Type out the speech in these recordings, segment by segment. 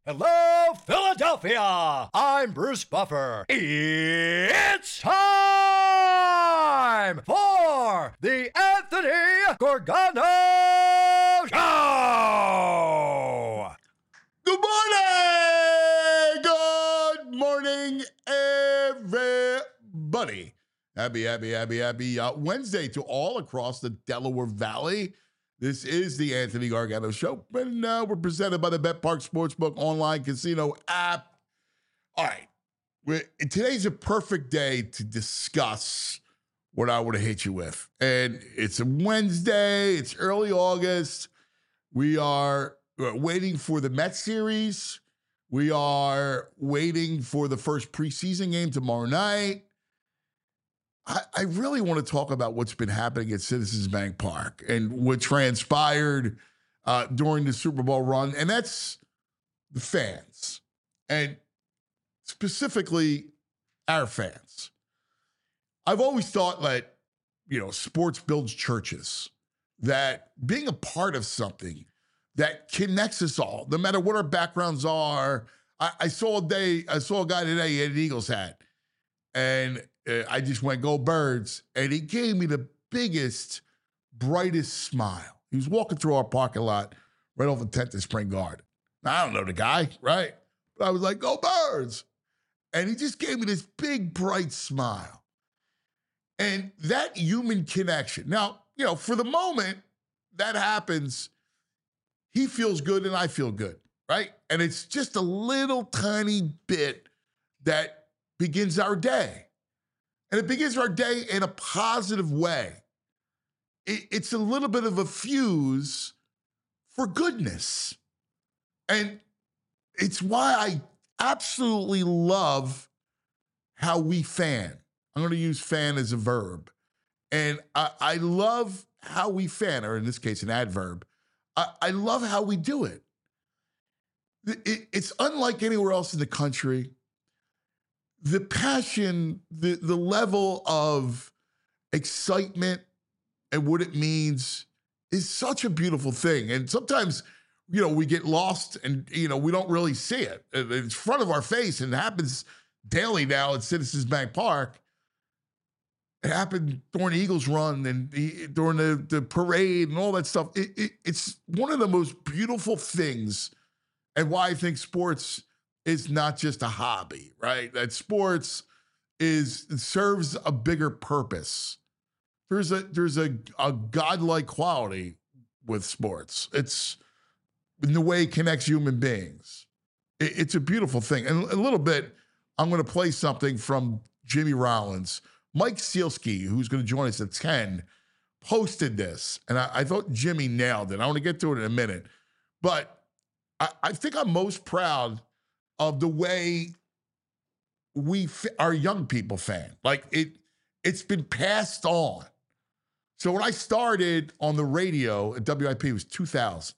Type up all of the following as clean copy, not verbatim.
Hello, Philadelphia! I'm Bruce Buffer. It's time for the Anthony Gorgano Show! Good morning, everybody. Happy Wednesday to all across the Delaware Valley. This is the Anthony Gargano Show, and we're presented by the BetPark Sportsbook online casino app. All right, today's a perfect day to discuss what I want to hit you with. And it's a Wednesday, it's early August. We are waiting for the Mets series. We are waiting for the first preseason game tomorrow night. I really want to talk about what's been happening at Citizens Bank Park and what transpired during the Super Bowl run, and that's the fans, and specifically our fans. I've always thought that, sports builds churches, that being a part of something that connects us all, no matter what our backgrounds are. I saw a guy today, he had an Eagles hat, and I just went, go Birds. And he gave me the biggest, brightest smile. He was walking through our parking lot right off the 10th and Spring Garden. Now, I don't know the guy, right? But I was like, go Birds. And he just gave me this big, bright smile. And that human connection. Now, for the moment that happens, he feels good and I feel good, right? And it's just a little tiny bit that begins our day. And it begins our day in a positive way. It's a little bit of a fuse for goodness. And it's why I absolutely love how we fan. I'm going to use fan as a verb. And I love how we fan, or in this case, an adverb. I love how we do it. It's unlike anywhere else in the country. The passion, the level of excitement and what it means is such a beautiful thing. And sometimes, we get lost and, we don't really see it. It's in front of our face, and it happens daily now at Citizens Bank Park. It happened during the Eagles run and during the parade and all that stuff. It's one of the most beautiful things, and why I think sports is not just a hobby, right? That sports serves a bigger purpose. There's a godlike quality with sports. It's in the way it connects human beings. It's a beautiful thing. And a little bit, I'm going to play something from Jimmy Rollins. Mike Sealski, who's going to join us at 10, posted this, and I thought Jimmy nailed it. I want to get to it in a minute. But I think I'm most proud of the way our young people fan. Like it's been passed on. So when I started on the radio at WIP, it was 2000.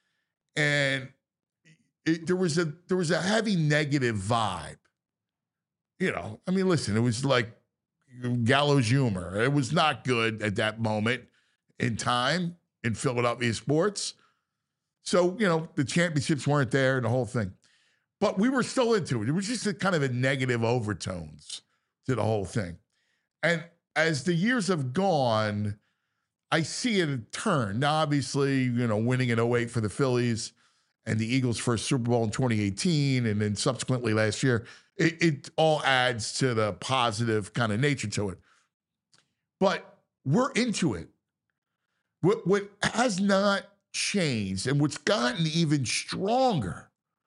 And there was a heavy negative vibe. Listen, it was like gallows humor. It was not good at that moment in time in Philadelphia sports. So, the championships weren't there and the whole thing. But we were still into it. It was just a kind of a negative overtones to the whole thing. And as the years have gone, I see it turn. Now, obviously, winning in 08 for the Phillies and the Eagles' first Super Bowl in 2018, and then subsequently last year, it all adds to the positive kind of nature to it. But we're into it. What has not changed and what's gotten even stronger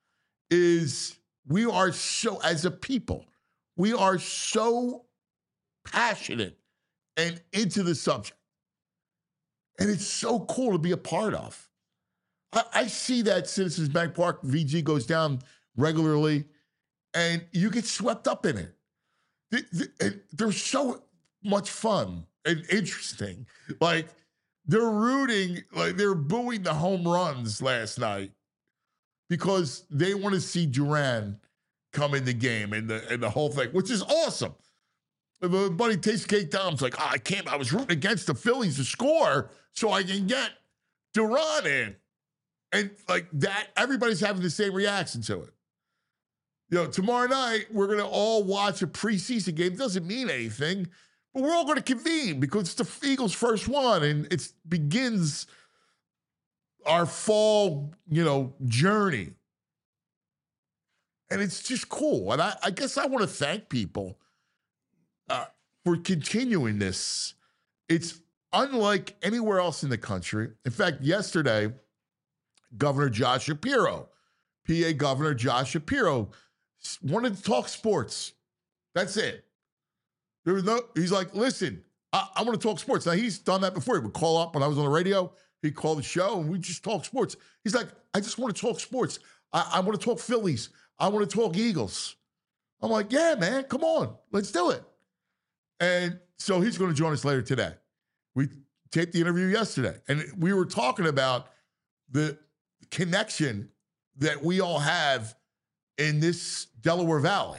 is we are so, as a people, we are so passionate and into the subject. And it's so cool to be a part of. I see that Citizens Bank Park, VG goes down regularly, and you get swept up in it. They're so much fun and interesting. Like, they're rooting, like they're booing the home runs last night because they want to see Duran come in the game and the whole thing, which is awesome. My buddy Taste Cake Dom's like, I was rooting against the Phillies to score so I can get Duran in. And like that, everybody's having the same reaction to it. Tomorrow night, we're going to all watch a preseason game. It doesn't mean anything, but we're all going to convene because it's the Eagles' first one, and it begins our fall, journey. And it's just cool. And I guess I want to thank people for continuing this. It's unlike anywhere else in the country. In fact, yesterday, Governor Josh Shapiro, PA Governor Josh Shapiro, wanted to talk sports. That's it. He's like, listen, I want to talk sports. Now, he's done that before. He would call up when I was on the radio. He'd call the show, and we just talk sports. He's like, I just want to talk sports. I want to talk Phillies. I want to talk Eagles. I'm like, yeah, man, come on. Let's do it. And so he's going to join us later today. We taped the interview yesterday, and we were talking about the connection that we all have in this Delaware Valley,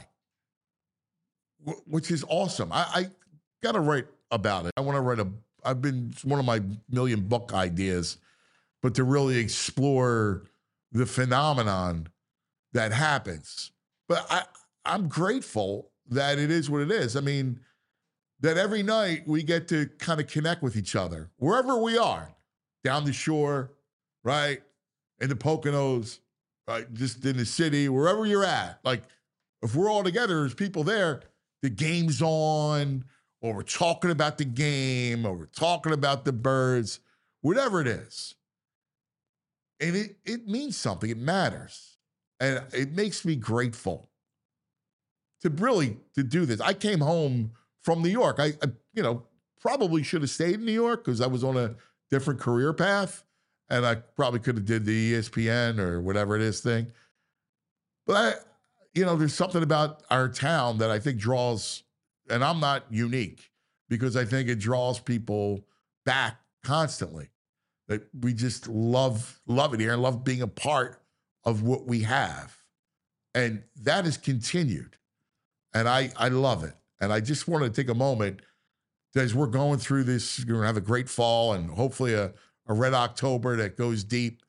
which is awesome. I got to write about it. I want to write it's one of my million book ideas, but to really explore the phenomenon that happens. But I'm grateful that it is what it is. I mean, that every night we get to kind of connect with each other, wherever we are, down the shore, right, in the Poconos, right, just in the city, wherever you're at. Like, if we're all together, there's people there, the game's on, or we're talking about the game, or we're talking about the birds, whatever it is. And it means something. It matters. And it makes me grateful to do this. I came home from New York. I probably should have stayed in New York because I was on a different career path, and I probably could have did the ESPN or whatever it is thing. But there's something about our town that I think draws, and I'm not unique, because I think it draws people back constantly. That we just love it here and love being a part of what we have. And that has continued. And I love it. And I just want to take a moment as we're going through this, you're going to have a great fall and hopefully a red October that goes deep,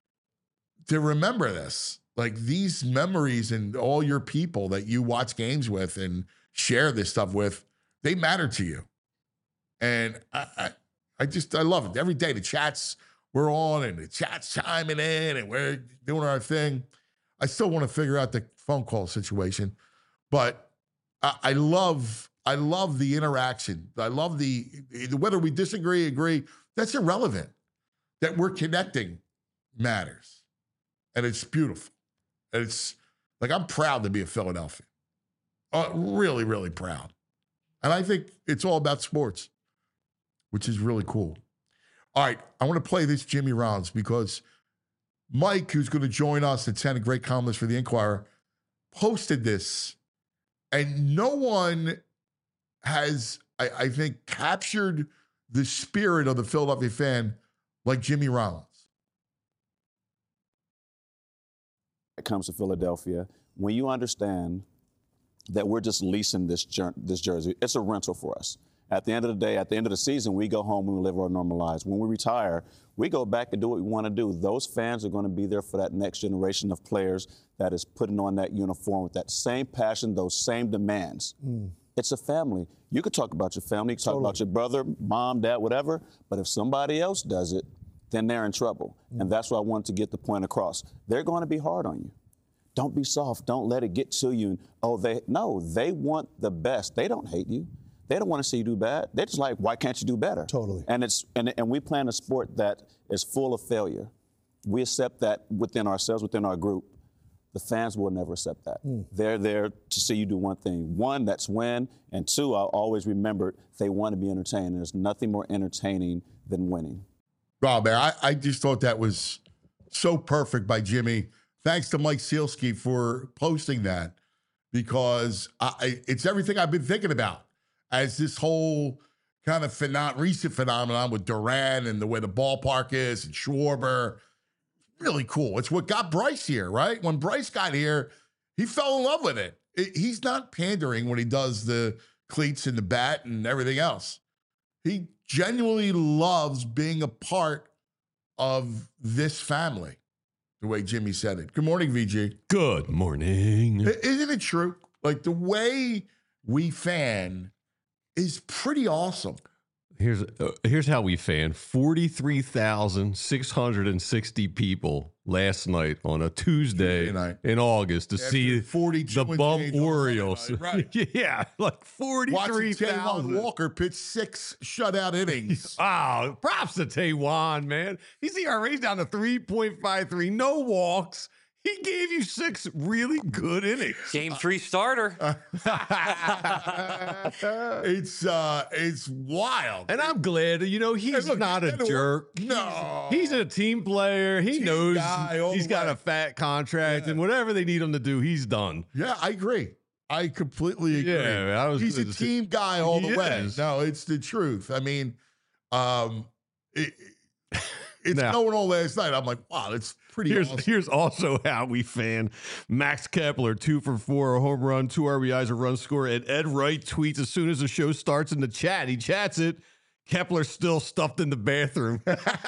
to remember this. Like, these memories and all your people that you watch games with and share this stuff with, they matter to you. And I love it. Every day the chats we're on and the chat's chiming in and we're doing our thing. I still want to figure out the phone call situation, but I love the interaction. I love whether we disagree, agree, that's irrelevant. That we're connecting matters. And it's beautiful. And it's like, I'm proud to be a Philadelphian. Really, really proud. And I think it's all about sports, which is really cool. All right, I want to play this Jimmy Rollins because Mike, who's going to join us at 10, a great columnist for the Inquirer, posted this, and no one has, I think, captured the spirit of the Philadelphia fan like Jimmy Rollins. It comes to Philadelphia, when you understand that we're just leasing this jersey, it's a rental for us. At the end of the day, at the end of the season, we go home and we live our normal lives. When we retire, we go back and do what we want to do. Those fans are going to be there for that next generation of players that is putting on that uniform with that same passion, those same demands. It's a family. You could talk about your family, you could talk about your brother, mom, dad, whatever, but if somebody else does it, then they're in trouble. And that's why I wanted to get the point across. They're going to be hard on you. Don't be soft. Don't let it get to you. They want the best. They don't hate you. They don't want to see you do bad. They're just like, why can't you do better? Totally. And we play in a sport that is full of failure. We accept that within ourselves, within our group. The fans will never accept that. They're there to see you do one thing. One, that's win. And two, I'll always remember, they want to be entertained. There's nothing more entertaining than winning. Oh, man, I just thought that was so perfect by Jimmy. Thanks to Mike Sealski for posting that, because it's everything I've been thinking about as this whole kind of recent phenomenon with Durant and the way the ballpark is and Schwarber. Really cool. It's what got Bryce here, right? When Bryce got here, he fell in love with it. He's not pandering when he does the cleats and the bat and everything else. He genuinely loves being a part of this family. the way Jimmy said it. Good morning, VG. Good morning. Isn't it true? Like, the way we fan is pretty awesome. Here's how we fan. 43,660 people last night on a Tuesday in August to see the Bum Orioles. Right. Yeah, like 43,000. Watching Walker pitch 6 shutout innings. Wow, props to Taijuan, man. His ERA's down to 3.53, no walks. He gave you 6 really good innings. Game 3 starter. It's wild. And I'm glad, he's not a jerk. No. He's a team player. He knows he's got a fat contract, and whatever they need him to do, he's done. Yeah, I agree. I completely agree. Yeah, he's a team guy all the way. Is. No, it's the truth. I mean, it's Now, going on last night. I'm like, wow, it's pretty awesome. Here's also how we fan. Max Kepler, 2 for 4, a home run, 2 RBIs, a run score. And Ed Wright tweets as soon as the show starts in the chat. He chats it. Kepler's still stuffed in the bathroom.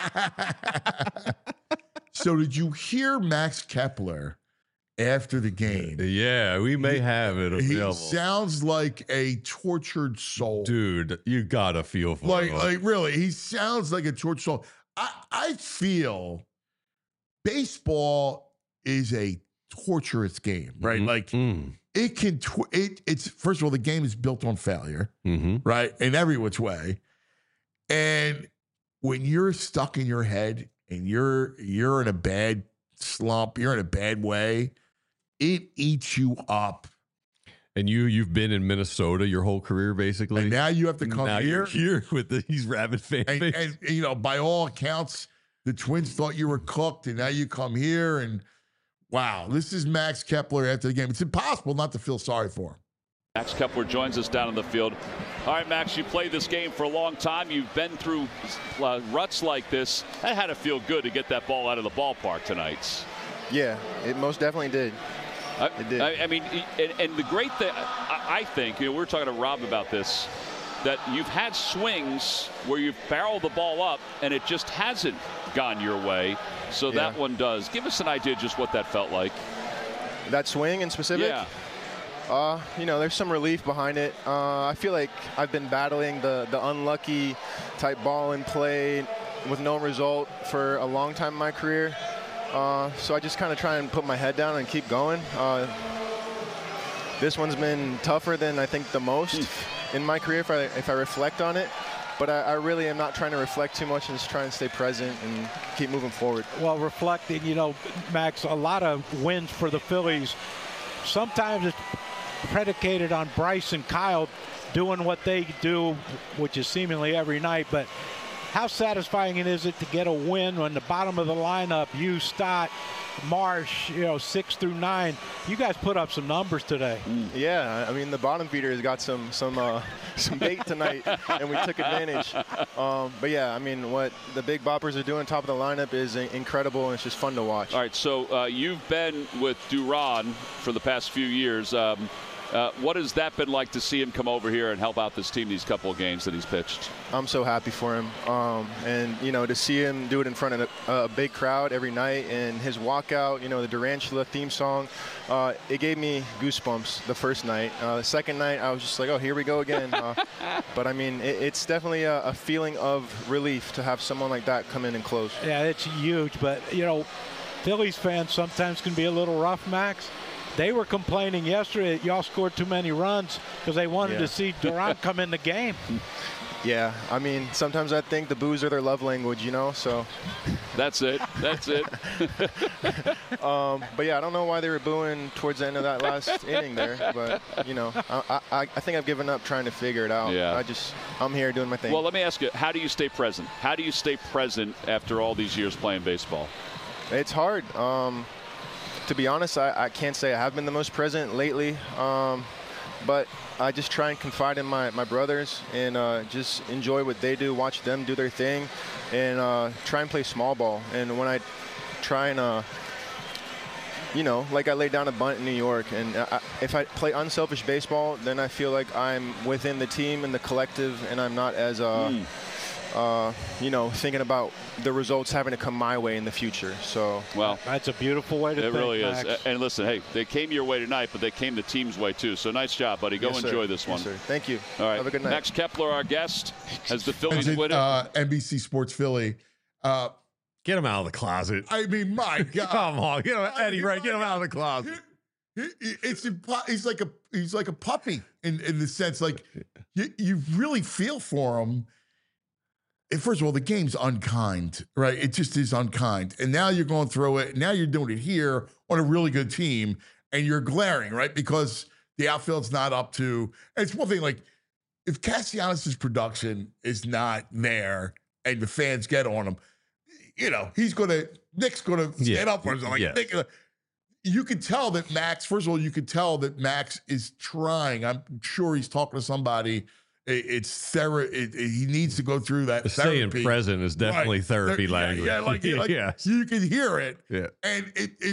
So did you hear Max Kepler after the game? Yeah, we may have it available. He sounds like a tortured soul. Dude, you gotta feel for him. Like really, he sounds like a tortured soul. I feel baseball is a torturous game, right? Like it can, it's first of all, the game is built on failure, right? In every which way. And when you're stuck in your head and you're in a bad slump, you're in a bad way, it eats you up. And you've been in Minnesota your whole career, basically. And now you have to come now here. You're here with these rabid fan base. And by all accounts, the Twins thought you were cooked, and now you come here, and wow, this is Max Kepler after the game. It's impossible not to feel sorry for him. Max Kepler joins us down on the field. All right, Max, you played this game for a long time. You've been through ruts like this. That had to feel good to get that ball out of the ballpark tonight. Yeah, it most definitely did. It did. I mean, and the great thing, I think, we were talking to Rob about this, that you've had swings where you've barreled the ball up and it just hasn't gone your way. So that one does. Give us an idea just what that felt like. That swing in specific? Yeah. There's some relief behind it. I feel like I've been battling the unlucky type ball in play with no result for a long time in my career. So I just kind of try and put my head down and keep going. This one's been tougher than I think the most in my career if I reflect on it. But I really am not trying to reflect too much and just try and stay present and keep moving forward. Well, reflecting, Max, a lot of wins for the Phillies. Sometimes it's predicated on Bryce and Kyle doing what they do, which is seemingly every night. But how satisfying is it to get a win when the bottom of the lineup, you, Stott, Marsh, 6 through 9, you guys put up some numbers today. Yeah, I mean the bottom feeder has got some bait tonight, and we took advantage. But yeah, I mean what the big boppers are doing top of the lineup is incredible, and it's just fun to watch. All right, so you've been with Duran for the past few years. What has that been like to see him come over here and help out this team these couple of games that he's pitched? I'm so happy for him. And, to see him do it in front of a big crowd every night and his walkout, the Durantula theme song, it gave me goosebumps the first night. The second night, I was just like, oh, here we go again. But, I mean, it's definitely a feeling of relief to have someone like that come in and close. Yeah, it's huge. But, Phillies fans sometimes can be a little rough, Max. They were complaining yesterday that y'all scored too many runs because they wanted to see Durant come in the game. Yeah, I mean, sometimes I think the boos are their love language, so. That's it. But yeah, I don't know why they were booing towards the end of that last inning there. But, I think I've given up trying to figure it out. Yeah. I'm here doing my thing. Well, let me ask you, how do you stay present? How do you stay present after all these years playing baseball? It's hard. To be honest, I can't say I have been the most present lately, but I just try and confide in my brothers and just enjoy what they do, watch them do their thing, and try and play small ball. And when I try and, like I laid down a bunt in New York, and if I play unselfish baseball, then I feel like I'm within the team and the collective, and I'm not as thinking about the results having to come my way in the future. So, well, that's a beautiful way to think, it really Max. is. And listen, hey, they came your way tonight, but they came the team's way too. So nice job, buddy. Go Yes, enjoy sir. this one. Yes, sir. Thank you. All right. Have a good night. Max Kepler, our guest, as the Phillies Visit, win it. NBC Sports Philly. Get him out of the closet. I mean, my God. Come on, get him, Eddie. Right, get him out of the closet. He's like a puppy in the sense, like you really feel for him. And first of all, the game's unkind, right? It just is unkind. And now you're going through it. Now you're doing it here on a really good team, and you're glaring, right? Because the outfield's not up to. And it's one thing, like if Castellanos' production is not there, and the fans get on him, Nick's gonna stand up for him. Like Nick. You could tell that Max, first of all, Max is trying. I'm sure he's talking to somebody. It's therapy. He needs to go through that. Staying present is definitely therapy language. Yeah, you can hear it. Yeah. And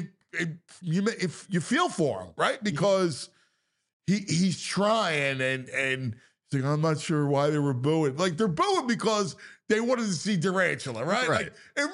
if you feel for him, right? Because he's trying and he's like, I'm not sure why they were booing. Like they're booing because they wanted to see Durantula, right? Like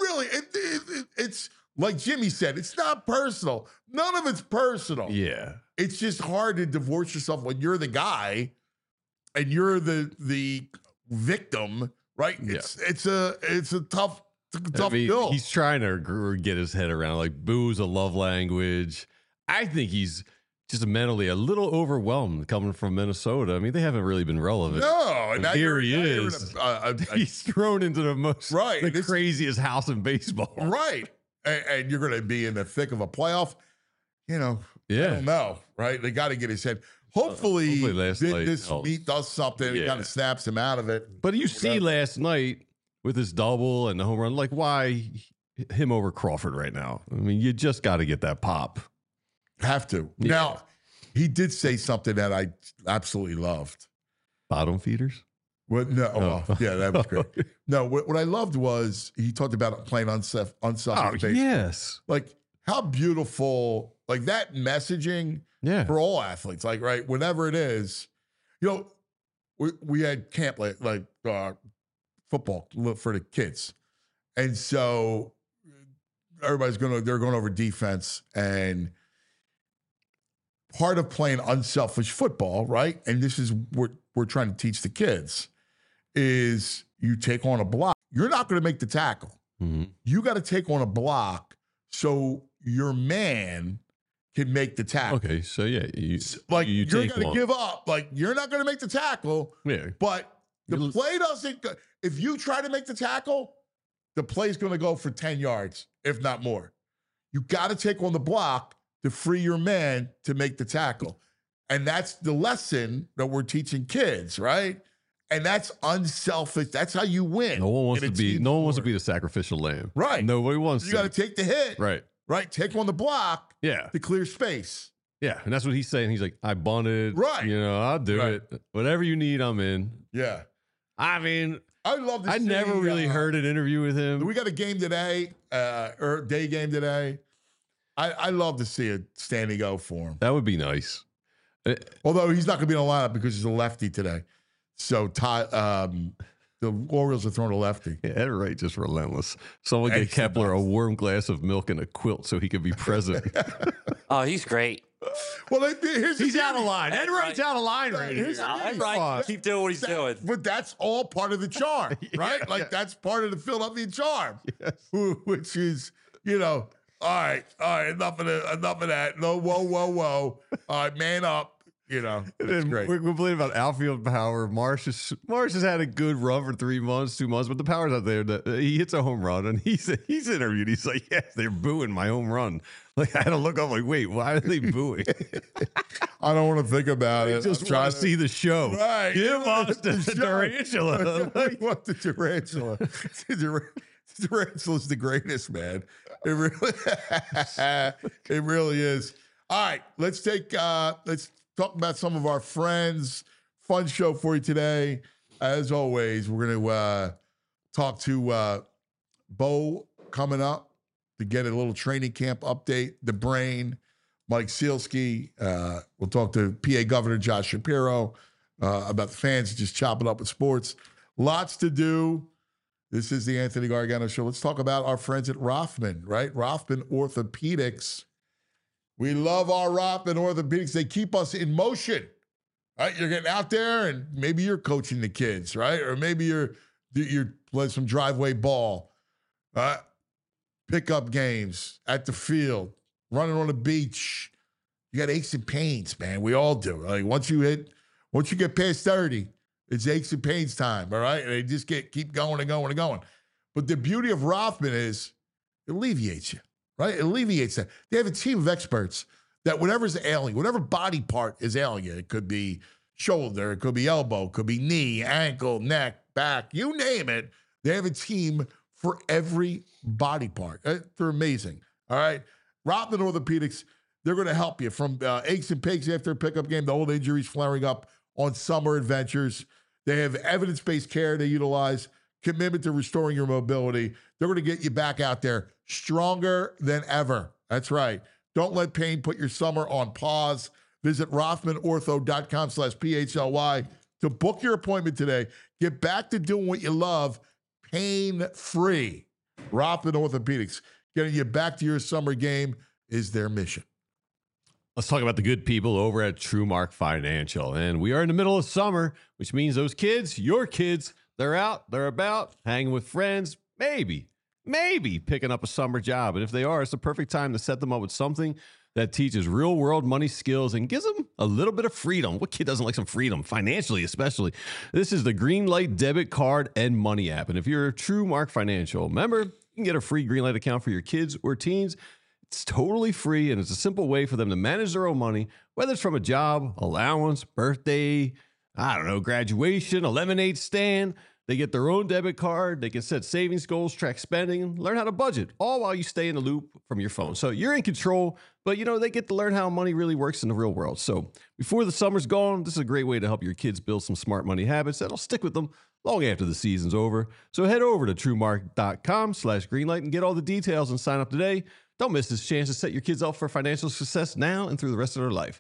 it's like Jimmy said, it's not personal. None of it's personal. Yeah. It's just hard to divorce yourself when you're the guy and you're the victim, right? Yeah. It's a tough bill. He's trying to get his head around, like, boo's a love language. I think he's just mentally a little overwhelmed coming from Minnesota. I mean, they haven't really been relevant. No, and here he is. He's thrown into the craziest house in baseball. Right. And you're going to be in the thick of a playoff. I don't know, right? They got to get his head. Hopefully this meet does something. It kind of snaps him out of it. But you see last night with his double and the home run, like, why him over Crawford right now? I mean, you just got to get that pop. Have to. Yeah. Now, he did say something that I absolutely loved. Bottom feeders? What? No. Oh. Yeah, that was great. No, what I loved was he talked about playing unselfish baseball. Yes. Like, how beautiful, like that messaging for all athletes, like, right, whenever it is. We had camp like football for the kids. And so they're going over defense, and part of playing unselfish football, right? And this is what we're trying to teach the kids is you take on a block. You're not going to make the tackle. Mm-hmm. You got to take on a block so your man can make the tackle. Okay, so yeah, you're going to give up. Like, you're not going to make the tackle. Yeah, but the play doesn't. If you try to make the tackle, the play's going to go for 10 yards, if not more. You got to take on the block to free your man to make the tackle, and that's the lesson that we're teaching kids, right? And that's unselfish. That's how you win. No one wants to be the sacrificial lamb. Right. Nobody wants to. You got to take the hit. Right. Right. Take on the block. Yeah. To clear space. Yeah. And that's what he's saying. He's like, I bunted. Right. I'll do it. Whatever you need, I'm in. Yeah. I mean, I love this. I never really heard an interview with him. We got a game today, or day game today. I love to see a standing go for him. That would be nice. Although he's not going to be in the lineup because he's a lefty today. So the Orioles are throwing a lefty. Yeah, Ed Wright just relentless. Someone get Kepler a warm glass of milk and a quilt so he could be present. Oh, he's great. Well, he's out of line. Ed Wright's out of line right here. Ed Wright, keep doing what he's doing. But that's all part of the charm, right? Like, that's part of the Philadelphia charm, which is, all right, enough of that. No, whoa. All right, man up. It's great. We're complaining about outfield power. Marsh has had a good run for 2 months, but the power's out there. He hits a home run, and he's interviewed. He's like, yeah, they're booing my home run. Like, I had to look up, like, wait, why are they booing? I don't want to think the it. Just try to see the show. Right. Give us the tarantula. I want the tarantula. The tarantula's the greatest, man. It really is. All right, let's talk about some of our friends. Fun show for you today. As always, we're going to talk to Bo coming up to get a little training camp update. The Brain, Mike Sealski. We'll talk to PA Governor Josh Shapiro about the fans just chopping up with sports. Lots to do. This is the Anthony Gargano Show. Let's talk about our friends at Rothman, right? Rothman Orthopedics. We love our Rothman Orthopedics. They keep us in motion, right? You're getting out there and maybe you're coaching the kids, right? Or maybe you're playing some driveway ball, pickup games at the field, running on the beach. You got aches and pains, man. We all do. Like once you get past 30, it's aches and pains time, all right? And they just keep going and going and going. But the beauty of Rothman is it alleviates you, right? It alleviates that. They have a team of experts that whatever's ailing, whatever body part is ailing you, it could be shoulder, it could be elbow, it could be knee, ankle, neck, back, you name it. They have a team for every body part. They're amazing, all right? Rothman Orthopedics, they're going to help you from aches and pains after a pickup game, the old injuries flaring up on summer adventures. They have evidence-based care they utilize, commitment to restoring your mobility. They're going to get you back out there stronger than ever. That's right. Don't let pain put your summer on pause. Visit RothmanOrtho.com/PHLY to book your appointment today. Get back to doing what you love pain-free. Rothman Orthopedics, getting you back to your summer game is their mission. Let's talk about the good people over at TrueMark Financial. And we are in the middle of summer, which means those kids, your kids, they're out, they're about, hanging with friends, maybe picking up a summer job. And if they are, it's the perfect time to set them up with something that teaches real-world money skills and gives them a little bit of freedom. What kid doesn't like some freedom, financially especially? This is the Greenlight Debit Card and Money app. And if you're a TrueMark Financial member, you can get a free Greenlight account for your kids or teens. It's totally free, and it's a simple way for them to manage their own money, whether it's from a job, allowance, birthday, graduation, a lemonade stand. They get their own debit card. They can set savings goals, track spending, learn how to budget, all while you stay in the loop from your phone. So you're in control, but, they get to learn how money really works in the real world. So before the summer's gone, this is a great way to help your kids build some smart money habits that'll stick with them long after the season's over. So head over to TrueMark.com/Greenlight and get all the details and sign up today. Don't miss this chance to set your kids up for financial success now and through the rest of their life.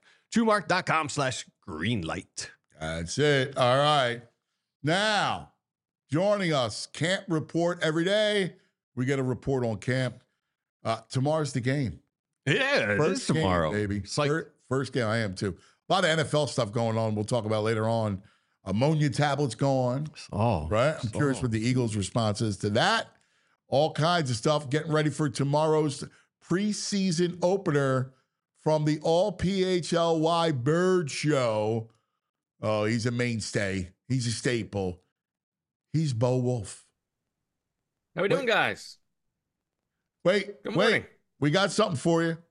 TrueMark.com/Greenlight. That's it. All right. Now, joining us, Camp Report every day. We get a report on camp. Tomorrow's the game. Yeah, it is tomorrow. Game, baby. It's like First game, I am too. A lot of NFL stuff going on. We'll talk about later on. Ammonia tablets going. Oh, right. I'm curious what the Eagles' response is to that. All kinds of stuff. Getting ready for tomorrow's preseason opener from the All PHLY Bird Show. Oh, he's a mainstay. He's a staple. He's Bo Wolf. How we doing, guys? Good morning. We got something for you.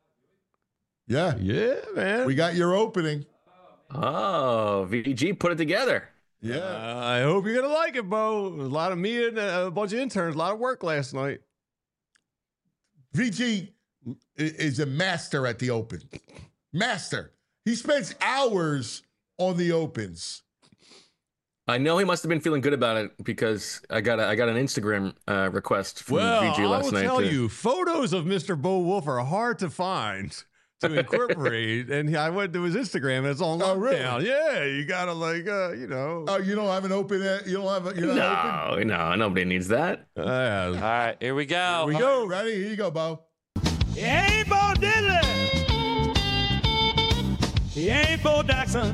Yeah, man. We got your opening. Oh, VG put it together. Yeah. I hope you're gonna like it, Bo. A lot of me and a bunch of interns. A lot of work last night. VG is a master at the open. Master. He spends hours on the opens. I know he must have been feeling good about it because I got an Instagram request from VG last night. I will tell you, photos of Mr. Bo Wolf are hard to find to incorporate. And I went to his Instagram and it's on lockdown. Really? Yeah, you gotta Oh, you don't have an open? You're not open? No, nobody needs that. All right, here we go. Here we go. Ready? Here you go, Bo. He ain't Bo Diddley. He ain't Bo Jackson.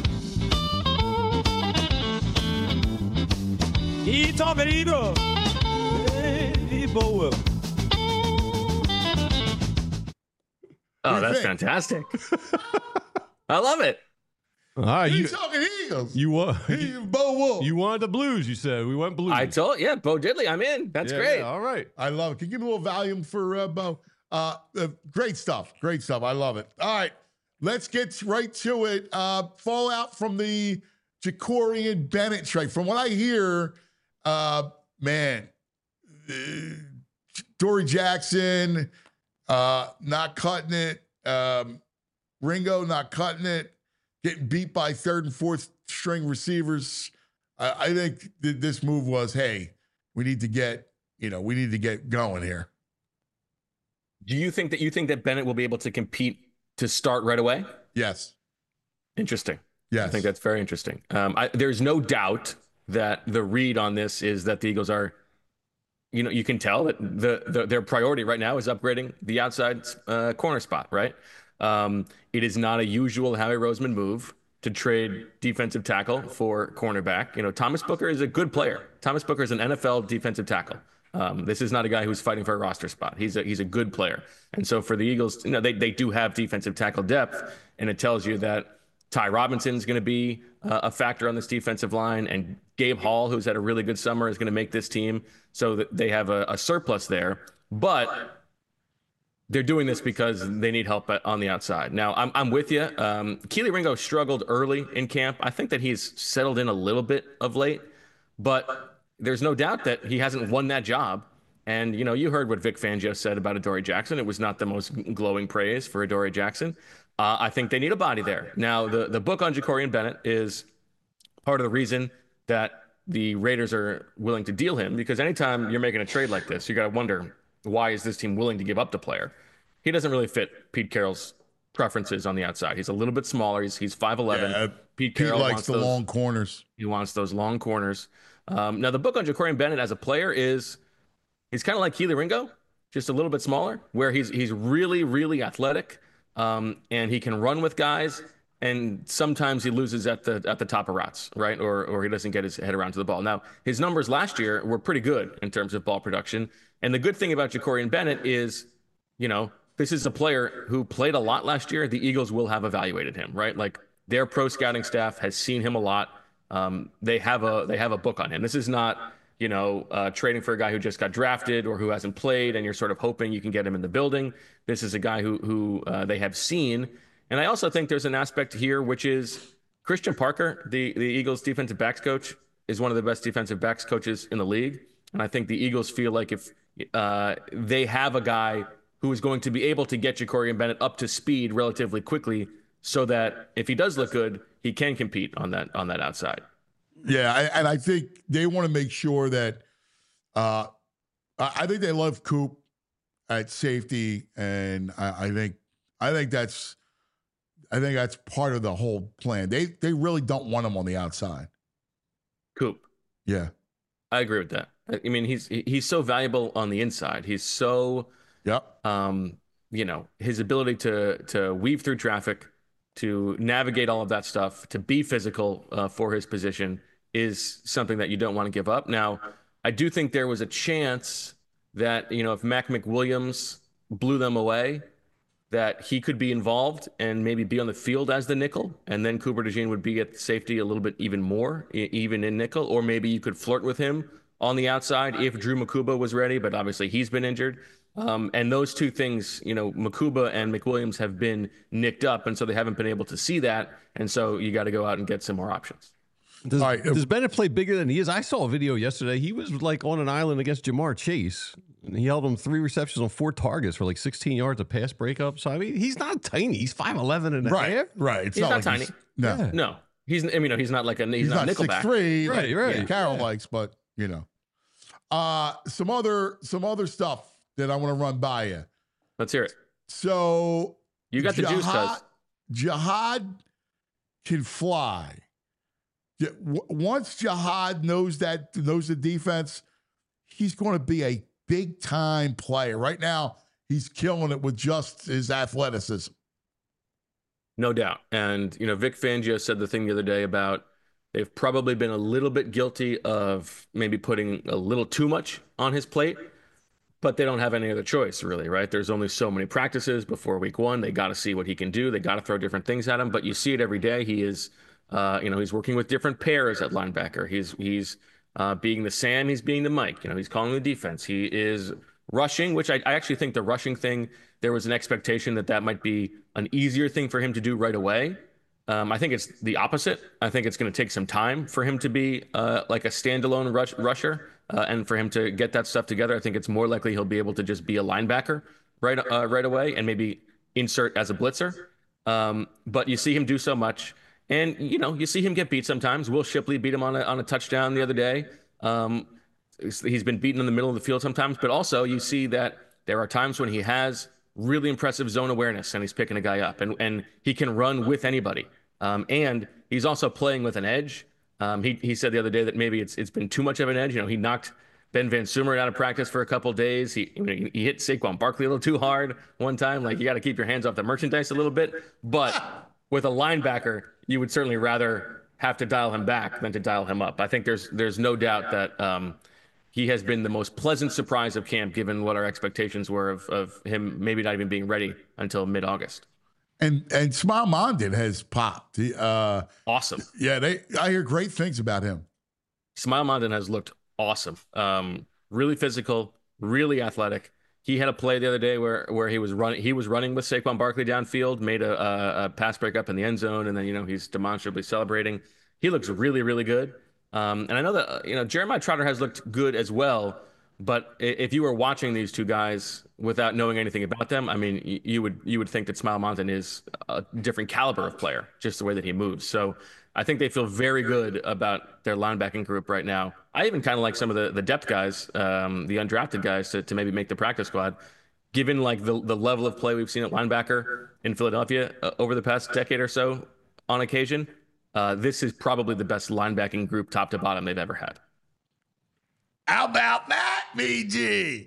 He talking Eagle. He Bo Wolf. Oh, that's fantastic. I love it. All right, He's talking Eagles. You want Bo Wolf. You wanted the blues, you said. We went blues. I told Bo Diddley, I'm in. That's great. Yeah, all right. I love it. Can you give me a little volume for Bo? Great stuff. Great stuff. I love it. All right. Let's get right to it. Fallout from the Jacorian Bennett trade. From what I hear, Dory Jackson not cutting it. Ringo not cutting it. Getting beat by third and fourth string receivers. I think this move was, hey, we need to get going here. Do you think that Bennett will be able to compete to start right away? Yes. Interesting. Yes. I think that's very interesting. There's no doubt that the read on this is that the Eagles are, you can tell that their priority right now is upgrading the outside corner spot, right? It is not a usual Howie Roseman move to trade defensive tackle for cornerback. Thomas Booker is a good player. Thomas Booker is an NFL defensive tackle. This is not a guy who's fighting for a roster spot. He's a good player. And so for the Eagles, they do have defensive tackle depth, and it tells you that Ty Robinson is going to be a factor on this defensive line, and Gabe Hall, who's had a really good summer, is going to make this team. So that they have a surplus there. But they're doing this because they need help on the outside. Now, I'm with you. Kelee Ringo struggled early in camp. I think that he's settled in a little bit of late, but there's no doubt that he hasn't won that job. And, you heard what Vic Fangio said about Adoree Jackson. It was not the most glowing praise for Adoree Jackson. I think they need a body there. Now, the book on Jacorian Bennett is part of the reason that the Raiders are willing to deal him, because anytime you're making a trade like this, you got to wonder, why is this team willing to give up the player? He doesn't really fit Pete Carroll's preferences on the outside. He's a little bit smaller. He's 5'11". Yeah, Pete Carroll likes the long corners. He wants those long corners. Now, the book on Jacorian Bennett as a player he's kind of like Kelee Ringo, just a little bit smaller, where he's really, really athletic, and he can run with guys. And sometimes he loses at the top of routes, right? Or he doesn't get his head around to the ball. Now, his numbers last year were pretty good in terms of ball production. And the good thing about Jacorian Bennett is, this is a player who played a lot last year. The Eagles will have evaluated him, right? Like, their pro scouting staff has seen him a lot. They have a book on him. This is not, trading for a guy who just got drafted or who hasn't played, and you're sort of hoping you can get him in the building. This is a guy who they have seen. And I also think there's an aspect here, which is Christian Parker, the Eagles defensive backs coach, is one of the best defensive backs coaches in the league. And I think the Eagles feel like if they have a guy who is going to be able to get Jacorian Bennett up to speed relatively quickly, so that if he does look good, he can compete on that outside. Yeah, and I think they want to make sure that I think they love Coop at safety, and I think that's part of the whole plan. They really don't want him on the outside. Coop. Yeah. I agree with that. I mean, he's so valuable on the inside. He's so his ability to weave through traffic, to navigate all of that stuff, to be physical for his position is something that you don't want to give up. Now, I do think there was a chance that, if Mac McWilliams blew them away, that he could be involved and maybe be on the field as the nickel, and then Cooper DeJean would be at safety a little bit even more, even in nickel, or maybe you could flirt with him on the outside if Drew Makuba was ready, but obviously he's been injured. And those two things, Makuba and McWilliams have been nicked up, and so they haven't been able to see that, and so you got to go out and get some more options. Does Bennett play bigger than he is? I saw a video yesterday. He was like on an island against Jamar Chase. And he held him 3 receptions on 4 targets for like 16 yards of pass breakup. So, I mean, he's not tiny. He's 5'11" and a half. Right. He's not tiny. No. He's not like he's not nickelback. 6'3", right. Yeah. Carroll likes, but some other stuff that I want to run by you. Let's hear it. So you got the juice, Cuz. Jihad can fly. Once Jihad knows the defense, he's going to be a big-time player. Right now, he's killing it with just his athleticism. No doubt. And, Vic Fangio said the thing the other day about they've probably been a little bit guilty of maybe putting a little too much on his plate, but they don't have any other choice, really, right? There's only so many practices before week 1. They got to see what he can do. They got to throw different things at him, but you see it every day. He is, he's working with different pairs at linebacker. He's being the Sam, he's being the Mike. He's calling the defense. He is rushing, which I actually think the rushing thing, there was an expectation that might be an easier thing for him to do right away. I think it's the opposite. I think it's going to take some time for him to be like a standalone rusher and for him to get that stuff together. I think it's more likely he'll be able to just be a linebacker right away and maybe insert as a blitzer. But you see him do so much. And, you see him get beat sometimes. Will Shipley beat him on a touchdown the other day. He's been beaten in the middle of the field sometimes. But also you see that there are times when he has really impressive zone awareness and he's picking a guy up. And he can run with anybody. And he's also playing with an edge. He said the other day that maybe it's been too much of an edge. He knocked Ben Van Sumeren out of practice for a couple of days. He hit Saquon Barkley a little too hard one time. Like, you got to keep your hands off the merchandise a little bit. But with a linebacker, you would certainly rather have to dial him back than to dial him up. I think there's no doubt that he has been the most pleasant surprise of camp, given what our expectations were of him maybe not even being ready until mid-August. And Smael Mondon has popped. Awesome. Yeah, I hear great things about him. Smael Mondon has looked awesome. Really physical, really athletic. He had a play the other day where he was running with Saquon Barkley downfield, made a pass break up in the end zone, and then he's demonstrably celebrating. He looks really, really good. And I know that Jeremiah Trotter has looked good as well. But if you were watching these two guys without knowing anything about them, I mean, you would think that Smael Mondon is a different caliber of player, just the way that he moves. So I think they feel very good about their linebacking group right now. I even kind of like some of the depth guys, the undrafted guys, to maybe make the practice squad. Given like the level of play we've seen at linebacker in Philadelphia over the past decade or so, on occasion, this is probably the best linebacking group top to bottom they've ever had. How about that, BG?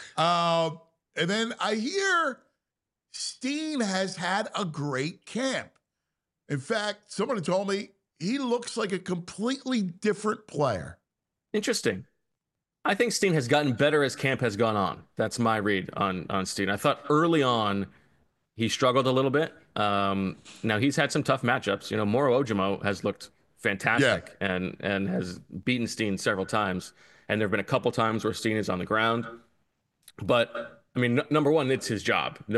And then I hear Steen has had a great camp. In fact, someone told me he looks like a completely different player. Interesting. I think Steen has gotten better as camp has gone on. That's my read on Steen. I thought early on he struggled a little bit. Now he's had some tough matchups. Moro Ojomo has looked fantastic and has beaten Steen several times. And there have been a couple times where Steen is on the ground. But, I mean, number one, it's his job. We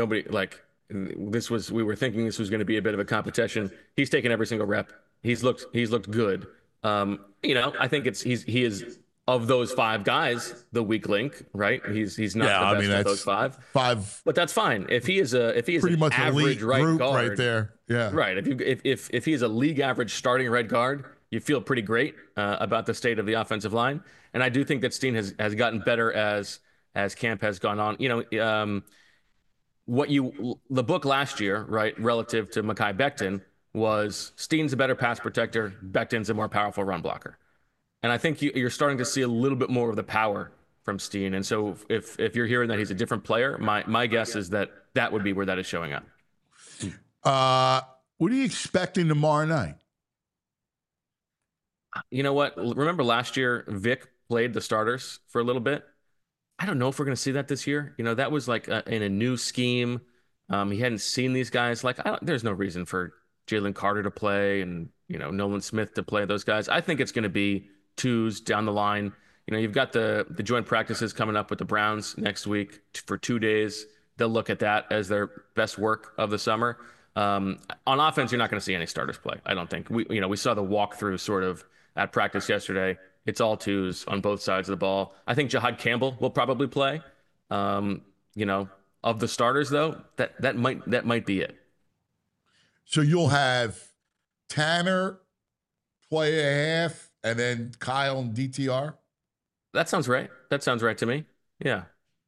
were thinking this was going to be a bit of a competition. He's taken every single rep. He's looked good. I think he is, of those five guys, the weak link, right? He's not the best of those five. But that's fine. If he is pretty an much average right guard right there. Yeah. Right. If he is a league average starting right guard, you feel pretty great about the state of the offensive line. And I do think that Steen has gotten better as camp has gone on. The book last year, right, relative to Mekhi Becton, was Steen's a better pass protector, Becton's a more powerful run blocker. And I think you're starting to see a little bit more of the power from Steen. And so if you're hearing that he's a different player, my guess is that would be where that is showing up. What are you expecting tomorrow night? You know what? Remember last year, Vic played the starters for a little bit. I don't know if we're going to see that this year. That was like in a new scheme. He hadn't seen these guys. There's no reason for Jalen Carter to play and, Nolan Smith to play those guys. I think it's going to be twos down the line. You've got the joint practices coming up with the Browns next week for 2 days. They'll look at that as their best work of the summer. On offense, you're not going to see any starters play, I don't think. We saw the walkthrough sort of at practice yesterday. It's all twos on both sides of the ball. I think Jahad Campbell will probably play. Of the starters, though, that might be it. So you'll have Tanner play a half, and then Kyle and DTR? That sounds right. That sounds right to me. Yeah.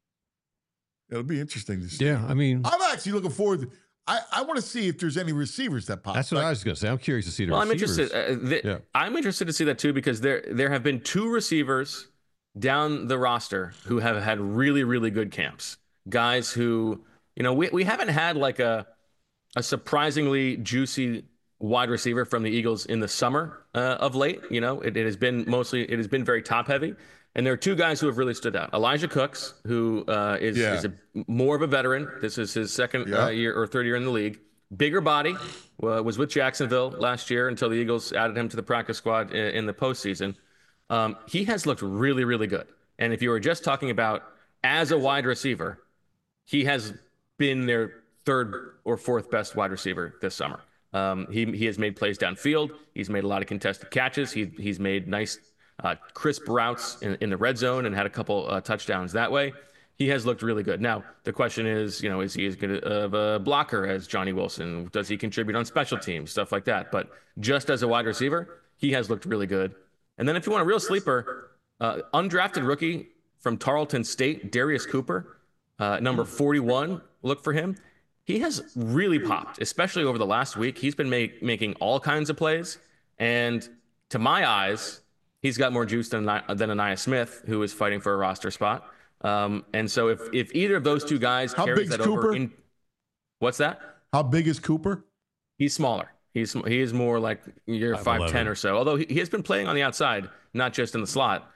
It'll be interesting to see. Yeah, I mean, I'm actually looking forward to I want to see if there's any receivers that pop. That's what I was going to say. I'm curious to see the receivers. I'm interested to see that too, because there have been two receivers down the roster who have had really, really good camps. Guys who, we haven't had like a surprisingly juicy wide receiver from the Eagles in the summer of late. It has been very top heavy. And there are two guys who have really stood out. Elijah Cooks, who is more of a veteran. This is his second year or third year in the league. Bigger body, was with Jacksonville last year until the Eagles added him to the practice squad in the postseason. He has looked really, really good. And if you were just talking about as a wide receiver, he has been their third or fourth best wide receiver this summer. He has made plays downfield. He's made a lot of contested catches. He's made nice crisp routes in the red zone and had a couple touchdowns that way. He has looked really good. Now, the question is, is he as good of a blocker as Johnny Wilson? Does he contribute on special teams? Stuff like that. But just as a wide receiver, he has looked really good. And then if you want a real sleeper, undrafted rookie from Tarleton State, Darius Cooper, number 41, look for him. He has really popped, especially over the last week. He's been making all kinds of plays. And to my eyes, he's got more juice than Ainias Smith, who is fighting for a roster spot. And so if either of those two guys carries that over in, what's that? How big is Cooper? He's smaller. He is more like you're 5'10" or so. Although he has been playing on the outside, not just in the slot.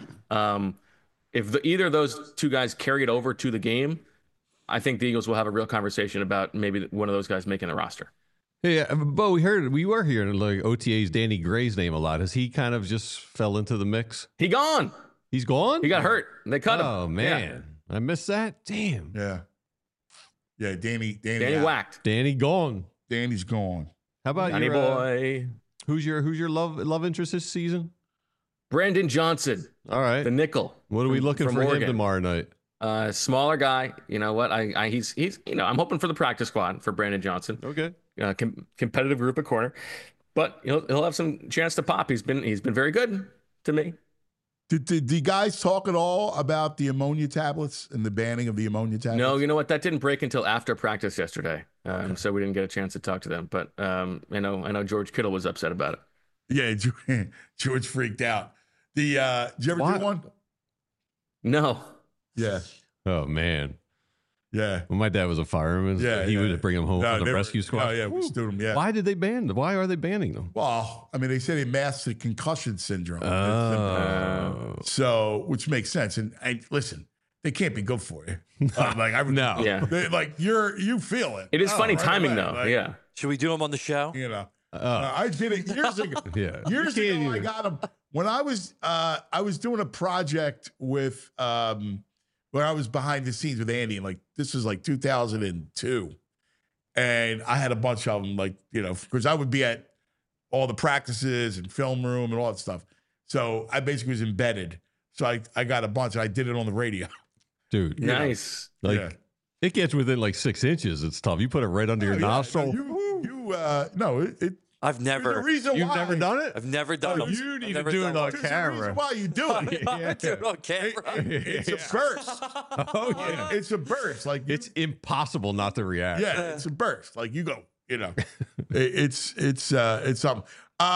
If either of those two guys carry it over to the game, I think the Eagles will have a real conversation about maybe one of those guys making the roster. Hey, Bo, we were hearing like OTA's Danny Gray's name a lot. Has he kind of just fell into the mix? He's gone. He's gone? He got hurt. They cut him. Oh, man. Yeah. I missed that. Damn. Yeah. Yeah, Danny whacked. Danny gone. Danny's gone. How about Danny boy? Who's your love interest this season? Brandon Johnson. All right. The nickel. What are we looking for him tomorrow night? Smaller guy. You know what? He's I'm hoping for the practice squad for Brandon Johnson. Okay. Competitive group at corner, but he'll have some chance to pop. He's been very good to me. Did the guys talk at all about the ammonia tablets and the banning of the ammonia tablets? No, you know what? That didn't break until after practice yesterday, so we didn't get a chance to talk to them. But I know George Kittle was upset about it. Yeah, George freaked out. Did you ever do one? No. Yeah. Oh man. Yeah. Well, my dad was a fireman. Yeah. He would bring him home from the rescue squad. Oh yeah, we stood him. Yeah. Why did they ban them? Why are they banning them? Well, I mean, they said he masked the concussion syndrome. Oh. So, which makes sense. And listen, they can't be good for you. No. Yeah. You feel it. It is funny right timing away. though. Yeah. Should we do him on the show? You know. I did it years ago. Yeah. Years ago, I got him when I was doing a project with where I was behind the scenes with Andy, and this was 2002, and I had a bunch of them, because I would be at all the practices and film room and all that stuff. So I basically was embedded. So I got a bunch, and I did it on the radio. Dude, nice. It gets within 6 inches. It's tough. You put it right under your nostril. I've never. There's a reason You've why. never done it? I've never done it. You need to do it on There's a camera. reason why you do it. I do it on camera. It's a burst. Oh yeah, it's a burst. It's impossible not to react. Yeah, it's a burst. You go. It's something.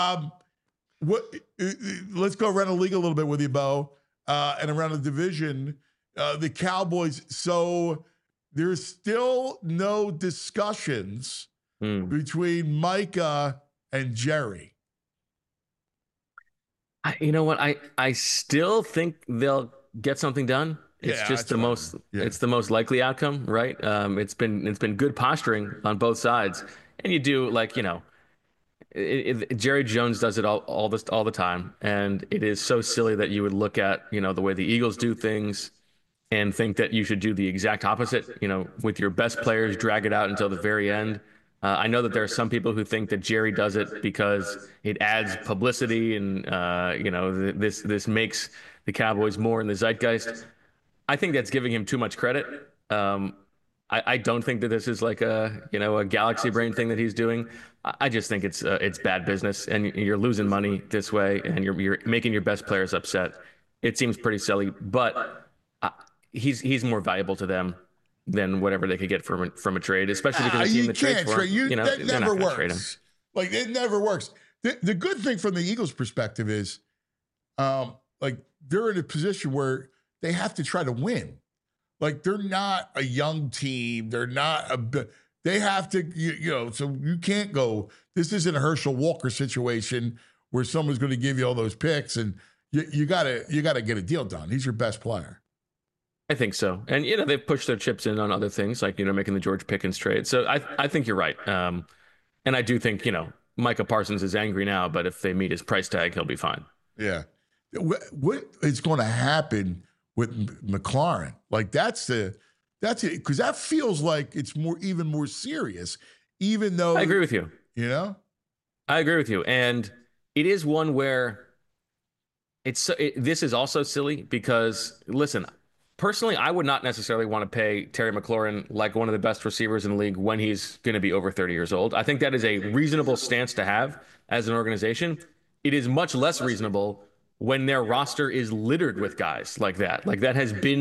Let's go around the league a little bit with you, Bo, and around the division. The Cowboys. So there's still no discussions between Micah and Jerry. You know what? I still think they'll get something done. It's just the most. Yeah. It's the most likely outcome, right? It's been good posturing on both sides, and you do Jerry Jones does it all the time, and it is so silly that you would look at the way the Eagles do things and think that you should do the exact opposite. With your best players, drag it out until the very end. I know that there are some people who think that Jerry does it because it adds publicity and this makes the Cowboys more in the zeitgeist. I think that's giving him too much credit. I don't think that this is a galaxy brain thing that he's doing. I just think it's bad business, and you're losing money this way, and you're making your best players upset. It seems pretty silly, but he's more valuable to them than whatever they could get from a trade, especially because the team that trades for him, that they're never not trade him. works. It never works. The good thing from the Eagles' perspective is, they're in a position where they have to try to win. They're not a young team. They're not they have to, so you can't go, this isn't a Herschel Walker situation where someone's going to give you all those picks, and you gotta get a deal done. He's your best player. I think so. And, they've pushed their chips in on other things like, making the George Pickens trade. So I think you're right. And I do think, Micah Parsons is angry now, but if they meet his price tag, he'll be fine. Yeah. What is going to happen with McLaurin? That's it. Because that feels like it's even more serious, even though. I agree with you. I agree with you. And it is one where this is also silly because, listen, personally, I would not necessarily want to pay Terry McLaurin like one of the best receivers in the league when he's going to be over 30 years old. I think that is a reasonable stance to have as an organization. It is much less reasonable when their roster is littered with guys like that. That has been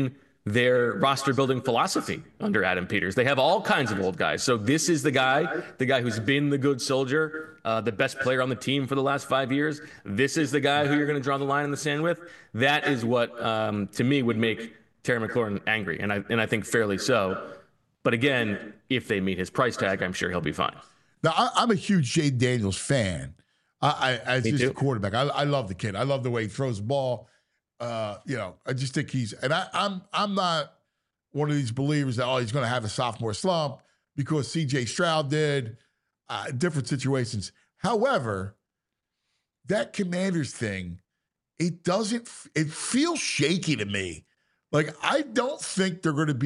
their roster building philosophy under Adam Peters. They have all kinds of old guys. So this is the guy who's been the good soldier, the best player on the team for the last 5 years. This is the guy who you're going to draw the line in the sand with. That is what, to me, would make Terry McLaurin angry, and I think fairly so. But again, if they meet his price tag, I'm sure he'll be fine. Now, I'm a huge Jaden Daniels fan. As just a quarterback, I love the kid. I love the way he throws the ball. I just think I'm not one of these believers that he's going to have a sophomore slump because C.J. Stroud did. Different situations. However, that Commanders thing, it feels shaky to me. Like, I do think they're going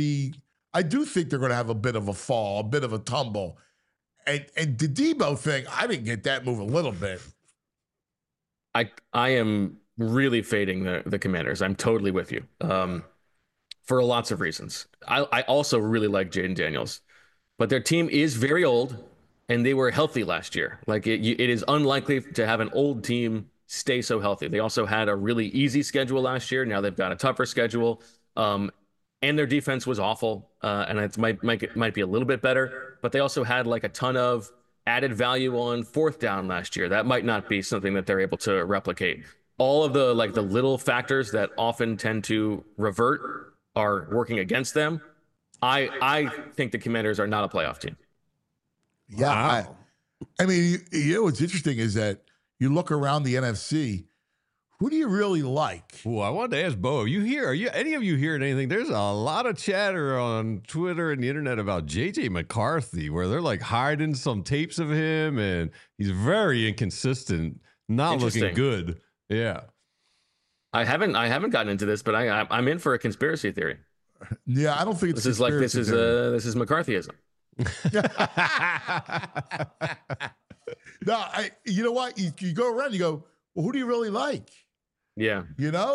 to have a bit of a fall, a bit of a tumble. And the Debo thing, I didn't get that move a little bit. I am really fading the Commanders. I'm totally with you for lots of reasons. I also really like Jaden Daniels, but their team is very old, and they were healthy last year. Like it is unlikely to have an old team stay so healthy. They also had a really easy schedule last year. Now they've got a tougher schedule. And their defense was awful, and it might be a little bit better. But they also had like a ton of added value on fourth down last year. That might not be something that they're able to replicate. All of the little factors that often tend to revert are working against them. I think the Commanders are not a playoff team. Yeah, wow. I mean, what's interesting is that you look around the NFC. Who do you really like? Well, I wanted to ask Bo, any of you hearing anything? There's a lot of chatter on Twitter and the internet about J.J. McCarthy, where they're like hiding some tapes of him, and he's very inconsistent, not looking good. Yeah. I haven't gotten into this, but I'm in for a conspiracy theory. Yeah, I don't think it's this is McCarthyism. No, you know what? You go around, you go, well, who do you really like? Yeah.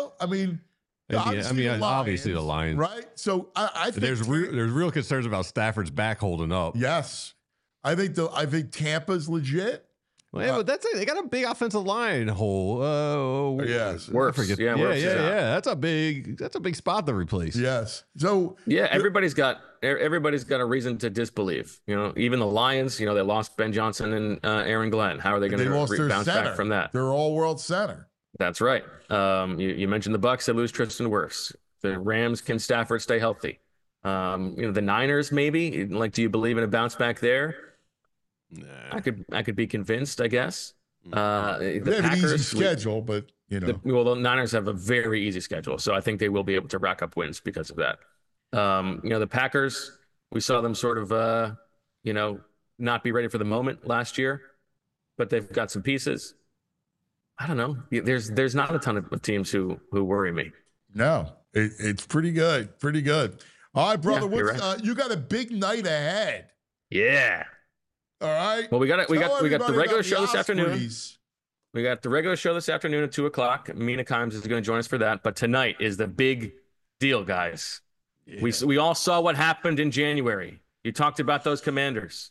Obviously the Lions. Right? So I think there's real concerns about Stafford's back holding up. Yes. I think Tampa's legit. Well, but they got a big offensive line hole. Yes. Works. Yeah. That's a big spot to replace. Yes. So everybody's got a reason to disbelieve. Even the Lions. They lost Ben Johnson and Aaron Glenn. How are they going to bounce back from that? Their all-world center. That's right. You mentioned the Bucs. They lose Tristan Wirfs. The Rams, can Stafford stay healthy? The Niners, maybe. Do you believe in a bounce back there? Nah. I could be convinced, I guess. They have an easy schedule, but the Niners have a very easy schedule, so I think they will be able to rack up wins because of that. The Packers, we saw them sort of, not be ready for the moment last year, but they've got some pieces. I don't know. There's not a ton of teams who worry me. No, it's pretty good. Pretty good. All right, brother. Right. You got a big night ahead. Yeah. All right. Well, we got the regular show this afternoon. We got the regular show this afternoon at 2:00. Mina Kimes is going to join us for that. But tonight is the big deal, guys. Yeah. We all saw what happened in January. You talked about those Commanders.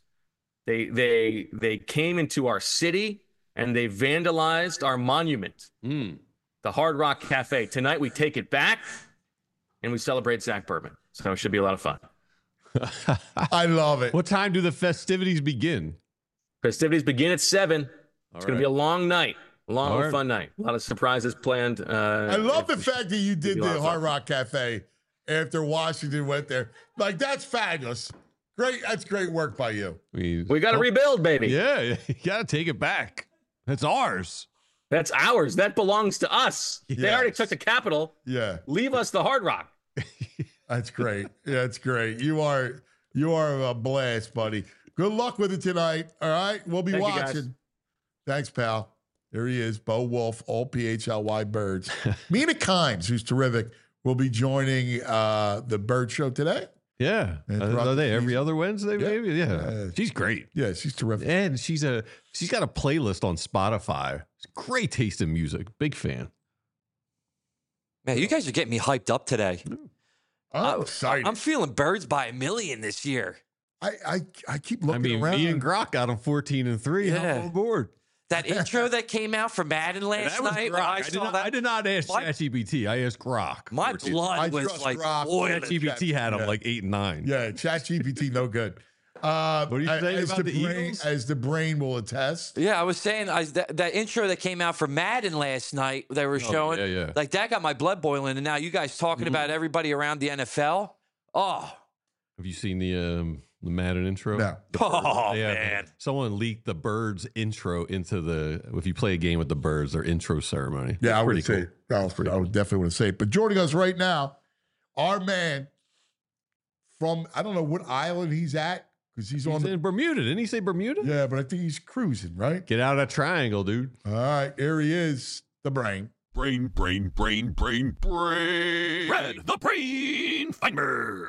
They came into our city and they vandalized our monument, the Hard Rock Cafe. Tonight we take it back and we celebrate Zach Berman. So it should be a lot of fun. I love it. What time do the festivities begin? Festivities begin at 7. It's going to be a long night, fun night. A lot of surprises planned. I love the fact that you did the Hard Rock Cafe after Washington went there. Like, that's fabulous. Great. That's great work by you. We got to rebuild, baby. Yeah, you got to take it back. That's ours. That's ours. That belongs to us. Yes. They already took the Capitol. Yeah. Leave us the Hard Rock. That's great. That's great. You are a blast, buddy. Good luck with it tonight. All right. We'll be watching. Thanks, pal. There he is, Bo Wolf, all PHLY Birds. Mina Kimes, who's terrific, will be joining the Bird Show today. Yeah. Are they every other Wednesday, maybe? Yeah. She's great. Yeah, she's terrific. And she's got a playlist on Spotify. It's great taste in music. Big fan. Man, you guys are getting me hyped up today. I'm excited. I'm feeling Birds by a million this year. I keep looking around. Me and Grok got them 14-3. Yeah. I'm on board. That intro that came out for Madden last night. When I did not ask ChatGPT. I asked Grok. My blood was like, ChatGPT had him like 8 and 9. Yeah, ChatGPT no good. What do you say about the Eagles? As the brain will attest. Yeah, I was saying that intro that came out for Madden last night, they were showing, like that got my blood boiling. And now you guys talking about everybody around the NFL. Oh, have you seen the Madden intro? No. Man. Someone leaked the Birds intro into if you play a game with the Birds, their intro ceremony. Yeah, I would cool. say. I would definitely want to say it. But joining us right now, our man from, I don't know what island he's at, because he's in Bermuda. Didn't he say Bermuda? Yeah, but I think he's cruising, right? Get out of that triangle, dude. All right, here he is, the brain. Brain. Red, the brain finder.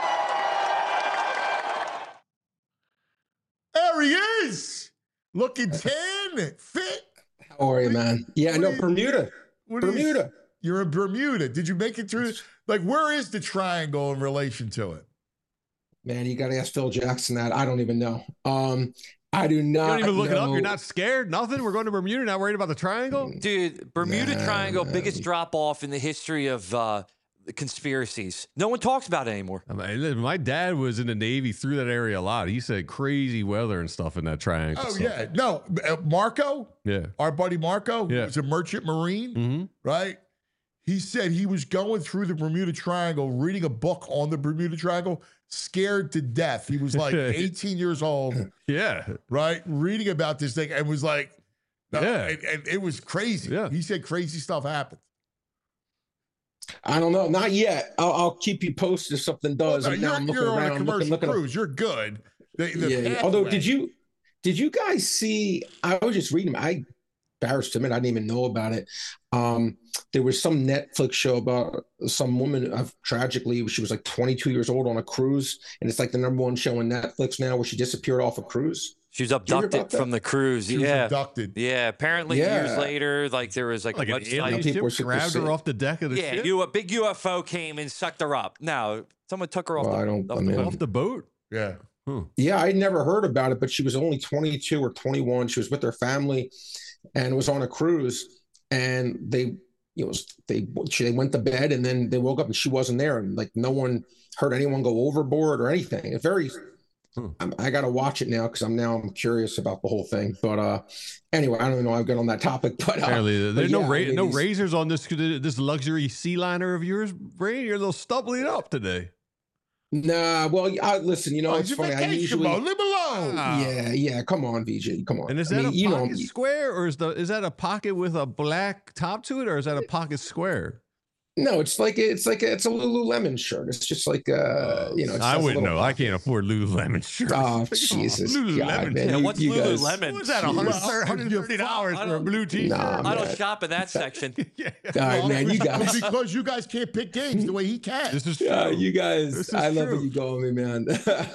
There he is, looking tan, fit. How are you, man? Yeah, no, Bermuda. You're in Bermuda. Did you make it through? Like, where is the triangle in relation to it? Man, you got to ask Phil Jackson that. I don't even know. I do not. You don't even look it up. You're not scared. Nothing. We're going to Bermuda. Not worried about the triangle, dude. Bermuda Triangle, biggest drop off in the history of the conspiracies. No one talks about it anymore. My dad was in the Navy, through that area a lot. He said crazy weather and stuff in that triangle. Oh, yeah. No, Marco. Yeah. Our buddy Marco, who was a merchant marine, right? He said he was going through the Bermuda Triangle, reading a book on the Bermuda Triangle, scared to death. He was like 18 years old. Yeah. Right? Reading about this thing and was like, and it was crazy. Yeah. He said crazy stuff happened. I don't know. Not yet. I'll keep you posted if something does. Well, no, you're on a commercial cruise. You're good. Although, did you guys see, I was just reading, I embarrassed to admit I didn't even know about it. There was some Netflix show about some woman, tragically, she was like 22 years old on a cruise, and it's like the #1 show on Netflix now where she disappeared off a cruise. She was abducted from the cruise. She was abducted. Yeah, apparently years later, like there was like an alien ship grabbed her off the deck of the ship? Yeah, a big UFO came and sucked her up. No, someone took her off the boat? Yeah. Yeah, I'd never heard about it, but she was only 22 or 21. She was with her family and was on a cruise, and they went to bed, and then they woke up and she wasn't there, and like no one heard anyone go overboard or anything. It's very. I got to watch it now because I'm curious about the whole thing. But anyway, I don't even know how I got on that topic. But apparently, there's no razors on this luxury sea liner of yours, Ray. You're a little stumbling up today. Nah, well, listen. You know, it's funny. I usually leave him alone. Yeah. Come on, VJ. Come on. And is that a pocket square, or is that a pocket with a black top to it, or is that a pocket square? No, it's a Lululemon shirt. It's just like I wouldn't know. I can't afford Lululemon shirts. Oh Jesus! Lululemon. Man, what's Lululemon? What's that? $130 for a blue T-shirt? I don't shop in that section. All right, man. You guys, because you guys can't pick games the way he can. This is true. You guys, I love where you go with me, man.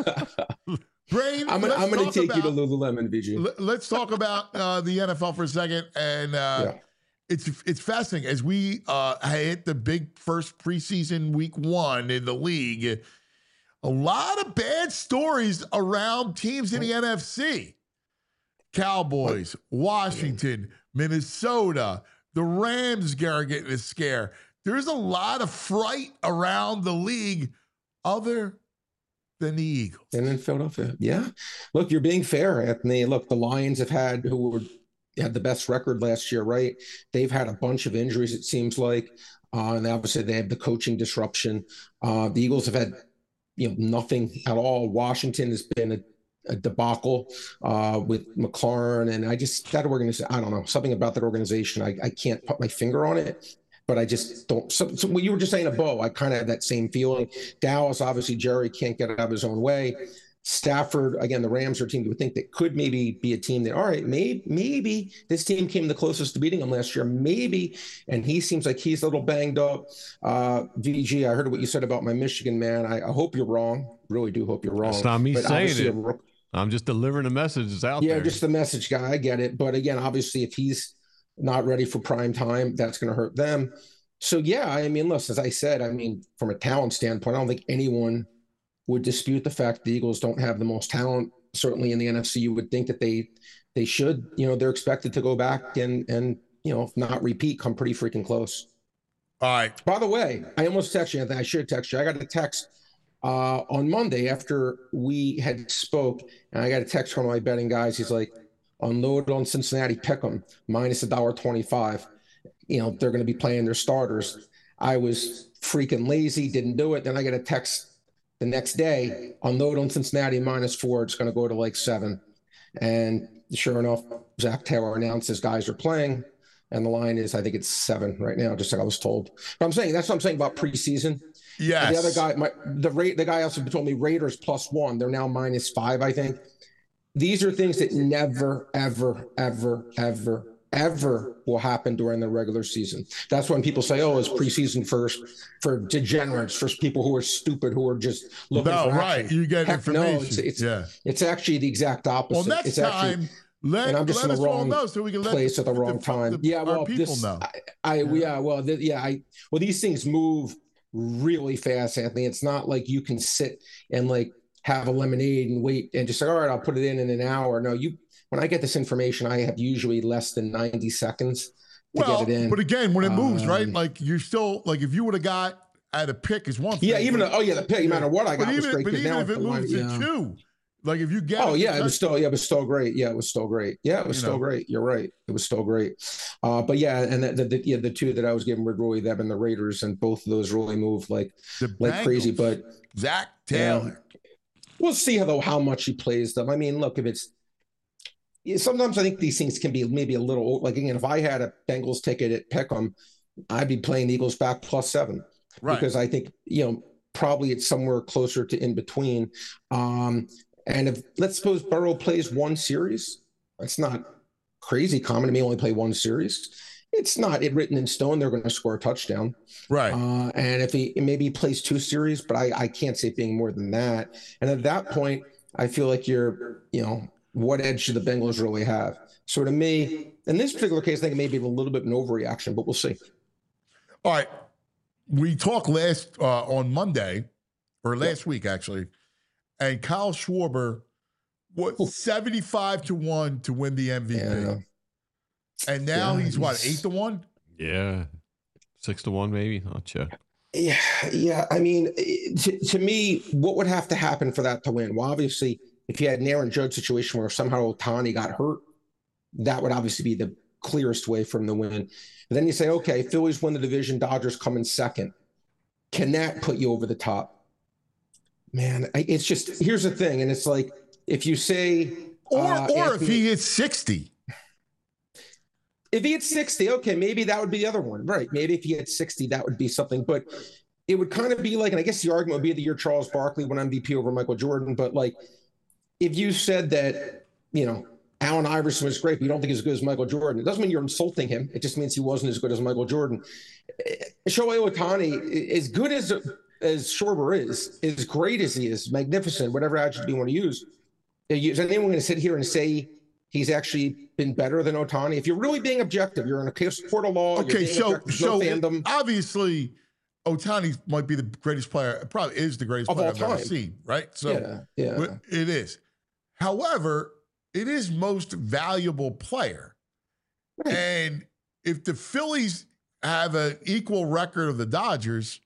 Brain, I'm gonna take you to Lululemon, VG. Let's talk about the NFL for a second, and it's fascinating as we hit the big first preseason week 1 in the league. A lot of bad stories around teams in the NFC. Cowboys, Washington, Minnesota, the Rams are getting a scare. There's a lot of fright around the league other than the Eagles. And then Philadelphia. Yeah. Look, you're being fair, Anthony. Look, the Lions had the best record last year, right? They've had a bunch of injuries, it seems like. And obviously they have the coaching disruption. The Eagles have had, nothing at all. Washington has been a debacle with McLaurin. And that organization, I don't know, something about that organization. I can't put my finger on it, but I just don't. So what you were just saying, Bo, I kind of had that same feeling. Dallas, obviously, Jerry can't get out of his own way. Stafford, again, the Rams are a team you would think that could maybe be a team that, all right, maybe this team came the closest to beating them last year, maybe, and he seems like he's a little banged up. VG, I heard what you said about my Michigan man. I hope you're wrong. Really do hope you're wrong. It's not me saying it. I'm just delivering a message that's out there. Yeah, just the message guy. I get it. But again, obviously, if he's not ready for prime time, that's going to hurt them. So, yeah, I mean, listen, as I said, from a talent standpoint, I don't think anyone would dispute the fact the Eagles don't have the most talent certainly in the NFC, you would think that they should, they're expected to go back and if not repeat, come pretty freaking close. All right. By the way, I almost texted you. I should text you. I got a text on Monday after we had spoke, and I got a text from my betting guys. He's like, unload on Cincinnati Pick'em minus $1.25. They're going to be playing their starters. I was freaking lazy, didn't do it. Then I get a text the next day, unload on Cincinnati -4. It's going to go to like 7. And sure enough, Zach Taylor announced his guys are playing. And the line is, I think it's 7 right now, just like I was told. But that's what I'm saying about preseason. Yes. The other guy, the guy also told me Raiders +1. They're now -5, I think. These are things that never, ever, ever, ever, ever will happen during the regular season. That's when people say, "Oh, it's preseason for degenerates, for people who are stupid, who are just looking for action." Right. You get information. No, it's actually the exact opposite. Well, next time. And I'm just in the wrong place at the wrong time. Yeah, well, people know. These things move really fast, Anthony. It's not like you can sit and like have a lemonade and wait and just say, all right, I'll put it in an hour. No, when I get this information, I have usually less than 90 seconds to get it in. But again, when it moves, right? Like you're still like if you would have got at a pick is one thing. Yeah, even the pick, no matter what I got, was great. But even if it moves to 2. Like if you get it was still great. Yeah, it was still great. Yeah, it was still great. You're right. It was still great. But yeah, and the two that I was giving were really them and the Raiders, and both of those really moved like crazy. But Zach Taylor. We'll see how much he plays them. I mean, look, sometimes I think these things can be maybe a little like again, if I had a Bengals ticket at Pick'em, I'd be playing the Eagles back +7. Right. Because I think, probably it's somewhere closer to in between. And if let's suppose Burrow plays one series, that's not crazy common to me. Only play one series. It's not written in stone. They're going to score a touchdown. Right. And if he plays 2 series, but I can't see it being more than that. And at that point, I feel like what edge do the Bengals really have? So to me, in this particular case, I think it may be a little bit of an overreaction, but we'll see. All right. We talked on Monday or last week, actually. And Kyle Schwarber was 75-1 to win the MVP. Yeah. And now he's what, 8-1? Yeah. 6-1, maybe. I'll check. Yeah. I mean, to me, what would have to happen for that to win? Well, obviously, if you had an Aaron Judge situation where somehow Ohtani got hurt, that would obviously be the clearest way for him to win. But then you say, okay, Phillies win the division, Dodgers come in second. Can that put you over the top? Man, it's just, here's the thing. And it's like, if you say, or if he hits 60. If he hits 60, okay, maybe that would be the other one. Right. Maybe if he hit 60, that would be something. But it would kind of be like, and I guess the argument would be the year Charles Barkley won MVP over Michael Jordan. But like, if you said that, Allen Iverson was great, but you don't think he's as good as Michael Jordan, it doesn't mean you're insulting him. It just means he wasn't as good as Michael Jordan. Shohei Ohtani, as good as Schwarber is, as great as he is, magnificent, whatever adjective you want to use, is anyone going to sit here and say he's actually been better than Ohtani? If you're really being objective, you're in a court of law. Okay, so obviously Ohtani might be the greatest player, probably is the greatest player I've ever seen, right? So yeah. It is. However, it is most valuable player. Right. And if the Phillies have an equal record of the Dodgers,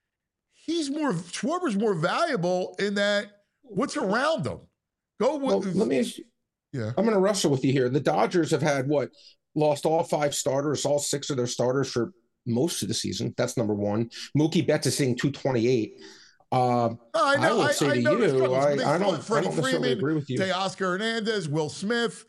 Schwarber's more valuable in that what's around him. Let me ask you. Yeah. I'm going to wrestle with you here. The Dodgers have had lost all 5 starters, all 6 of their starters for most of the season. That's number one. Mookie Betts is hitting 228. I would say to you, I don't necessarily agree with you. Teoscar Hernandez, Will Smith,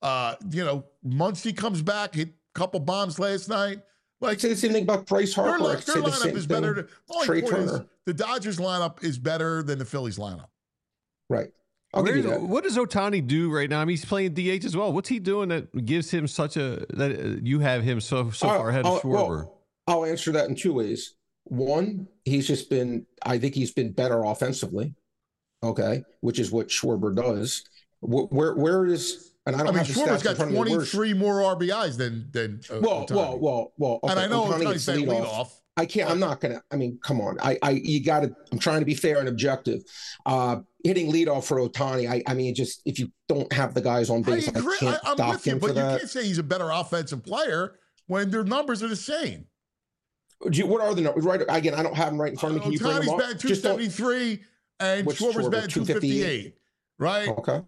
Muncy comes back, hit a couple bombs last night. Like, say the same thing about Bryce Harper. Their lineup is better. Trey Turner. The Dodgers lineup is better than the Phillies lineup. Right. I'll give you that. What does Ohtani do right now? I mean, he's playing DH as well. What's he doing that gives him that you have him so far ahead of Schwarber? Well, I'll answer that in 2 ways. One, I think he's been better offensively. Okay. Which is what Schwarber does. Where is, and I don't have the Schwarber's stats got 23 more RBIs than Ohtani. Well. Okay, and I know Ohtani's lead off. I can't. I'm not gonna. I mean, come on. You got to. I'm trying to be fair and objective. Hitting leadoff for Ohtani. I mean, just if you don't have the guys on base, I can't I'm dock with you, him but for that. you can't say he's a better offensive player when their numbers are the same. What are the numbers? Right. Again, I don't have them right in front of me. Can you bring them Ohtani's up? batting 273 and Schwarber's batting 258. Right. Okay.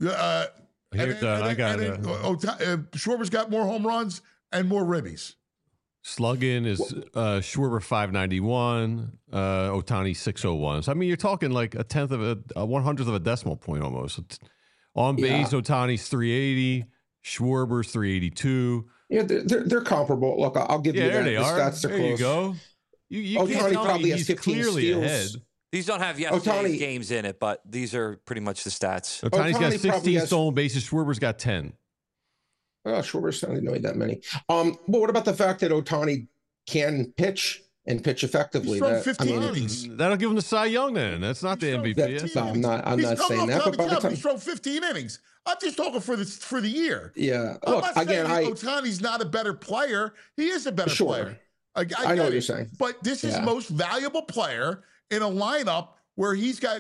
Schwarber's got more home runs and more ribbies. Slugging is Schwarber 591, Ohtani 601. So I mean, you're talking like a 1/100th of a decimal point almost. On base, Ohtani's 380, Schwarber's 382. Yeah, they're comparable. Look, I'll give you that. There they are. Stats there you go. You Ohtani can't tell probably me has he's 15 clearly steals. ahead. These don't have yesterday's games in it, but these are pretty much the stats. Ohtani's got Ohtani 16 has- stolen bases. Schwarber's got 10. Oh, Schwarber's not really that many. Well, what about the fact that Ohtani can pitch and pitch effectively? He's thrown 15 innings. That'll give him the Cy Young then. That's not the MVP. I'm not saying that. But by the time, he's thrown 15 innings. I'm just talking for the year. Yeah. I'm Look, not saying again, Ohtani's not a better player. He is a better player. I know what you're saying. But this is most valuable player in a lineup where he's got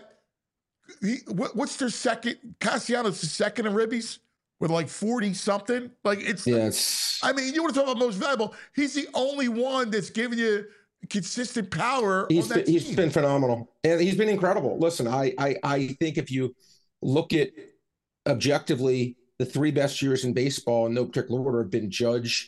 what's their second? Castellanos the second in ribbies with like 40 something. Like it's I mean, you want to talk about most valuable? He's the only one that's giving you consistent power. He's been phenomenal, and he's been incredible. Listen, I think if you look at objectively, the three best years in baseball in no particular order have been Judge,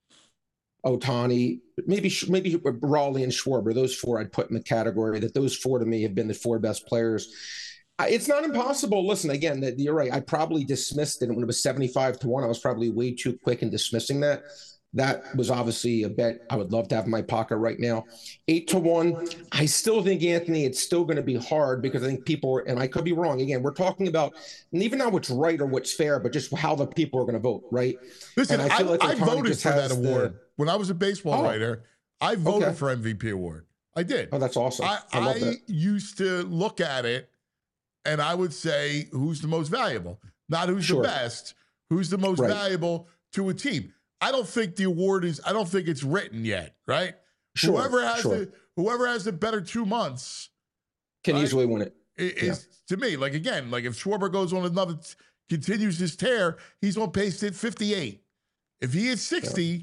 Ohtani, maybe Raleigh and Schwarber. Those four I'd put in the category that those four to me have been the four best players. It's not impossible. Listen, again, you're right. I probably dismissed it when it was 75-1. I was probably way too quick in dismissing that. That was obviously a bet I would love to have in my pocket right now. 8-1. I still think, Anthony, it's still going to be hard because I think people, and I could be wrong. Again, we're talking about, and even not what's right or what's fair, but just how the people are going to vote, right? Listen, and I feel like I voted for that has award. When I was a baseball writer, I voted for MVP award. I did. Oh, that's awesome. I used to look at it and I would say, who's the most valuable? Not who's the best, who's the most valuable to a team. I don't think the award is, I don't think it's written yet, right? Whoever has the better 2 months can easily win it. Is to me, like again, like if Schwarber goes on another, continues his tear, he's on pace to hit 58. If he hits 60,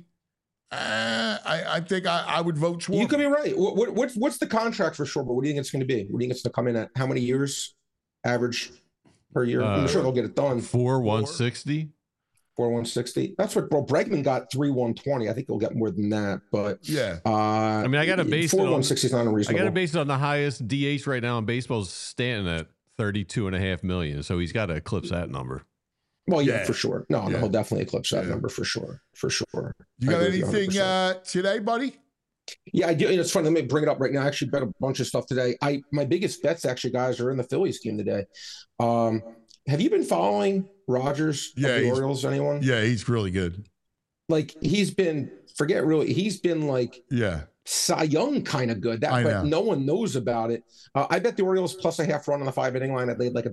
I think I would vote Schwarber. You could be right. What's the contract for Schwarber? What do you think it's going to be? What do you think it's going to come in at? How many years average per year? I'm sure they'll get it done. 4,160. 4,160. That's what Bregman got. 3,120. I think he'll get more than that. But I mean, I got to base 4,160 is not unreasonable. I got to base it on the highest DH right now in baseball is Stanton at $32.5 million. So he's got to eclipse that number. Well, yeah, for sure. No, he'll definitely eclipse that number for sure. For sure. You got anything today, buddy? Yeah, I do. It's funny. Let me bring it up right now. I actually bet a bunch of stuff today. My biggest bets actually, guys, are in the Phillies game today. Have you been following Rogers of the Orioles? Anyone? Yeah, he's really good. Like he's been like Cy Young kind of good. But no one knows about it. I bet the Orioles plus a half run on the 5-inning line. I laid like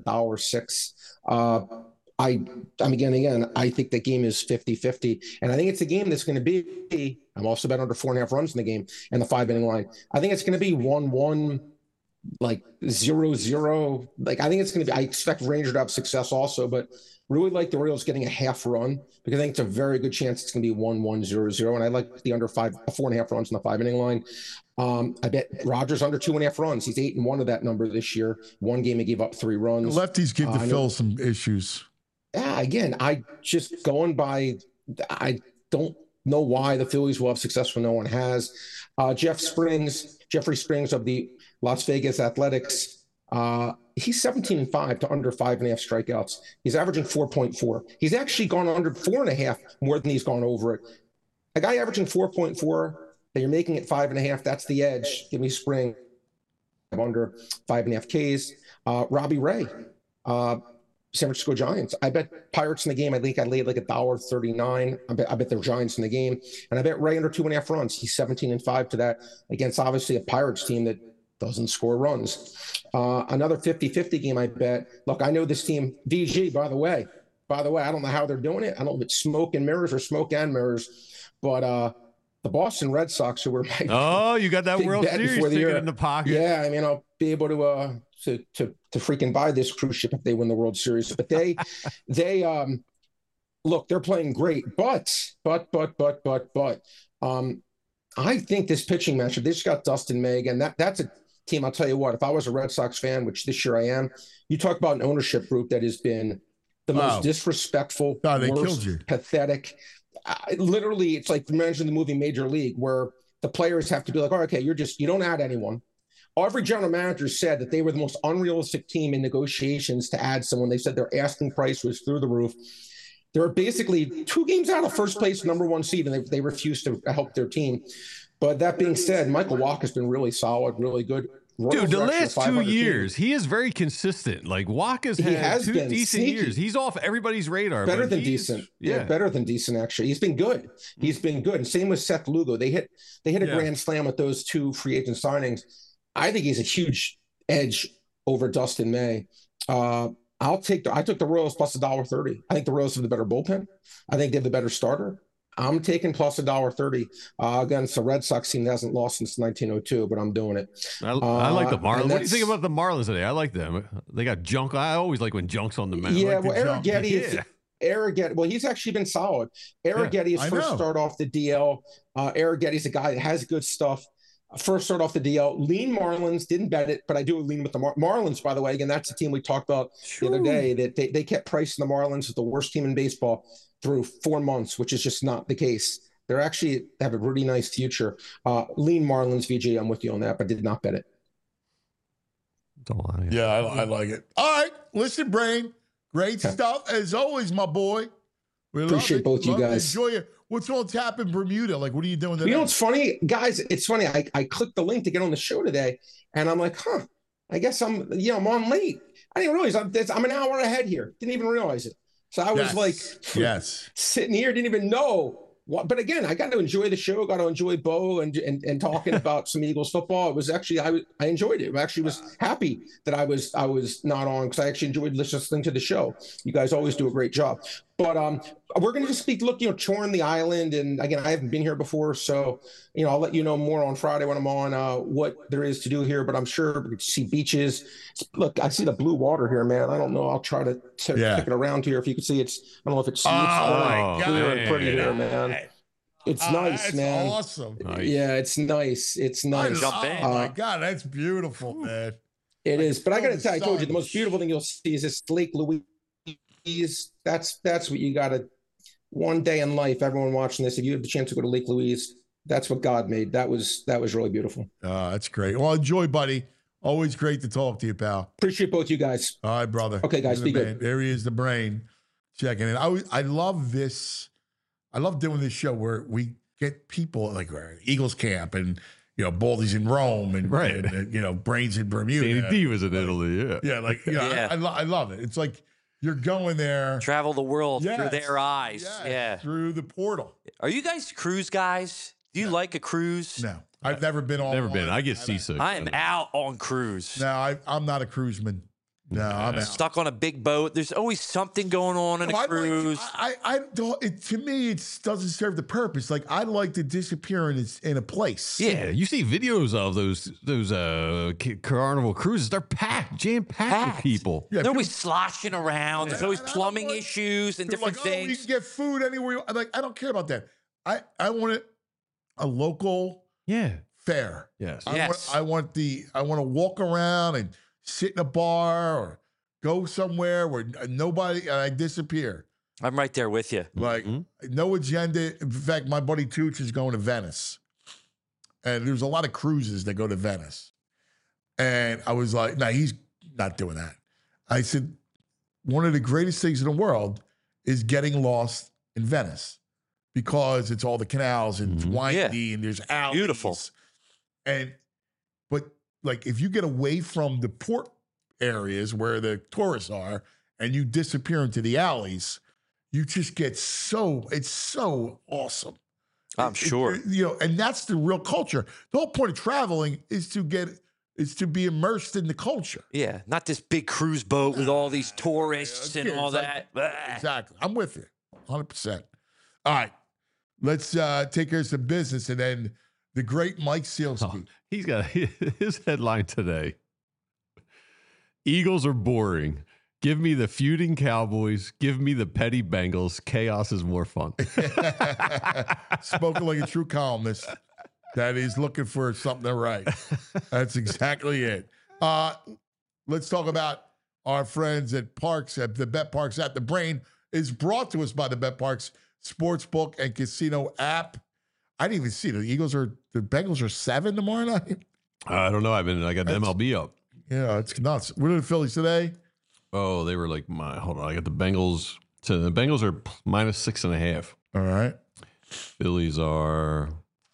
$1.06. Again, I think the game is 50-50. And I think it's a game that's going to be, I'm also bet under 4.5 runs in the game and the 5-inning line. I think it's going to be 1-1, like 0-0. Like, I think it's going to be, I expect Ranger to have success also, but really like the Orioles getting a half run because I think it's a very good chance it's going to be 1-1, 0-0. And I like the under 4.5 runs in the 5-inning line. I bet Rogers under 2.5 runs. He's 8-1 of that number this year. One game he gave up 3 runs. The lefties give the Phil some issues. Yeah, again, I don't know why the Phillies will have success when no one has. Jeffrey Springs of the Las Vegas Athletics, he's 17-5 to under 5.5 strikeouts. He's averaging 4.4. He's actually gone under 4.5 more than he's gone over it. A guy averaging 4.4 that you're making it 5.5, that's the edge. Give me Spring under 5.5 Ks. Robbie Ray, San Francisco Giants. I bet Pirates in the game. I think I laid like $1.39. I bet they're Giants in the game. And I bet Ray under 2.5 runs. He's 17-5 to that against obviously a Pirates team that doesn't score runs. Another 50-50 game, I bet. Look, I know this team, VG, by the way, I don't know how they're doing it. I don't know if it's smoke and mirrors or smoke and mirrors, but the Boston Red Sox, who were my Oh, you got that big World bet Series before the ticket year. in the pocket. Yeah, I mean, I'll be able to freaking buy this cruise ship if they win the World Series. But they look, they're playing great. But I think this pitching matchup, they just got Dustin May again. That's a team. I'll tell you what, if I was a Red Sox fan, which this year I am, you talk about an ownership group that has been the most disrespectful, they worst, killed you. pathetic. Literally, it's like imagine the movie Major League, where the players have to be like, oh, okay, you don't add anyone. Every general manager said that they were the most unrealistic team in negotiations to add someone. They said their asking price was through the roof. They're basically 2 games out of first place, number 1 seed, and they refuse to help their team. But that being said, Michael Wacha has been really solid, really good. Dude, the last 2 years, he is very consistent. Like, Wacha's had 2 decent years. He's off everybody's radar. Better than decent. Yeah, better than decent, actually. He's been good. He's been good. And same with Seth Lugo. They hit a grand slam with those 2 free agent signings. I think he's a huge edge over Dustin May. I took the Royals plus $1.30. I think the Royals have the better bullpen. I think they have the better starter. I'm taking plus $1.30 against a Red Sox team that hasn't lost since 1902, but I'm doing it. I like the Marlins. What do you think about the Marlins today? I like them. They got Junk. I always like when Junk's on the mound. Yeah, like well, Arrighetti, well, he's actually been solid. Arrighetti is first start off the DL. Arrighetti's a guy that has good stuff. First start off the DL. Lean Marlins, didn't bet it, but I do lean with the Marlins, by the way. Again, that's the team we talked about the other day, that they kept pricing the Marlins as the worst team in baseball through 4 months, which is just not the case. They're actually have a really nice future. Lean Marlins, VJ, I'm with you on that, but did not bet it. Yeah, I like it. All right, listen, Brain. Great stuff. As always, my boy. We appreciate both you guys. Enjoy it. What's on tap in Bermuda? Like, what are you doing today? You know what's funny? Guys, it's funny. I clicked the link to get on the show today, and I'm like, I guess I'm on late. I didn't realize I'm an hour ahead here. Didn't even realize it. So I was sitting here, didn't even know. But again, I got to enjoy the show. Got to enjoy Bo and talking about some Eagles football. It was actually I enjoyed it. I actually was happy that I was not on, because I actually enjoyed listening to the show. You guys always do a great job. But we're going to just touring the island. And again, I haven't been here before, so I'll let you know more on Friday when I'm on what there is to do here. But I'm sure we can see beaches. Look, I see the blue water here, man. I don't know. I'll try to take it around here if you can see. I don't know if it's clear and pretty here, man. It's nice, man. Awesome. Yeah, it's nice. It's nice. Oh my God, that's beautiful, man. It is. But I got to tell you, I told you, the most beautiful thing you'll see is this Lake Louise. That's what you got to. One day in life, everyone watching this, if you have the chance to go to Lake Louise, that's what God made. That was really beautiful. That's great. Well, enjoy, buddy. Always great to talk to you, pal. Appreciate both you guys. All right, brother. Okay, guys, be good. There he is, the Brain, checking in. I love this. I love doing this show where we get people like Eagles camp and Baldy's in Rome and Brain's in Bermuda. Danny D was in Italy. I love it. It's like you're going there, travel the world through their eyes. Through the portal. Are you guys cruise guys? Do you like a cruise? No, I've never been on. Never been. I get seasick. I am out on cruise. No, I'm not a cruiseman. No, I'm stuck on a big boat. There's always something going on in a cruise. I don't. To me, it doesn't serve the purpose. Like, I like to disappear in a place. Yeah, you see videos of those Carnival cruises. They're jam-packed with people. Yeah, they're always sloshing around. There's always plumbing issues and different things. You can get food anywhere. I don't care about that. I want a local fare. Yes. I want to walk around and sit in a bar or go somewhere where nobody, and I disappear. I'm right there with you. Like, no agenda. In fact, my buddy Tooch is going to Venice. And there's a lot of cruises that go to Venice. And I was like, no, he's not doing that. I said, one of the greatest things in the world is getting lost in Venice, because it's all the canals and it's windy and there's alleys. Beautiful. But like, if you get away from the port areas where the tourists are and you disappear into the alleys, you just get it's so awesome. I'm sure. And that's the real culture. The whole point of traveling is to be immersed in the culture. Yeah, not this big cruise boat with all these tourists and all that. Exactly. I'm with you 100%. All right. let's take care of some business. And then the great Mike Sielski. He's got his headline today. Eagles are boring. Give me the feuding Cowboys. Give me the petty Bengals. Chaos is more fun. Spoken like a true columnist that is looking for something to write. That's exactly it. Let's talk about our friends at Parks, at the Bet Parks app. The Brain is brought to us by the Bet Parks Sportsbook and Casino app. I didn't even see the Bengals are 7 tomorrow night. I don't know. I got the MLB up. Yeah, it's nuts. What are the Phillies today? Oh, they were like hold on. I got the Bengals. So the Bengals are -6.5. All right. Phillies are.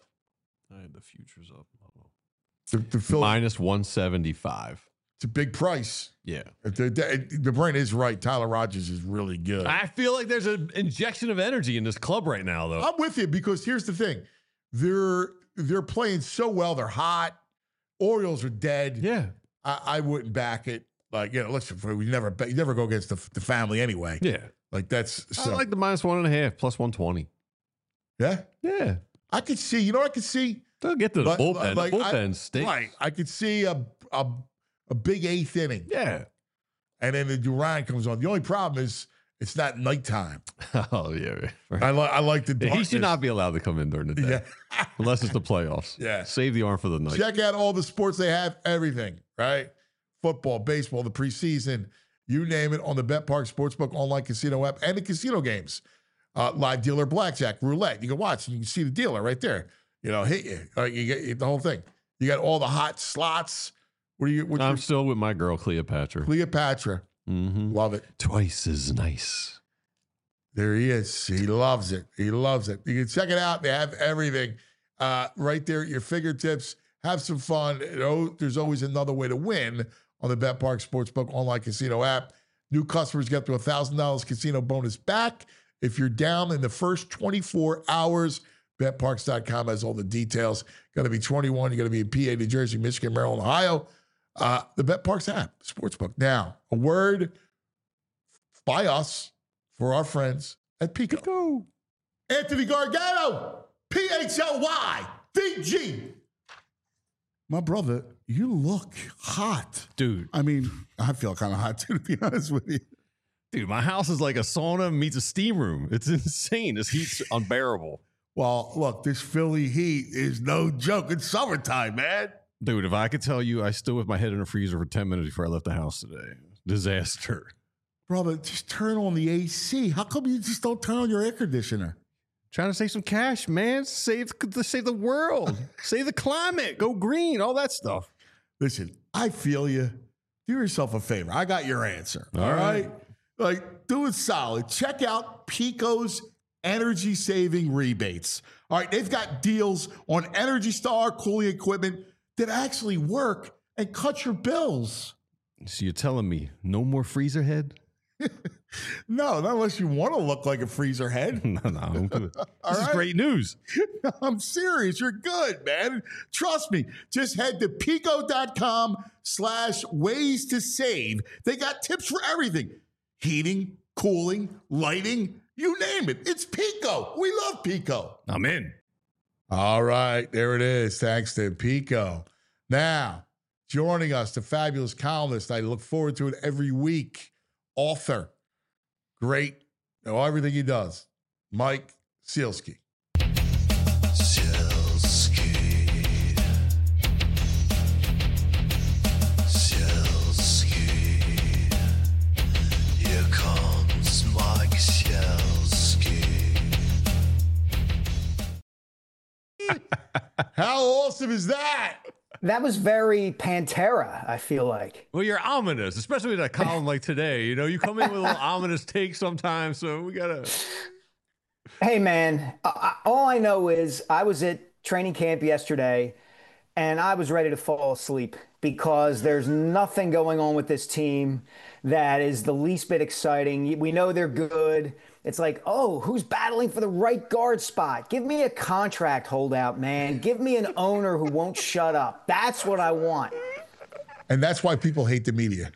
I had the futures up. The Phillies -175. It's a big price. Yeah. The Brain is right. Tyler Rogers is really good. I feel like there's an injection of energy in this club right now, though. I'm with you because here's the thing. They're playing so well. They're hot. Orioles are dead. Yeah. I wouldn't back it. Like, listen, you never go against the family anyway. Yeah. Like that's. I like the -1.5 +120. Yeah. Yeah. I could see. You know what I could see? They'll get to the bullpen. Like, the bullpen stinks. Right. I could see a big 8th inning. Yeah. And then the Duran comes on. The only problem is it's not nighttime. Oh, yeah. Right. I like the darkness. He should not be allowed to come in during the day. Yeah. Unless it's the playoffs. Yeah. Save the arm for the night. Check out all the sports they have, everything, right? Football, baseball, the preseason, you name it, on the Bet Park Sportsbook online casino app and the casino games. Live dealer blackjack, roulette. You can watch and you can see the dealer right there. Hit you. You get the whole thing. You got all the hot slots. I'm still with my girl, Cleopatra. Mm-hmm. Love it. Twice as nice. There he is. He loves it. You can check it out. They have everything right there at your fingertips. Have some fun. There's always another way to win on the Bet Park Sportsbook online casino app. New customers get up to $1,000 casino bonus back if you're down in the first 24 hours. BetParks.com has all the details. Got to be 21. You got to be in PA, New Jersey, Michigan, Maryland, Ohio. The Bet Parks app, Sportsbook. Now, a word by us for our friends at Pico. Anthony Gargano, PHLYVG. My brother, you look hot. Dude. I mean, I feel kind of hot too, to be honest with you. Dude, my house is like a sauna meets a steam room. It's insane. This heat's unbearable. Well, look, this Philly heat is no joke. It's summertime, man. Dude, if I could tell you, I stood with my head in a freezer for 10 minutes before I left the house today. Disaster. Brother, just turn on the AC. How come you just don't turn on your air conditioner? Trying to save some cash, man. Save the world. Save the climate. Go green. All that stuff. Listen, I feel you. Do yourself a favor. I got your answer. All right? Like, do it solid. Check out Pico's energy saving rebates. All right, they've got deals on Energy Star cooling equipment that actually work and cut your bills. So you're telling me no more freezer head? No, not unless you want to look like a freezer head. No, I'm good. This is great news. I'm serious. You're good, man. Trust me. Just head to pico.com/ways to save. They got tips for everything. Heating, cooling, lighting, you name it. It's Pico. We love Pico. I'm in. All right. There it is. Thanks to Pico. Now, joining us, the fabulous columnist. I look forward to it every week. Author. Great. Everything he does. Mike Sielski. Here comes Mike Sielski. How awesome is that? That was very Pantera, I feel like. Well, you're ominous, especially with a column like today. You come in with a little ominous take sometimes, so we got to... Hey, man, all I know is I was at training camp yesterday, and I was ready to fall asleep because there's nothing going on with this team that is the least bit exciting. We know they're good. It's like, oh, who's battling for the right guard spot? Give me a contract holdout, man. Give me an owner who won't shut up. That's what I want. And that's why people hate the media.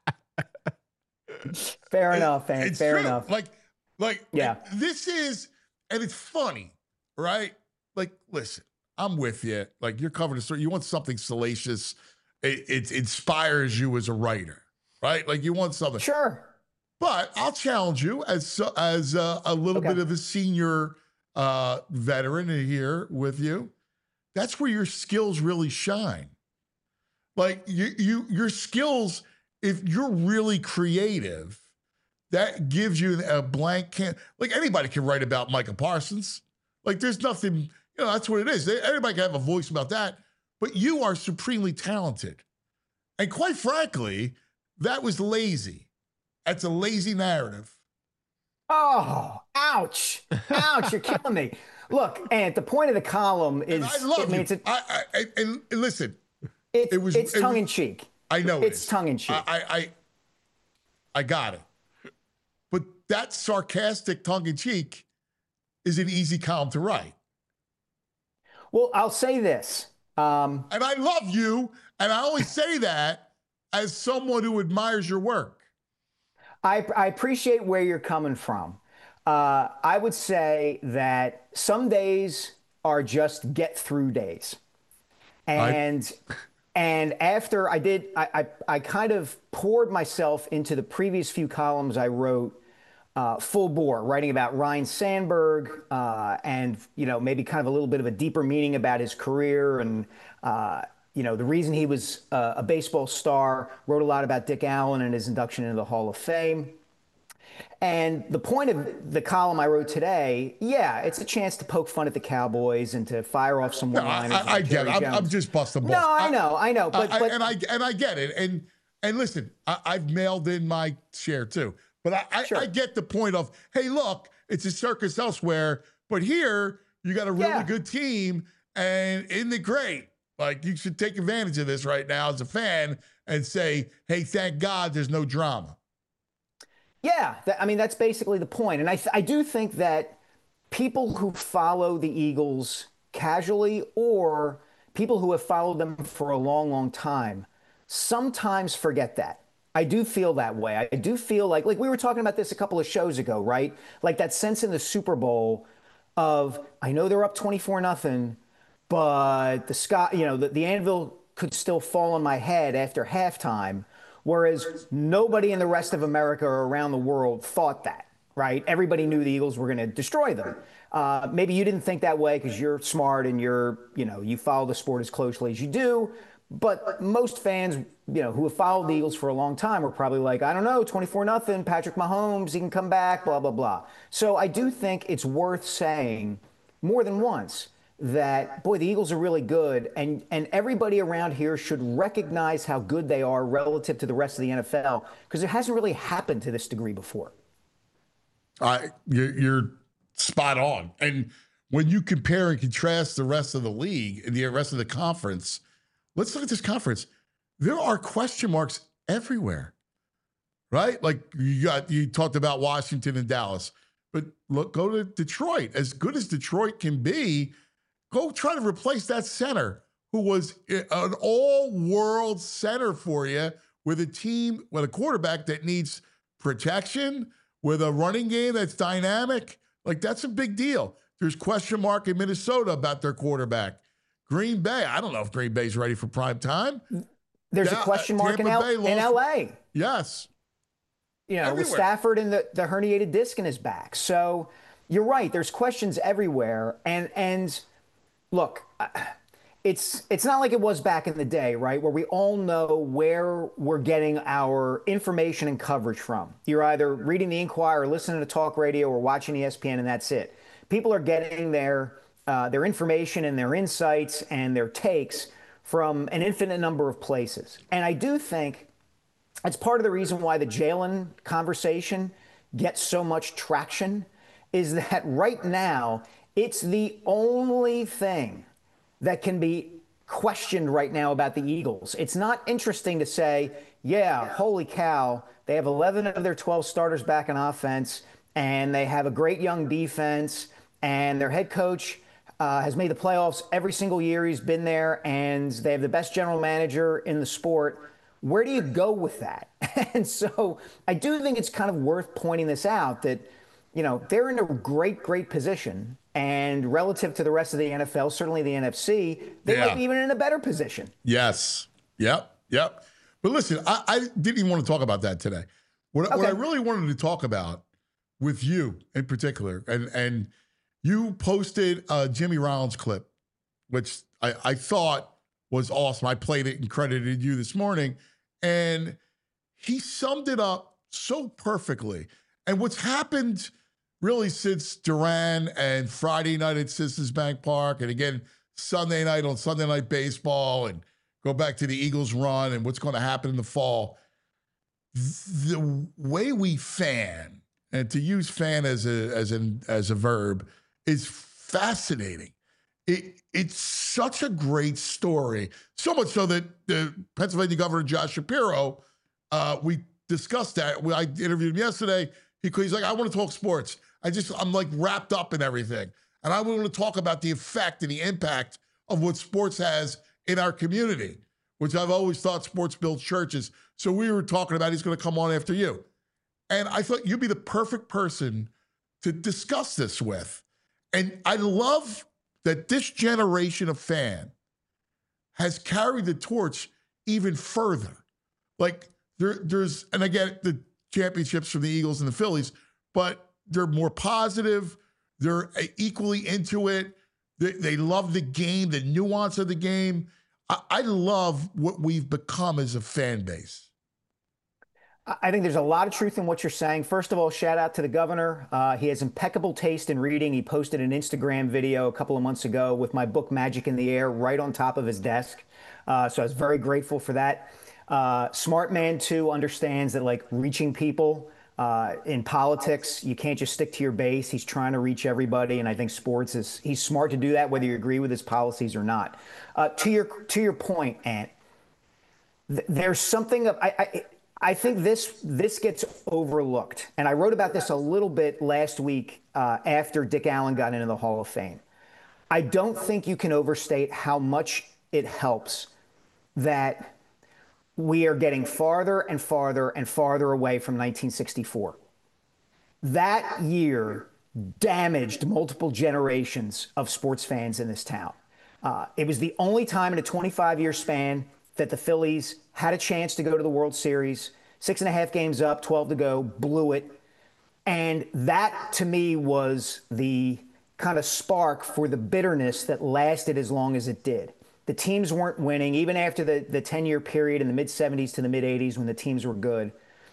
Fair enough, man. Fair enough. Like, yeah. This is And it's funny, right? Like, listen, I'm with you. Like, you're covering a story. You want something salacious. It inspires you as a writer, right? Like, you want something. Sure. But I'll challenge you as a little bit of a senior veteran here with you. That's where your skills really shine. Like, your skills, if you're really creative, that gives you a blank canvas. Like, anybody can write about Micah Parsons. Like, there's nothing, that's what it is. Everybody can have a voice about that. But you are supremely talented. And quite frankly, that was lazy. That's a lazy narrative. Oh, ouch. Ouch, you're killing me. Look, and the point of the column is... And I love you. And listen... It's tongue-in-cheek. I know it's tongue-in-cheek. I got it. But that sarcastic tongue-in-cheek is an easy column to write. Well, I'll say this. And I love you, and I only say that as someone who admires your work. I appreciate where you're coming from. I would say that some days are just get-through days. And after I kind of poured myself into the previous few columns I wrote full bore, writing about Ryne Sandberg and, maybe kind of a little bit of a deeper meaning about his career and, the reason he was a baseball star, wrote a lot about Dick Allen and his induction into the Hall of Fame. And the point of the column I wrote today, it's a chance to poke fun at the Cowboys and to fire off some one-liners. I get it. I'm just busting balls. No, I know. But I get it. And listen, I've mailed in my share too. But I get the point of, hey, look, it's a circus elsewhere, but here you got a really good team, and isn't it great? Like, you should take advantage of this right now as a fan and say, hey, thank God there's no drama. Yeah, that's basically the point. And I do think that people who follow the Eagles casually or people who have followed them for a long, long time sometimes forget that. I do feel that way. I do feel like we were talking about this a couple of shows ago, right? Like that sense in the Super Bowl of, I know they're up 24-0, but the sky, the anvil could still fall on my head after halftime. Whereas nobody in the rest of America or around the world thought that, right? Everybody knew the Eagles were going to destroy them. Maybe you didn't think that way because you're smart and you follow the sport as closely as you do. But most fans, who have followed the Eagles for a long time were probably like, I don't know, 24-0, Patrick Mahomes, he can come back, blah, blah, blah. So I do think it's worth saying more than once that, boy, the Eagles are really good, and everybody around here should recognize how good they are relative to the rest of the NFL, because it hasn't really happened to this degree before. You're spot on. And when you compare and contrast the rest of the league and the rest of the conference, let's look at this conference. There are question marks everywhere, right? Like you talked about Washington and Dallas, but look, go to Detroit. As good as Detroit can be, go try to replace that center who was an all-world center for you with a quarterback that needs protection, with a running game that's dynamic. Like, that's a big deal. There's question mark in Minnesota about their quarterback. Green Bay, I don't know if Green Bay's ready for prime time. There's a question mark in L.A. Yes. With Stafford and the herniated disc in his back. So you're right. There's questions everywhere. And look, it's not like it was back in the day, right, where we all know where we're getting our information and coverage from. You're either reading the Inquirer, listening to talk radio, or watching ESPN, and that's it. People are getting their information and their insights and their takes from an infinite number of places. And I do think that's part of the reason why the Jalen conversation gets so much traction, is that right now it's the only thing that can be questioned right now about the Eagles. It's not interesting to say, yeah, holy cow, they have 11 of their 12 starters back in offense, and they have a great young defense, and their head coach has made the playoffs every single year he's been there, and they have the best general manager in the sport. Where do you go with that? And so I do think it's kind of worth pointing this out, that they're in a great position. And relative to the rest of the NFL, certainly the NFC, they might be even in a better position. Yes. Yep. But listen, I didn't even want to talk about that today. What I really wanted to talk about with you in particular, and you posted a Jimmy Rollins clip, which I thought was awesome. I played it and credited you this morning, and he summed it up so perfectly. And what's happened really since Duran and Friday night at Citizens Bank Park, and again, Sunday night on Sunday Night Baseball, and go back to the Eagles run and what's going to happen in the fall. The way we fan, and to use fan as a verb, is fascinating. It's such a great story. So much so that the Pennsylvania Governor Josh Shapiro, we discussed that. I interviewed him yesterday. He's like, I want to talk sports. I'm like wrapped up in everything. And I want to talk about the effect and the impact of what sports has in our community, which I've always thought sports builds churches. So we were talking about he's going to come on after you. And I thought you'd be the perfect person to discuss this with. And I love that this generation of fan has carried the torch even further. Like there's, and again, the championships from the Eagles and the Phillies, but they're more positive. They're equally into it. They love the game, the nuance of the game. I love what we've become as a fan base. I think there's a lot of truth in what you're saying. First of all, shout out to the governor. He has impeccable taste in reading. He posted an Instagram video a couple of months ago with my book, Magic in the Air, right on top of his desk. So I was very grateful for that. Smart man, too, understands that, like, reaching people in politics, you can't just stick to your base. He's trying to reach everybody, and I think he's smart to do that, whether you agree with his policies or not. To your point, Ant, there's something of I think this gets overlooked, and I wrote about this a little bit last week after Dick Allen got into the Hall of Fame. I don't think you can overstate how much it helps that we are getting farther and farther and farther away from 1964. That year damaged multiple generations of sports fans in this town. It was the only time in a 25-year span that the Phillies had a chance to go to the World Series. 6.5 games up, 12 to go, blew it. And that, to me, was the kind of spark for the bitterness that lasted as long as it did. The teams weren't winning, even after the 10-year period in the mid-'70s to the mid-'80s when the teams were good.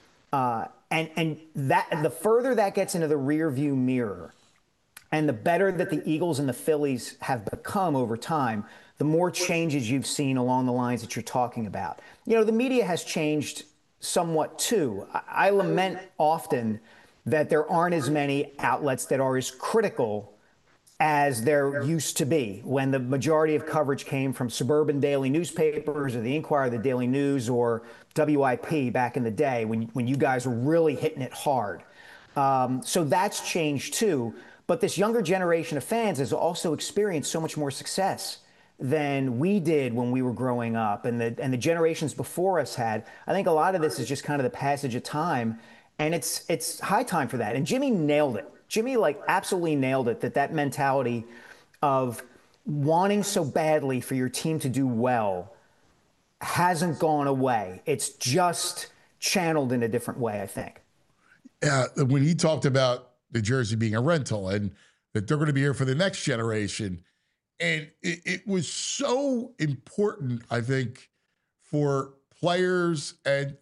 And that the further that gets into the rearview mirror, and the better that the Eagles and the Phillies have become over time, the more changes you've seen along the lines that you're talking about. You know, the media has changed somewhat too. I lament often that there aren't as many outlets that are as critical as there used to be when the majority of coverage came from suburban daily newspapers or the Inquirer, the Daily News, or WIP back in the day when you guys were really hitting it hard. So that's changed too. But this younger generation of fans has also experienced so much more success than we did when we were growing up and the generations before us had. I think a lot of this is just kind of the passage of time, and it's high time for that. And Jimmy nailed it. Jimmy, absolutely nailed it, that mentality of wanting so badly for your team to do well hasn't gone away. It's just channeled in a different way, I think. Yeah, when he talked about the jersey being a rental and that they're going to be here for the next generation, and it was so important, I think, for players and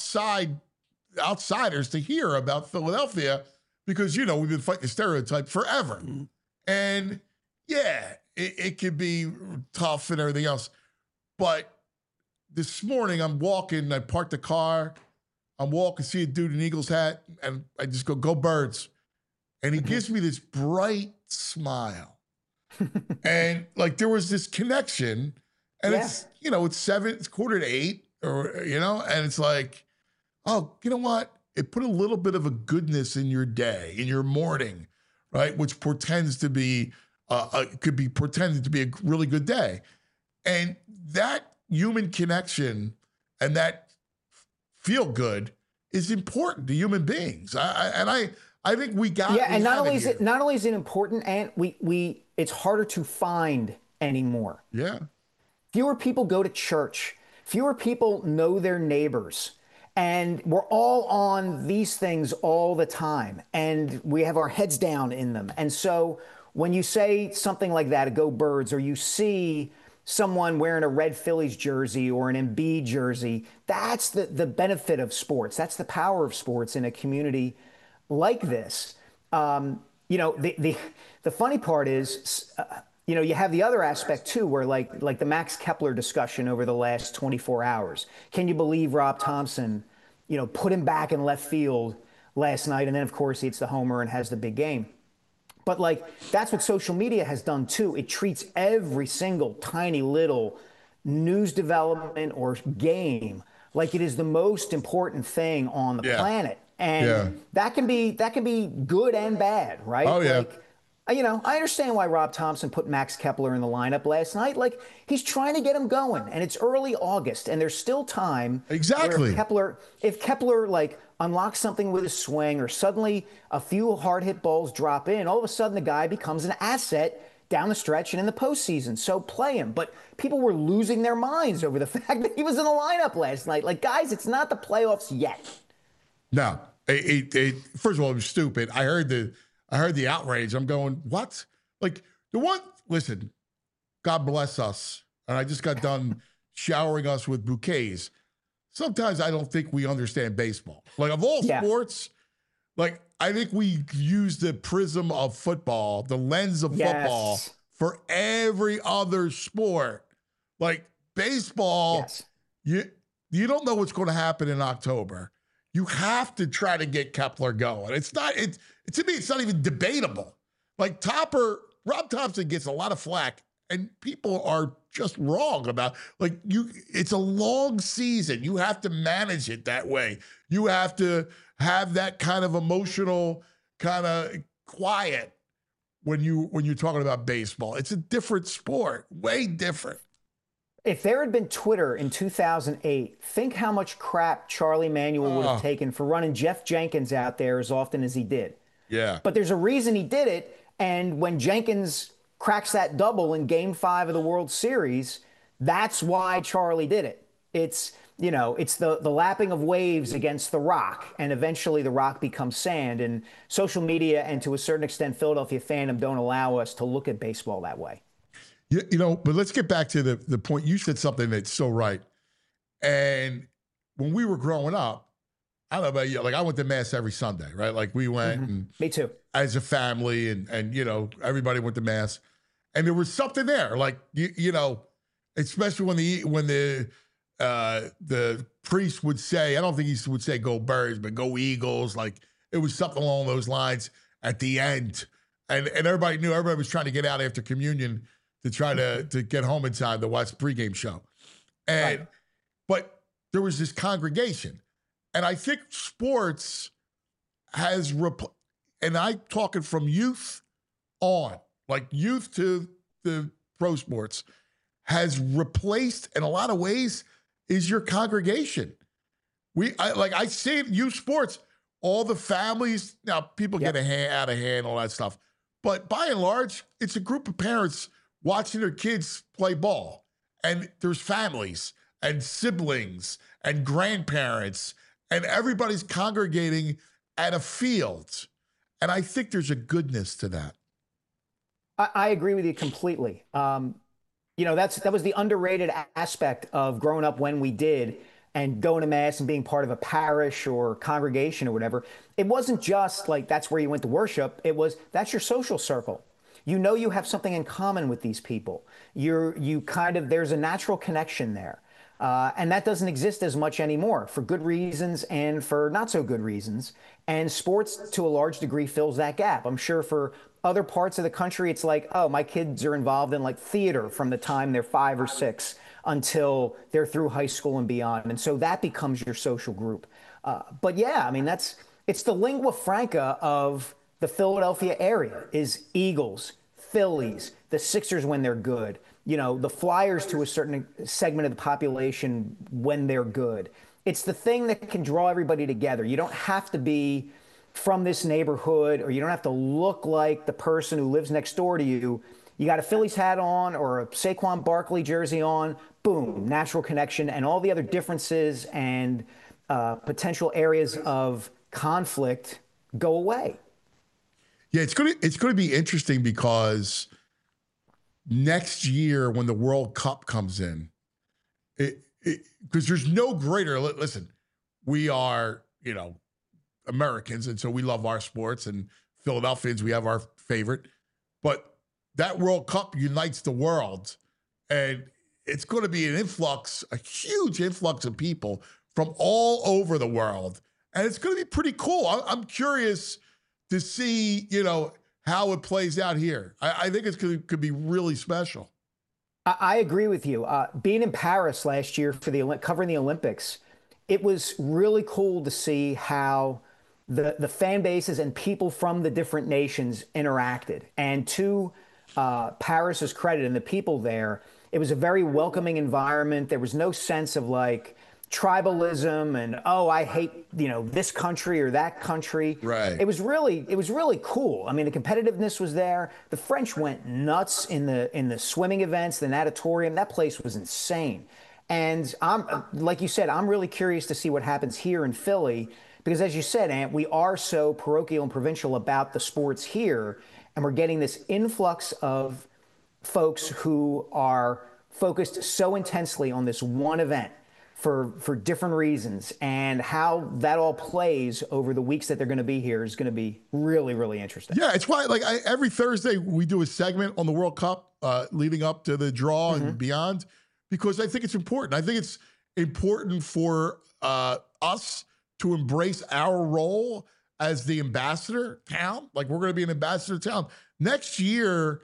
outsiders to hear about Philadelphia, because, you know, we've been fighting the stereotype forever. Mm-hmm. And, yeah, it could be tough and everything else. But this morning I'm walking, I parked the car, I'm walking, see a dude in an Eagles hat, and I just go Birds. And he gives me this bright smile. And, there was this connection. And it's, it's 8:15, or, and it's like, oh, you know what? It put a little bit of a goodness in your day, in your morning, right? Which portends to be, could be pretended to be a really good day. And that human connection and that feel good is important to human beings. I I think we got. Yeah, and not only is it important, and it's harder to find anymore. Yeah. Fewer people go to church. Fewer people know their neighbors. And we're all on these things all the time. And we have our heads down in them. And so when you say something like that, a Go Birds, or you see someone wearing a red Phillies jersey or an Embiid jersey, that's the benefit of sports. That's the power of sports in a community like this. The funny part is, you have the other aspect too, where like the Max Kepler discussion over the last 24 hours. Can you believe Rob Thompson, put him back in left field last night? And then of course he hits the homer and has the big game. But that's what social media has done too. It treats every single tiny little news development or game like it is the most important thing on the planet. And that can be good and bad, right? Oh, yeah. I understand why Rob Thompson put Max Kepler in the lineup last night. He's trying to get him going, and it's early August, and there's still time. Exactly. If Kepler unlocks something with his swing, or suddenly a few hard hit balls drop in, all of a sudden the guy becomes an asset down the stretch and in the postseason. So play him. But people were losing their minds over the fact that he was in the lineup last night. Guys, it's not the playoffs yet. No. First of all, it was stupid. I heard the outrage. I'm going, what? Listen, God bless us. And I just got done showering us with bouquets. Sometimes I don't think we understand baseball. Of all sports, I think we use the prism of football, the lens of football for every other sport. Baseball, you don't know what's going to happen in October. You have to try to get Kepler going. To me, it's not even debatable. Rob Thompson gets a lot of flack, and people are just wrong about it's a long season. You have to manage it that way. You have to have that kind of emotional kind of quiet when you're talking about baseball. It's a different sport, way different. If there had been Twitter in 2008, think how much crap Charlie Manuel would have taken for running Jeff Jenkins out there as often as he did. Yeah. But there's a reason he did it. And when Jenkins cracks that double in Game 5 of the World Series, that's why Charlie did it. It's the lapping of waves against the rock, and eventually the rock becomes sand. And social media and to a certain extent Philadelphia fandom don't allow us to look at baseball that way. But let's get back to the point. You said something that's so right. And when we were growing up, I don't know about you, I went to Mass every Sunday, right? We went and me too, as a family, and everybody went to Mass. And there was something there, especially when the priest would say, I don't think he would say go Birds, but go Eagles. It was something along those lines at the end. And everybody knew, everybody was trying to get out after communion to try to get home in time to watch the pregame show. But there was this congregation. And I think sports has, and I'm talking from youth on, youth to the pro sports, has replaced, in a lot of ways, is your congregation. I see it in youth sports, all the families, now people get out of hand, all that stuff. But by and large, it's a group of parents watching their kids play ball. And there's families and siblings and grandparents, and everybody's congregating at a field. And I think there's a goodness to that. I agree with you completely. That was the underrated aspect of growing up when we did, and going to Mass and being part of a parish or congregation or whatever. It wasn't just that's where you went to worship. That's your social circle. You have something in common with these people. There's a natural connection there. And that doesn't exist as much anymore, for good reasons and for not so good reasons. And sports, to a large degree, fills that gap. I'm sure for other parts of the country, it's my kids are involved in theater from the time they're 5 or 6 until they're through high school and beyond. And so that becomes your social group. It's the lingua franca of the Philadelphia area is Eagles, Phillies, the Sixers when they're good, the Flyers to a certain segment of the population when they're good. It's the thing that can draw everybody together. You don't have to be from this neighborhood, or you don't have to look like the person who lives next door to you. You got a Phillies hat on or a Saquon Barkley jersey on, boom, natural connection, and all the other differences and potential areas of conflict go away. Yeah, it's gonna be interesting because next year when the World Cup comes in, because there's no greater. Listen, we are Americans, and so we love our sports, and Philadelphians, we have our favorite, but that World Cup unites the world, and it's going to be a huge influx of people from all over the world, and it's going to be pretty cool. I'm curious to see, how it plays out here. I think could be really special. I agree with you. Being in Paris last year for covering the Olympics, it was really cool to see how the fan bases and people from the different nations interacted. And to Paris's credit and the people there, it was a very welcoming environment. There was no sense of tribalism and, I hate, this country or that country. Right. It was really cool. I mean, the competitiveness was there. The French went nuts in the swimming events, the natatorium. That place was insane. And like you said, I'm really curious to see what happens here in Philly, because as you said, Ant, we are so parochial and provincial about the sports here. And we're getting this influx of folks who are focused so intensely on this one event for different reasons. And how that all plays over the weeks that they're going to be here is going to be really, really interesting. Yeah, it's why every Thursday we do a segment on the World Cup leading up to the draw and beyond, because I think it's important. I think it's important for us to embrace our role as the ambassador town. We're going to be an ambassador town. Next year,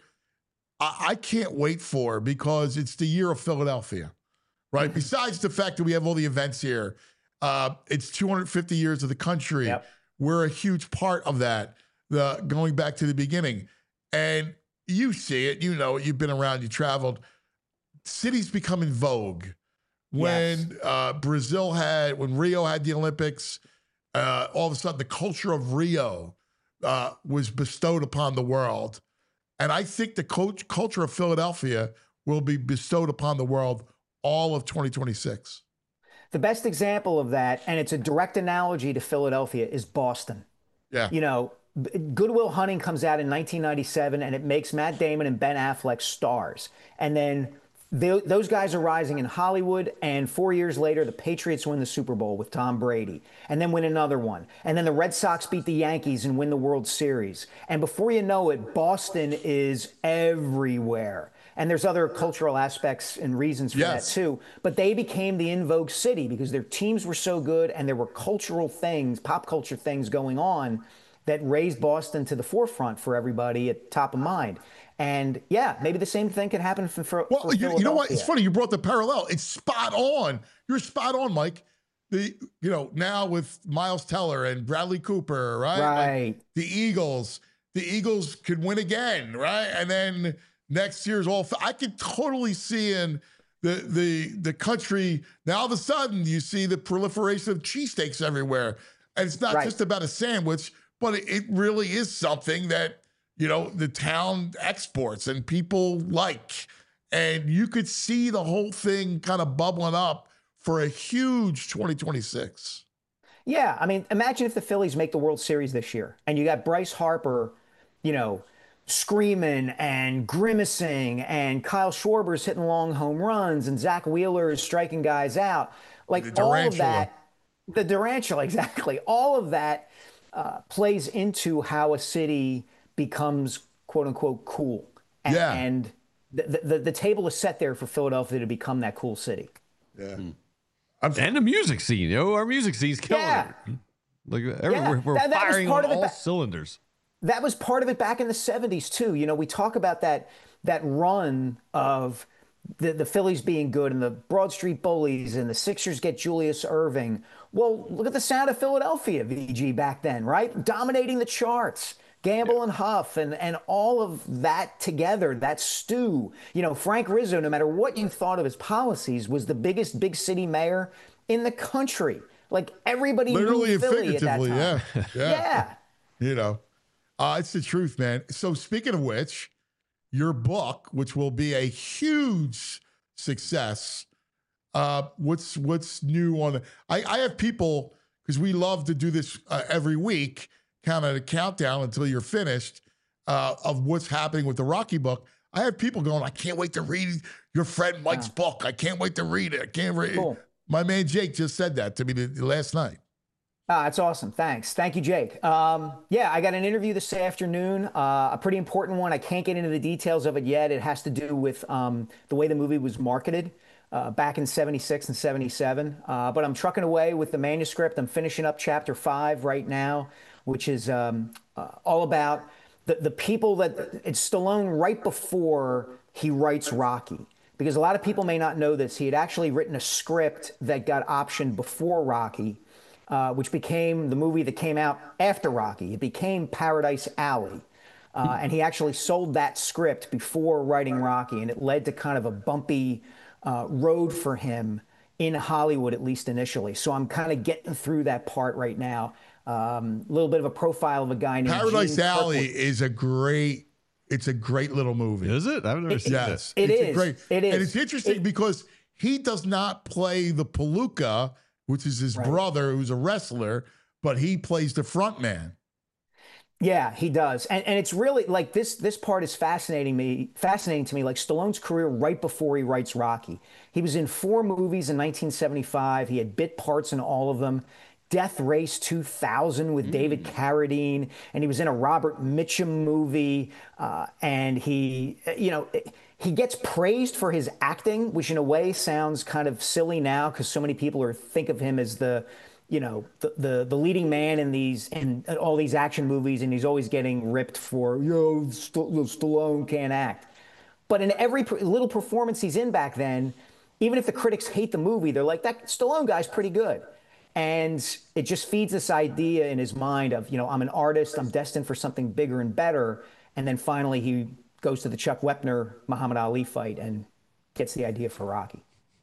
I can't wait because it's the year of Philadelphia, right? Besides the fact that we have all the events here, it's 250 years of the country. Yep. We're a huge part of that, going back to the beginning. And you see it, you've been around, you traveled. Cities become in vogue. When when Rio had the Olympics, all of a sudden the culture of Rio was bestowed upon the world. And I think the culture of Philadelphia will be bestowed upon the world all of 2026. The best example of that, and it's a direct analogy to Philadelphia, is Boston. Yeah. Good Will Hunting comes out in 1997, and it makes Matt Damon and Ben Affleck stars. And then those guys are rising in Hollywood, and 4 years later, the Patriots win the Super Bowl with Tom Brady, and then win another one. And then the Red Sox beat the Yankees and win the World Series. And before you know it, Boston is everywhere. And there's other cultural aspects and reasons for that too. But they became the in vogue city because their teams were so good, and there were cultural things, pop culture things going on that raised Boston to the forefront for everybody at top of mind. And maybe the same thing could happen for Philadelphia. You know what? It's funny you brought the parallel. It's spot on. You're spot on, Mike. Now with Miles Teller and Bradley Cooper, right? Right. The Eagles could win again, right? And then next year's I could totally see in the country. Now all of a sudden you see the proliferation of cheesesteaks everywhere, and it's not just about a sandwich, but it really is something that the town exports and people like. And you could see the whole thing kind of bubbling up for a huge 2026. Yeah, I mean, imagine if the Phillies make the World Series this year, and you got Bryce Harper, screaming and grimacing, and Kyle Schwarber's hitting long home runs, and Zach Wheeler is striking guys out. All of that, the Durantula, exactly. All of that plays into how a city becomes quote unquote cool. And the table is set there for Philadelphia to become that cool city. Yeah. And the music scene, our music scene's killing it. We're firing on all cylinders. That was part of it back in the 70s too. We talk about that run of the Phillies being good and the Broad Street Bullies and the Sixers get Julius Erving. Well, look at the sound of Philadelphia, VG, back then, right? Dominating the charts. Gamble and Huff and all of that together, that stew. Frank Rizzo, no matter what you thought of his policies, was the biggest big city mayor in the country. Everybody literally knew Philly at that time. Yeah. It's the truth, man. So speaking of which, your book, which will be a huge success, what's new on I have people, because we love to do this every week, kind of the countdown until you're finished of what's happening with the Rocky book. I have people going, I can't wait to read your friend Mike's book. I can't wait to read it. I can't read it. My man Jake just said that to me last night. That's awesome. Thanks. Thank you, Jake. Yeah, I got an interview this afternoon, a pretty important one. I can't get into the details of it yet. It has to do with the way the movie was marketed back in 76 and 77. But I'm trucking away with the manuscript. I'm finishing up chapter 5 right now, which is all about the people that it's Stallone right before he writes Rocky. Because a lot of people may not know this. He had actually written a script that got optioned before Rocky, which became the movie that came out after Rocky. It became Paradise Alley. And he actually sold that script before writing Rocky, and it led to kind of a bumpy road for him in Hollywood, at least initially. So I'm kind of getting through that part right now. A little bit of a profile of a guy named Paradise Alley is a great little movie. Is it? I've never seen it. It is. And it's interesting because he does not play the Palooka, which is his brother, who's a wrestler, but he plays the front man. Yeah, he does. And it's really like this part is fascinating to me, like Stallone's career right before he writes Rocky. He was in 4 movies in 1975. He had bit parts in all of them. Death Race 2000 with David Carradine, and he was in a Robert Mitchum movie, and he gets praised for his acting, which in a way sounds kind of silly now because so many people think of him as the leading man in all these action movies, and he's always getting ripped for Stallone can't act. But in every little performance he's in back then, even if the critics hate the movie, they're like, that Stallone guy's pretty good. And it just feeds this idea in his mind of, I'm an artist, I'm destined for something bigger and better. And then finally he goes to the Chuck Wepner Muhammad Ali fight and gets the idea for Rocky.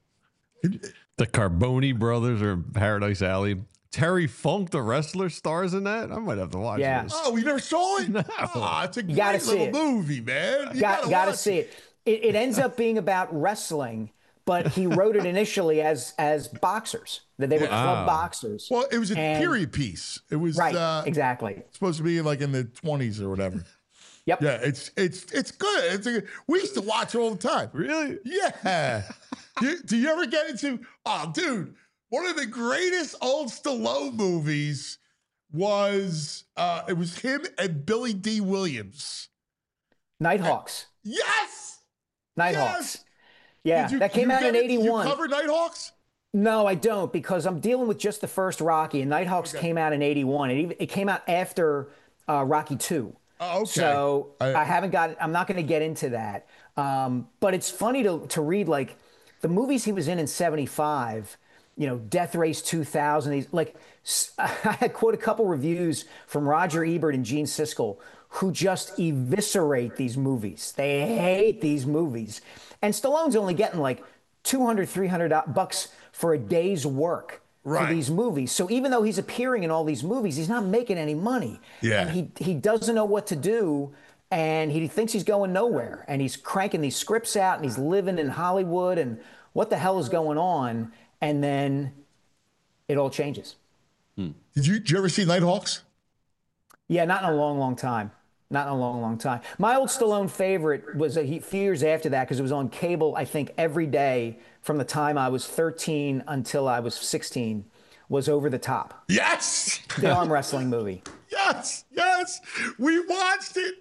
The Carboni brothers are in Paradise Alley. Terry Funk, the wrestler, stars in that. I might have to watch this. Oh, we never saw it? No. It's a great little movie, man. You gotta see it. It ends up being about wrestling, but he wrote it initially as boxers, that they were club boxers. Well, it was a period piece. It was exactly supposed to be like in the 20s or whatever. Yep. Yeah, it's good. We used to watch it all the time. Really? Yeah. Do you ever get into? Oh, dude, one of the greatest old Stallone movies was it was him and Billy D. Williams. Nighthawks. Yes. Nighthawks. Yeah, that came out in 81. Did you cover Nighthawks? No, I don't, because I'm dealing with just the first Rocky, and Nighthawks came out in 81. It came out after Rocky 2. Oh, okay. So I'm not going to get into that. But it's funny to read, like, the movies he was in 75, Death Race 2000. I quote a couple reviews from Roger Ebert and Gene Siskel, who just eviscerate these movies. They hate these movies. And Stallone's only getting like $200, $300 for a day's work for these movies. So even though he's appearing in all these movies, he's not making any money. Yeah. And he doesn't know what to do, and he thinks he's going nowhere. And he's cranking these scripts out, and he's living in Hollywood, and what the hell is going on? And then it all changes. Did you ever see Nighthawks? Yeah, not in a long, long time. Not in a long, long time. My old Stallone favorite was a few years after that, because it was on cable, I think, every day from the time I was 13 until I was 16, was Over the Top. Yes! The arm wrestling movie. Yes! We watched it.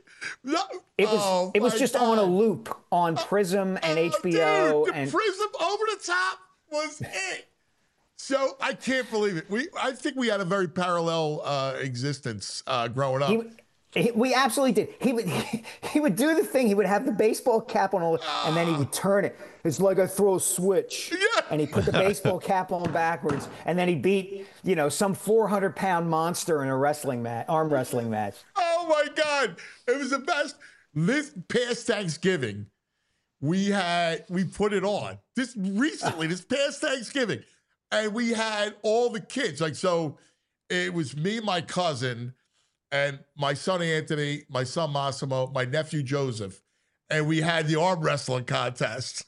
It was just on a loop on Prism and HBO. Dude, Prism Over the Top was it. So I can't believe it. I think we had a very parallel existence growing up. We absolutely did. He would do the thing. He would have the baseball cap on, and then he would turn it. It's like I throw a switch. Yeah. And he put the baseball cap on backwards, and then he beat some 400-pound monster in a arm wrestling match. Oh my God! It was the best. This past Thanksgiving, we put it on. This past Thanksgiving, and we had all the kids. So it was me, my cousin. and my son Anthony, my son Massimo, my nephew Joseph, and we had the arm wrestling contest.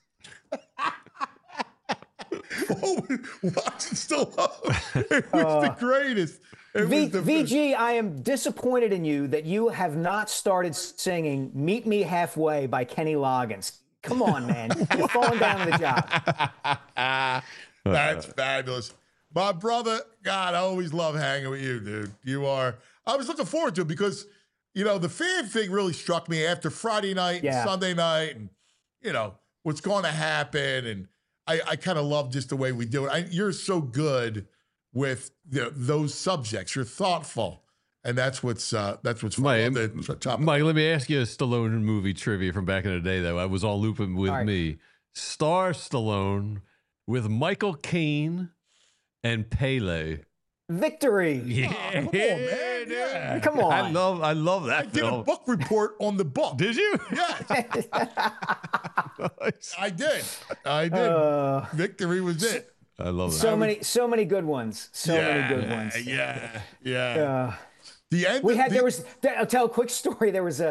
Watching Stallone. It was the greatest. VG, I am disappointed in you that you have not started singing Meet Me Halfway by Kenny Loggins. Come on, man. You're falling down on the job. That's fabulous. My brother, God, I always love hanging with you, dude. I was looking forward to it because, the fan thing really struck me after Friday night and Sunday night and, what's going to happen. And I kind of love just the way we do it. You're so good with those subjects. You're thoughtful. And that's what's fun. Mike, let me ask you a Stallone movie trivia from back in the day that I was all looping with me. Star Stallone with Michael Caine and Pele. Victory. Yeah. Come on, man. Yeah. Come on. I love that I did a book report on the book. Did you? Yes. Nice. I did. Victory was it. I love that. So many good ones. Many good ones. Yeah. I'll tell a quick story. There was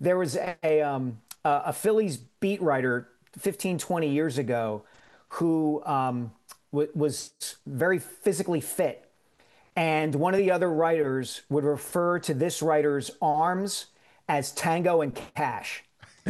a Phillies beat writer 15, 20 years ago who was very physically fit. And one of the other writers would refer to this writer's arms as Tango and Cash.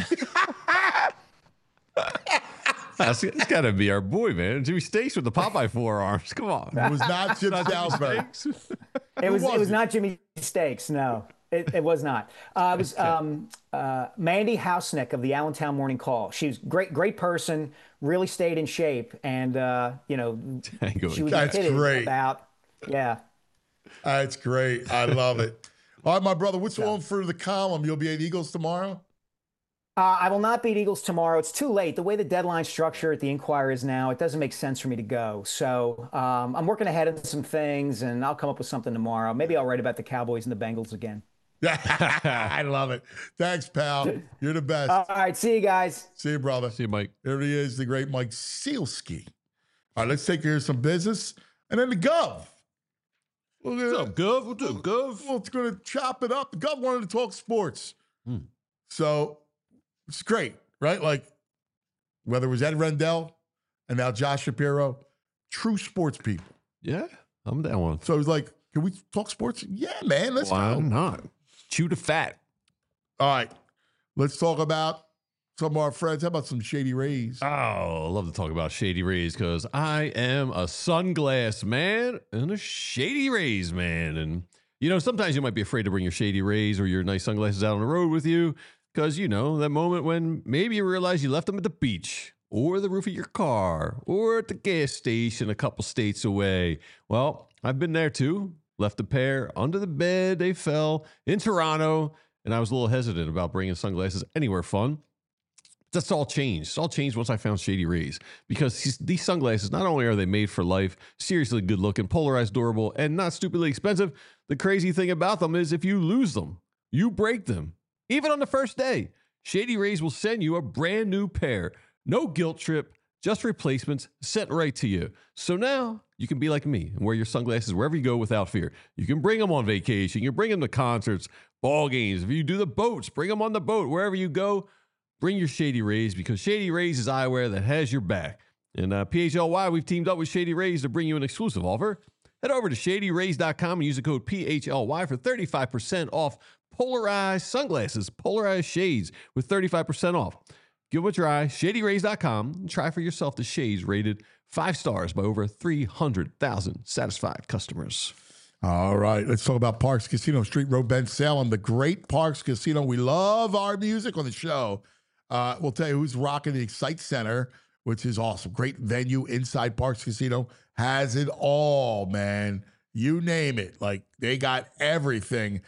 That's got to be our boy, man. Jimmy Stakes with the Popeye forearms. Come on. It was not Jim Salisbury. It was not Jimmy Stakes. No, it was not. It was Mandy Hausnick of the Allentown Morning Call. She was great person, really stayed in shape. And, she was great. That's great. I love it. All right, my brother, what's on for the column? You'll be at Eagles tomorrow? I will not beat Eagles tomorrow. It's too late. The way the deadline structure at the Inquirer is now, it doesn't make sense for me to go. So I'm working ahead on some things, and I'll come up with something tomorrow. Maybe I'll write about the Cowboys and the Bengals again. I love it. Thanks, pal. You're the best. All right. See you guys. See you, brother. See you, Mike. There he is, the great Mike Sealski. All right, let's take care of some business. And then the Gov. What's up, Gov? What's up, Gov? Well, it's going to chop it up. The Gov wanted to talk sports. So it's great, right? Like, whether it was Ed Rendell and now Josh Shapiro, true sports people. Yeah, I'm that one. So he's like, can we talk sports? Yeah, man, let's go. Why not? Chew the fat. All right, let's talk about some of our friends. How about some Shady Rays? Oh, I love to talk about Shady Rays because I am a sunglass man and a Shady Rays man. And, sometimes you might be afraid to bring your Shady Rays or your nice sunglasses out on the road with you because, that moment when maybe you realize you left them at the beach or the roof of your car or at the gas station a couple states away. Well, I've been there too. Left a pair under the bed. They fell in Toronto. And I was a little hesitant about bringing sunglasses anywhere fun. That's all changed. It's all changed once I found Shady Rays because these sunglasses, not only are they made for life, seriously good looking, polarized, durable, and not stupidly expensive, the crazy thing about them is if you lose them, you break them. Even on the first day, Shady Rays will send you a brand new pair. No guilt trip, just replacements sent right to you. So now you can be like me and wear your sunglasses wherever you go without fear. You can bring them on vacation. You can bring them to concerts, ball games. If you do the boats, bring them on the boat. Wherever you go, bring your Shady Rays because Shady Rays is eyewear that has your back. And PHLY, we've teamed up with Shady Rays to bring you an exclusive offer. Head over to ShadyRays.com and use the code PHLY for 35% off polarized sunglasses, polarized shades with 35% off. Give them a try, ShadyRays.com, and try for yourself the shades rated 5 stars by over 300,000 satisfied customers. All right, let's talk about Parks Casino, Street Road, Ben Salem, the great Parks Casino. We love our music on the show. We'll tell you who's rocking the Excite Center, which is awesome. Great venue inside Parks Casino. Has it all, man. You name it. Like, they got everything,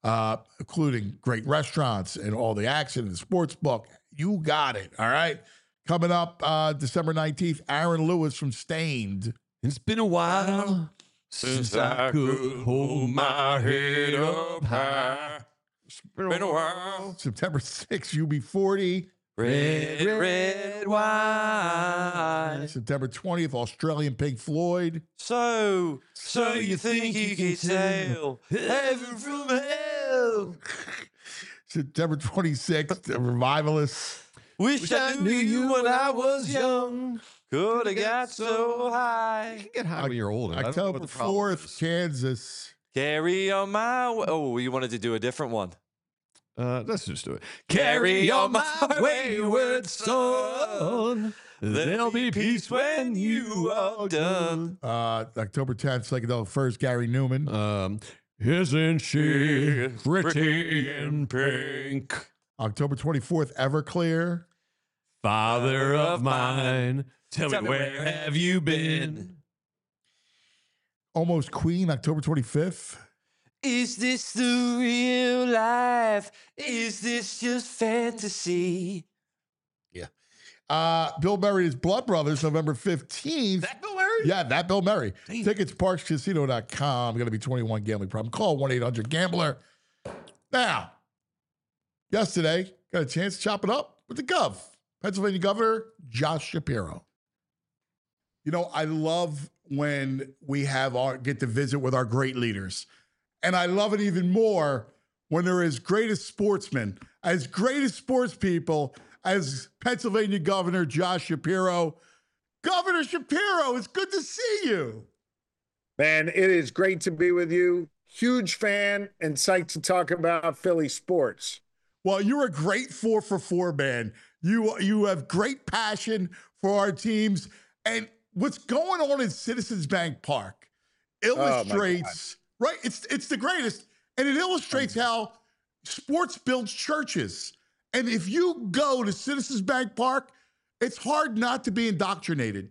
including great restaurants and all the action and the sports book. You got it, all right? Coming up December 19th, Aaron Lewis from Stained. It's been a while since I could hold my head up high. It's been a while. September 6th, UB40. Red wine. September 20th, Australian Pink Floyd. So you think you can tell heaven from hell? Woo! September 26th, the Revivalists. Wish I knew you when I was young. Could have got so high. You can get high when you're older. October 4th, Kansas. Carry on my way. Oh, you wanted to do a different one. Let's just do it. Carry on my wayward son. There'll be peace when you are done. October 10th, Psychedelic First, Gary Newman. Isn't she pretty in pink? October 24th, Everclear. Father of mine, tell me where have you been? Almost Queen, October 25th. Is this the real life? Is this just fantasy? Yeah. Bill Murray's Blood Brothers, November 15th. That Bill Murray? Yeah, that Bill Murray. Damn. Tickets, parkscasino.com. Going to be 21 gambling problem. Call 1-800-GAMBLER. Now, yesterday, got a chance to chop it up with the Gov. Pennsylvania Governor Josh Shapiro. You know, I love when we get to visit with our great leaders. And I love it even more when they're as great as sportsmen, as great as sports people as Pennsylvania Governor Josh Shapiro. Governor Shapiro, it's good to see you. Man, it is great to be with you. Huge fan and psyched to talk about Philly sports. Well, you're a great 4-for-4 man. You have great passion for our teams. And what's going on in Citizens Bank Park illustrates, right? It's the greatest. And it illustrates how sports builds churches. And if you go to Citizens Bank Park, it's hard not to be indoctrinated.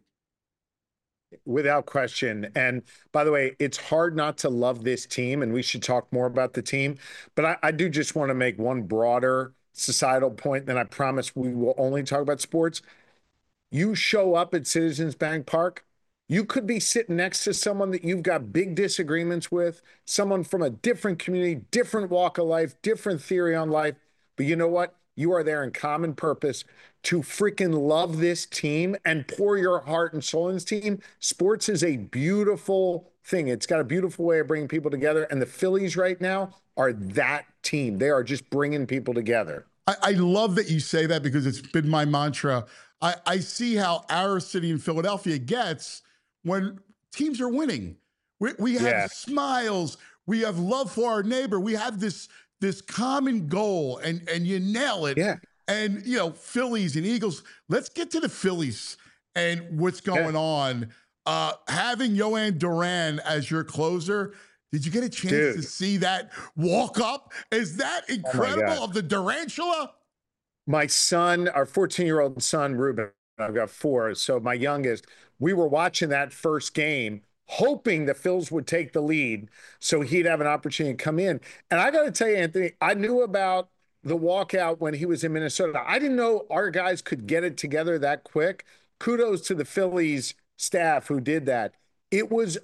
Without question. And by the way, it's hard not to love this team, and we should talk more about the team. But I do just want to make one broader societal point, then I promise we will only talk about sports. You show up at Citizens Bank Park, you could be sitting next to someone that you've got big disagreements with, someone from a different community, different walk of life, different theory on life. But you know what? You are there in common purpose to freaking love this team and pour your heart and soul in this team. Sports is a beautiful thing. It's got a beautiful way of bringing people together. And the Phillies right now are that team. They are just bringing people together. I love that you say that because it's been my mantra. I see how our city in Philadelphia gets when teams are winning. We have smiles. We have love for our neighbor. We have this common goal, and you nail it. Yeah. And, you know, Phillies and Eagles, let's get to the Phillies and what's going on. Having Yohan Duran as your closer, did you get a chance to see that walk up? Is that incredible of the Durantula? My son, our 14-year-old son, Ruben, I've got 4. So my youngest, we were watching that first game, hoping the Phils would take the lead so he'd have an opportunity to come in. And I got to tell you, Anthony, I knew about the walkout when he was in Minnesota. I didn't know our guys could get it together that quick. Kudos to the Phillies staff who did that. It was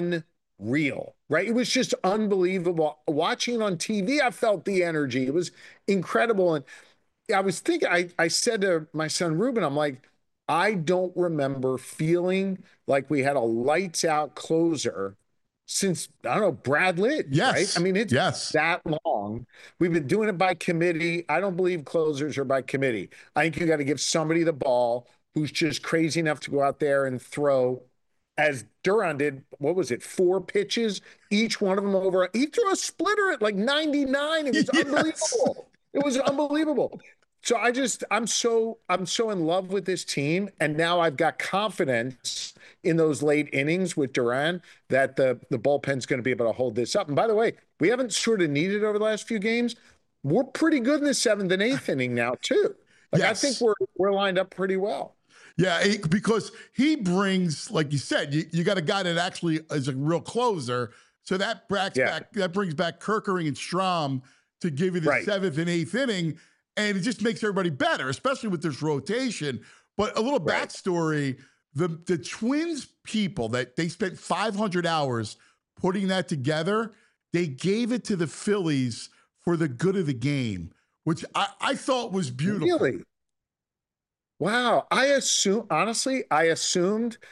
unreal, right? It was just unbelievable. Watching it on TV, I felt the energy. It was incredible. And I was thinking, I said to my son, Ruben, I'm like, I don't remember feeling like we had a lights out closer since, I don't know, Brad Lidge, right? I mean, it's that long. We've been doing it by committee. I don't believe closers are by committee. I think you got to give somebody the ball who's just crazy enough to go out there and throw, as Duran did, what was it, 4 pitches, each one of them over. He threw a splitter at like 99. It was unbelievable. It was unbelievable. So I'm so in love with this team, and now I've got confidence in those late innings with Duran that the bullpen's going to be able to hold this up. And by the way, we haven't sort of needed over the last few games. We're pretty good in the 7th and 8th inning now too. I think we're lined up pretty well. Yeah, because he brings, like you said, you got a guy that actually is a real closer. So that brings back Kerkering and Strahm to give you the 7th and 8th inning. And it just makes everybody better, especially with this rotation. But a little backstory, the Twins people, that they spent 500 hours putting that together, they gave it to the Phillies for the good of the game, which I thought was beautiful. Really? Wow. I assumed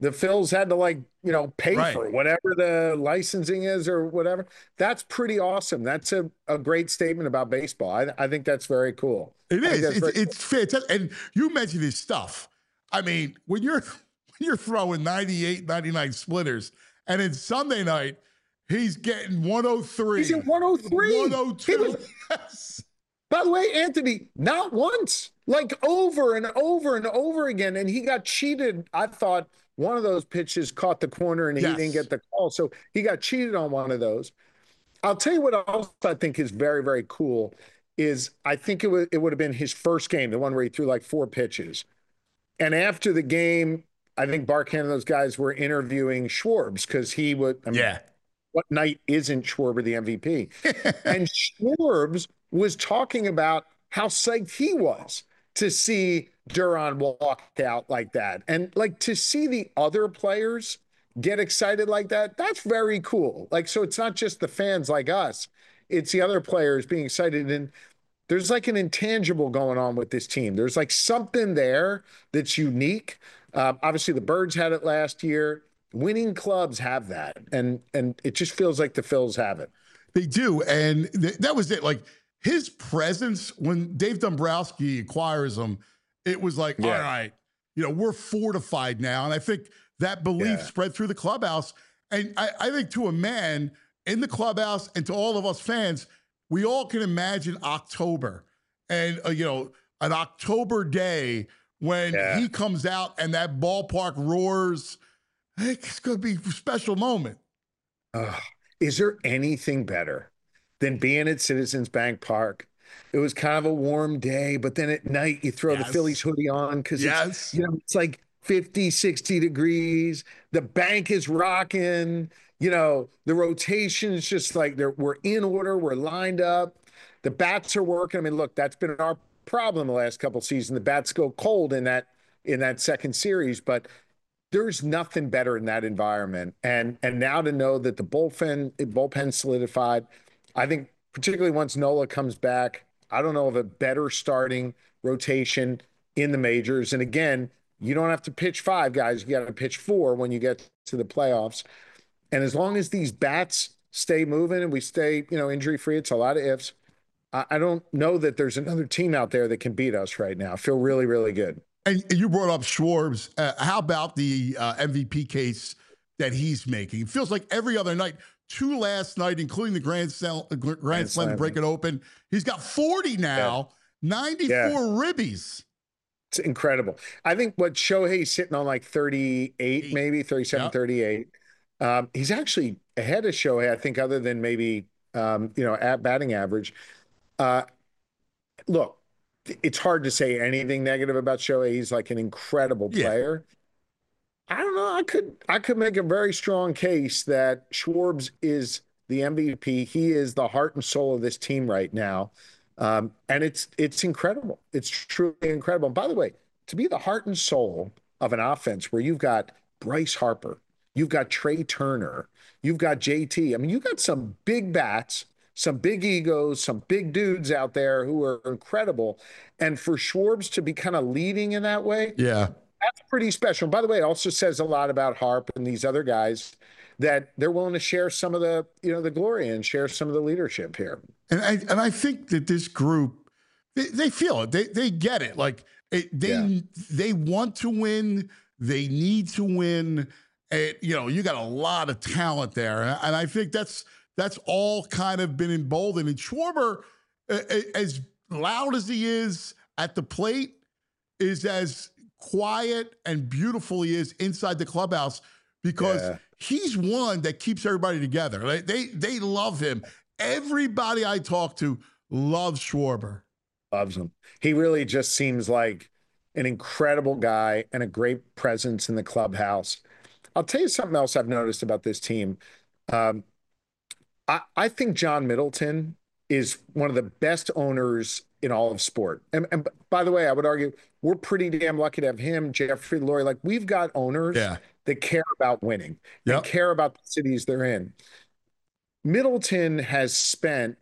the Phils had to pay for whatever the licensing is or whatever. That's pretty awesome. That's a great statement about baseball. I think that's very cool. It is. It's fantastic. And you mentioned his stuff. I mean, when you're throwing 98, 99 splitters, and then Sunday night, he's getting 103. He's at 103. 102. Yes. By the way, Anthony, not once, over and over and over again. And he got cheated. I thought one of those pitches caught the corner and he didn't get the call. So he got cheated on one of those. I'll tell you what else I think is very, very cool is I think it would have been his first game, the one where he threw 4 pitches. And after the game, I think Barkan and those guys were interviewing Schwarber because he would. What night isn't Schwarber the MVP? And Schwarber was talking about how psyched he was to see Duran walk out like that. And to see the other players get excited like that, that's very cool. So it's not just the fans like us, it's the other players being excited. And there's an intangible going on with this team. There's something there that's unique. Obviously the Birds had it last year. Winning clubs have that. And it just feels like the Phils have it. They do. And that was it. His presence when Dave Dombrowski acquires him, it was all right, we're fortified now. And I think that belief spread through the clubhouse. And I think to a man in the clubhouse and to all of us fans, we all can imagine October and, an October day when he comes out and that ballpark roars. It's going to be a special moment. Is there anything better than being at Citizens Bank Park? It was kind of a warm day, but then at night you throw the Phillies hoodie on because it's 50, 60 degrees. The bank is rocking. The rotation is just we're in order. We're lined up. The bats are working. I mean, look, that's been our problem the last couple of seasons. The bats go cold in that second series, but there's nothing better in that environment. And now to know that the bullpen solidified, I think particularly once Nola comes back, I don't know of a better starting rotation in the majors. And again, you don't have to pitch 5 guys. You got to pitch 4 when you get to the playoffs. And as long as these bats stay moving and we stay, injury-free, it's a lot of ifs. I don't know that there's another team out there that can beat us right now. I feel really, really good. And you brought up Schwarber. How about the MVP case that he's making? It feels like every other night, 2 last night, including the Grand Slam to break it open. He's got 40 now, 94 ribbies. It's incredible. I think what Shohei's sitting on 38, maybe 37, 38. He's actually ahead of Shohei, I think, other than maybe, at batting average. Look, it's hard to say anything negative about Shohei. He's an incredible player. I don't know. I could make a very strong case that Schwarber is the MVP. He is the heart and soul of this team right now. And it's incredible. It's truly incredible. And by the way, to be the heart and soul of an offense where you've got Bryce Harper, you've got Trey Turner, you've got JT. I mean, you've got some big bats, some big egos, some big dudes out there who are incredible. And for Schwarber to be kind of leading in that way, that's pretty special. And by the way, it also says a lot about Harp and these other guys that they're willing to share some of the, the glory and share some of the leadership here. And I think that this group, they feel it. They get it. They want to win. They need to win. You got a lot of talent there. And I think that's all kind of been emboldened. And Schwarber, as loud as he is at the plate, is as quiet and beautiful he is inside the clubhouse because he's one that keeps everybody together. They love him. Everybody I talk to loves Schwarber. Loves him. He really just seems like an incredible guy and a great presence in the clubhouse. I'll tell you something else I've noticed about this team. I think John Middleton is one of the best owners in all of sport. And by the way, I would argue we're pretty damn lucky to have him, Jeffrey Lurie. We've got owners that care about winning, that care about the cities they're in. Middleton has spent,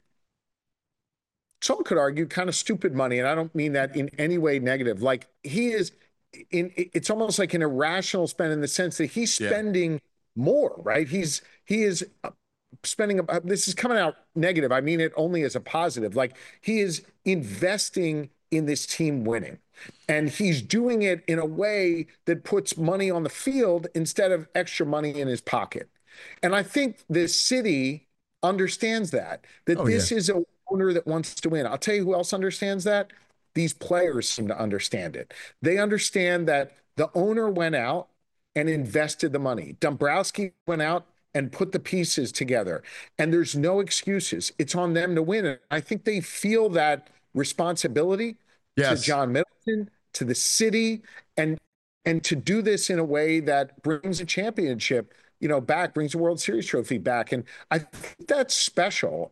some could argue, kind of stupid money, and I don't mean that in any way negative. He is it's almost like an irrational spend in the sense that he's spending more, right? He is spending. This is coming out negative. I mean it only as a positive. Like, he is investing in this team winning, and he's doing it in a way that puts money on the field instead of extra money in his pocket. And I think this city understands that this is a owner that wants to win. I'll tell you who else understands that. These players seem to understand it. They understand that the owner went out and invested the money. Dombrowski went out and put the pieces together, and there's no excuses. It's on them to win. And I think they feel that responsibility to John Middleton, to the city, and to do this in a way that brings a championship, back, brings a World Series trophy back. And I think that's special.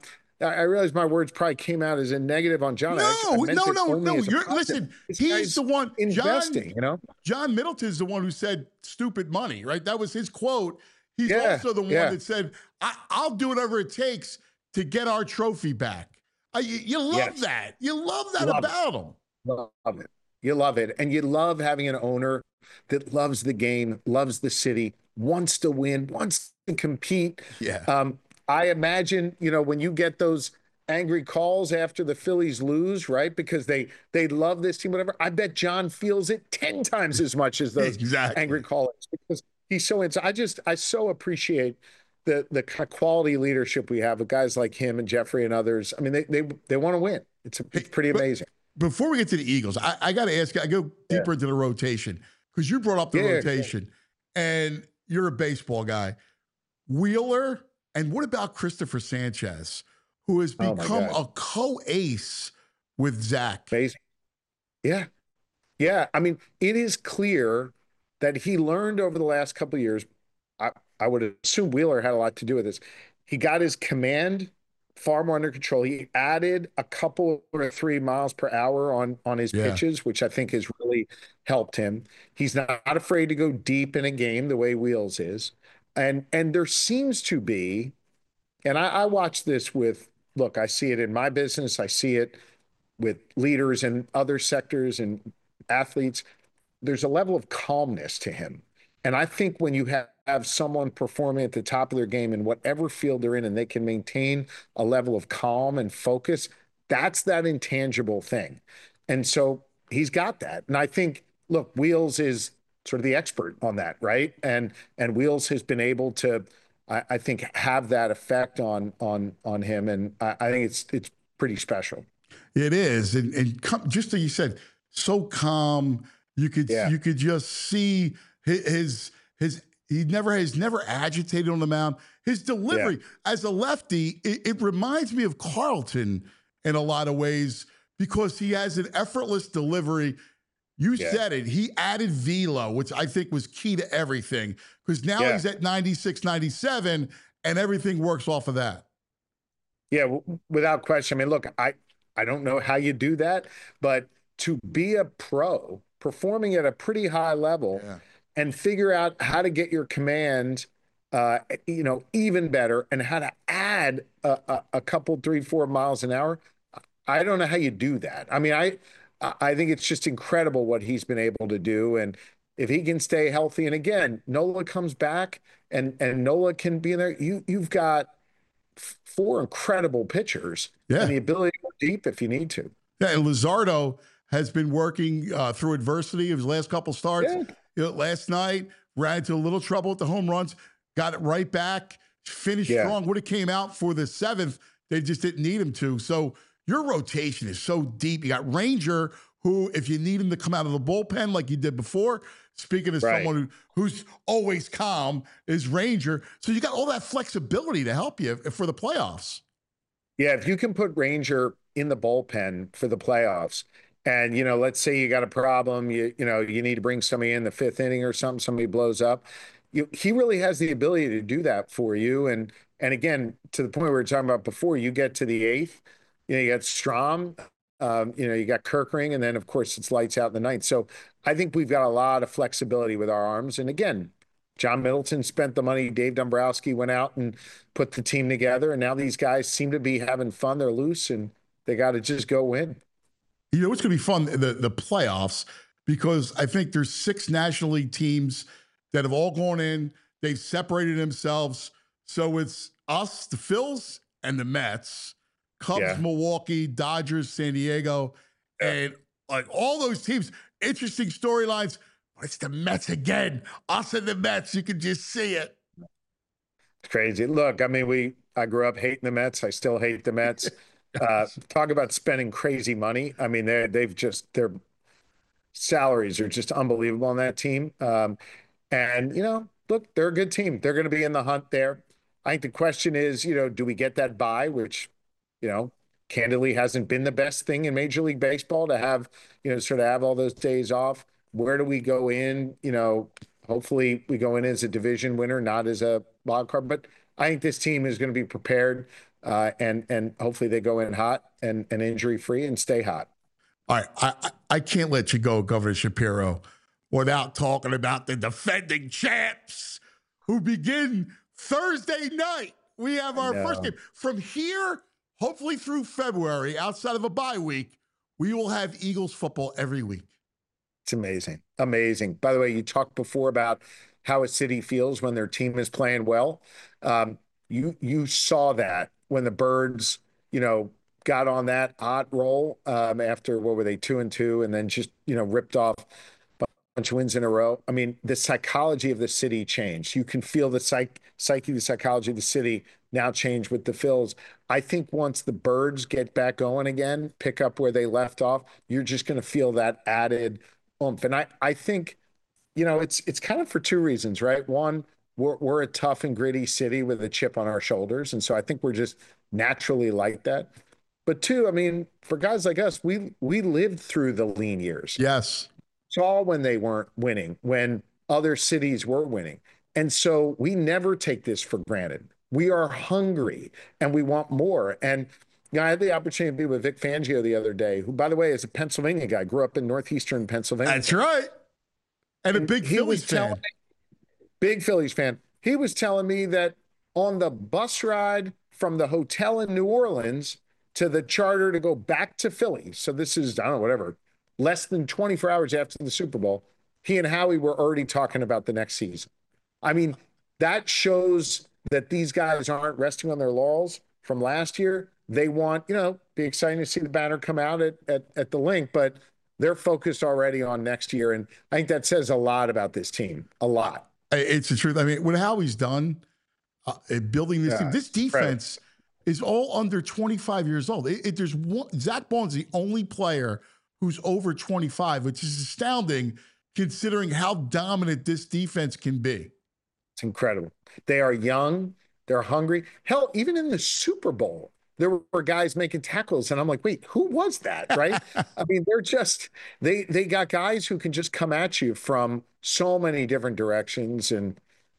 I realize my words probably came out as a negative on John. No. Listen, he's the one investing. John Middleton is the one who said "stupid money," right? That was his quote. He's also the one that said, "I'll do whatever it takes to get our trophy back." You love that. You love that about him. Love it. You love it, and you love having an owner that loves the game, loves the city, wants to win, wants to compete. Yeah. I imagine, when you get those angry calls after the Phillies lose, right? Because they love this team, whatever. I bet John feels it 10 times as much as those angry callers, because he's so into. I so appreciate the kind of quality leadership we have with guys like him and Jeffrey and others. I mean, they want to win. It's pretty amazing. Before we get to the Eagles, I got to ask you, I go deeper into the rotation, because you brought up the rotation, and you're a baseball guy. Wheeler, and what about Christopher Sanchez, who has become a co-ace with Zach? Amazing. Yeah. Yeah. I mean, it is clear that he learned over the last couple of years. I would assume Wheeler had a lot to do with this. He got his command far more under control. He added a couple or 3 miles per hour on his pitches, which I think has really helped him. He's not afraid to go deep in a game the way Wheels is. And there seems to be, and I watch this look, I see it in my business. I see it with leaders in other sectors and athletes. There's a level of calmness to him. And I think when you have someone performing at the top of their game in whatever field they're in, and they can maintain a level of calm and focus, that's that intangible thing. And so he's got that. And I think, look, Wheels is sort of the expert on that, right? And Wheels has been able to, I think, have that effect on him. And I think it's pretty special. It is. And just like you said, so calm. You could just see his he never agitated on the mound. His delivery as a lefty, it reminds me of Carlton in a lot of ways, because he has an effortless delivery. You said it. He added velo, which I think was key to everything, because now he's at 96, 97, and everything works off of that. Yeah, without question. I mean, look, I don't know how you do that, but to be a pro performing at a pretty high level and figure out how to get your command, even better, and how to add a couple, 3-4 miles an hour. I don't know how you do that. I mean, I think it's just incredible what he's been able to do. And if he can stay healthy, and again, Nola comes back and Nola can be in there, you've got 4 incredible pitchers and the ability to go deep if you need to. Yeah, and Luzardo has been working through adversity of his last couple starts. Last night, ran into a little trouble with the home runs, got it right back, finished strong. Would have came out for the 7th. They just didn't need him to. So your rotation is so deep. You got Ranger, who, if you need him to come out of the bullpen like you did before, speaking of someone who's always calm, is Ranger. So you got all that flexibility to help you for the playoffs. Yeah, if you can put Ranger in the bullpen for the playoffs, and, let's say you got a problem, you need to bring somebody in the 5th inning or something, somebody blows up. He really has the ability to do that for you. And again, to the point we were talking about before, you get to the 8th, you got Strom, you got Kirkring, and then, of course, it's lights out in the 9th. So I think we've got a lot of flexibility with our arms. And again, John Middleton spent the money. Dave Dombrowski went out and put the team together. And now these guys seem to be having fun. They're loose, and they got to just go win. It's going to be fun, the playoffs, because I think there's 6 National League teams that have all gone in. They've separated themselves. So it's us, the Phils, and the Mets, Cubs, Milwaukee, Dodgers, San Diego, and like all those teams. Interesting storylines. It's the Mets again. Us and the Mets. You can just see it. It's crazy. Look, I mean, I grew up hating the Mets. I still hate the Mets. Talk about spending crazy money. I mean, their salaries are just unbelievable on that team. And, look, they're a good team. They're going to be in the hunt there. I think the question is, do we get that bye, which, candidly hasn't been the best thing in Major League Baseball to have, sort of have all those days off. Where do we go in? Hopefully we go in as a division winner, not as a wild card. But I think this team is going to be prepared, and hopefully they go in hot and injury free and stay hot. All right, I can't let you go, Governor Shapiro, without talking about the defending champs who begin Thursday night. We have our first game. From here, hopefully through February, outside of a bye week, we will have Eagles football every week. It's amazing. Amazing. By the way, you talked before about how a city feels when their team is playing well. You saw that when the Birds, got on that hot roll after, what were they, 2-2, and then just, ripped off a bunch of wins in a row. I mean, the psychology of the city changed. You can feel the the psychology of the city now change with the Phils. I think once the Birds get back going again, pick up where they left off, you're just going to feel that added oomph. And I think, it's kind of for 2 reasons, right? One, we're a tough and gritty city with a chip on our shoulders. And so I think we're just naturally like that. But 2, I mean, for guys like us, we lived through the lean years. Yes. Saw when they weren't winning, when other cities were winning. And so we never take this for granted. We are hungry and we want more. And I had the opportunity to be with Vic Fangio the other day, who, by the way, is a Pennsylvania guy, grew up in northeastern Pennsylvania. That's right. And a big Phillies fan. Big Phillies fan. He was telling me that on the bus ride from the hotel in New Orleans to the charter to go back to Philly, so this is, I don't know, whatever, less than 24 hours after the Super Bowl, he and Howie were already talking about the next season. I mean, that shows that these guys aren't resting on their laurels from last year. They want, be exciting to see the banner come out at the link, but they're focused already on next year. And I think that says a lot about this team, a lot. It's the truth. I mean, what Howie's done building this team, this defense is all under 25 years old. There's one, Zach Bond's the only player who's over 25, which is astounding considering how dominant this defense can be. It's incredible. They are young. They're hungry. Hell, even in the Super Bowl, there were guys making tackles, and I'm like, wait, who was that, right? I mean, they're just, they got guys who can just come at you from so many different directions. And,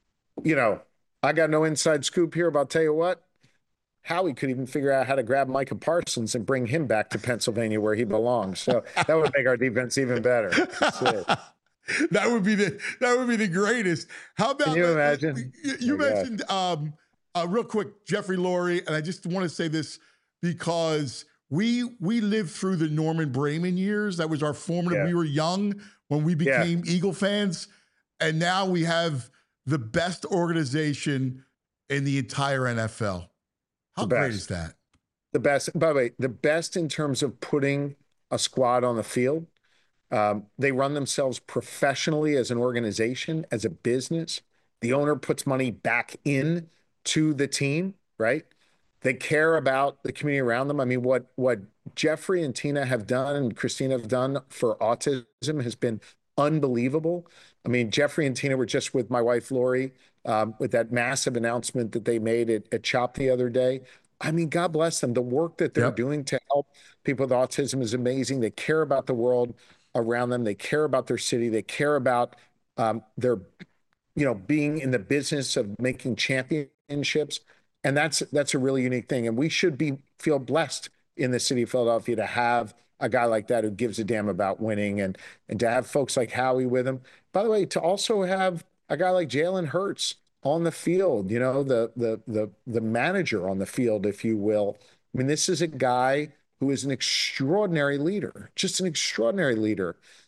I got no inside scoop here, but I'll tell you what, Howie could even figure out how to grab Micah Parsons and bring him back to Pennsylvania where he belongs. So that would make our defense even better. That's it. That would be the greatest. How about, can you imagine? You mentioned real quick, Jeffrey Lurie, and I just want to say this because we lived through the Norman Brayman years. That was our formative. Yeah. We were young when we became Eagle fans, and now we have the best organization in the entire NFL. How great is that? The best. By the way, the best in terms of putting a squad on the field. They run themselves professionally as an organization, as a business. The owner puts money back in to the team, right? They care about the community around them. I mean, what Jeffrey and Tina have done and Christina have done for autism has been unbelievable. I mean, Jeffrey and Tina were just with my wife, Lori, with that massive announcement that they made at CHOP the other day. I mean, God bless them. The work that they're doing to help people with autism is amazing. They care about the world around them. They care about their city. They care about their, being in the business of making championships. And that's a really unique thing. And we should feel blessed in the city of Philadelphia to have a guy like that who gives a damn about winning, and to have folks like Howie with him. By the way, to also have a guy like Jalen Hurts on the field, the manager on the field, if you will. I mean, this is a guy who is an extraordinary leader, just an extraordinary leader.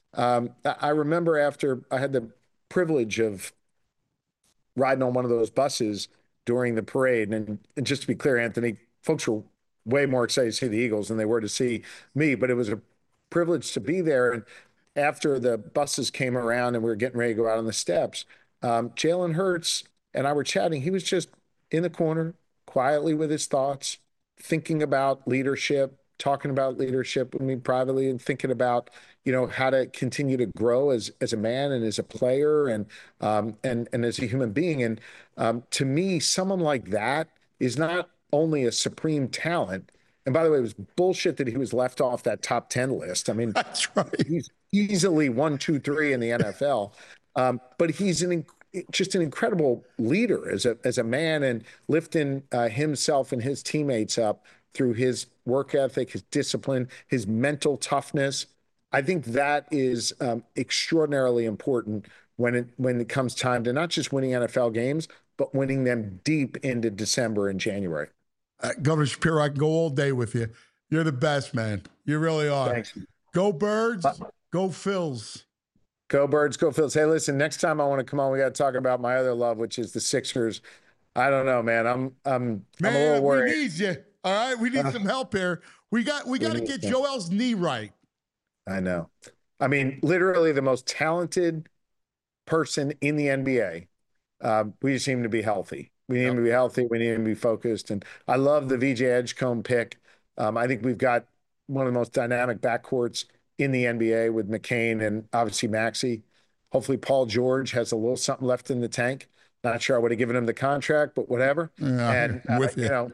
I remember after I had the privilege of riding on one of those buses during the parade. And just to be clear, Anthony, folks were way more excited to see the Eagles than they were to see me, but it was a privilege to be there. And after the buses came around and we were getting ready to go out on the steps, Jalen Hurts and I were chatting. He was just in the corner, quietly with his thoughts, thinking about leadership, talking about leadership with me privately, and thinking about, how to continue to grow as a man and as a player and as a human being. And to me, someone like that is not only a supreme talent. And by the way, it was bullshit that he was left off that top 10 list. I mean, that's right. He's easily 1, 2, 3 in the NFL. But he's just an incredible leader as a man, and lifting himself and his teammates up through his work ethic, his discipline, his mental toughness. I think that is extraordinarily important when it comes time to not just winning NFL games, but winning them deep into December and January. Governor Shapiro, I can go all day with you. You're the best, man. You really are. Thanks. Go Birds, go Phils. Go Birds, go Phils. Hey, listen, next time I want to come on, we got to talk about my other love, which is the Sixers. I don't know, man. I'm a little worried. We need you. All right, we need some help here. We got to get Joel's knee right. I know. I mean, literally the most talented person in the NBA. We just need him to be healthy. We need him to be healthy. We need him to be focused. And I love the VJ Edgecombe pick. I think we've got one of the most dynamic backcourts in the NBA with McCain and obviously Maxey. Hopefully Paul George has a little something left in the tank. Not sure I would have given him the contract, but whatever. Yeah, and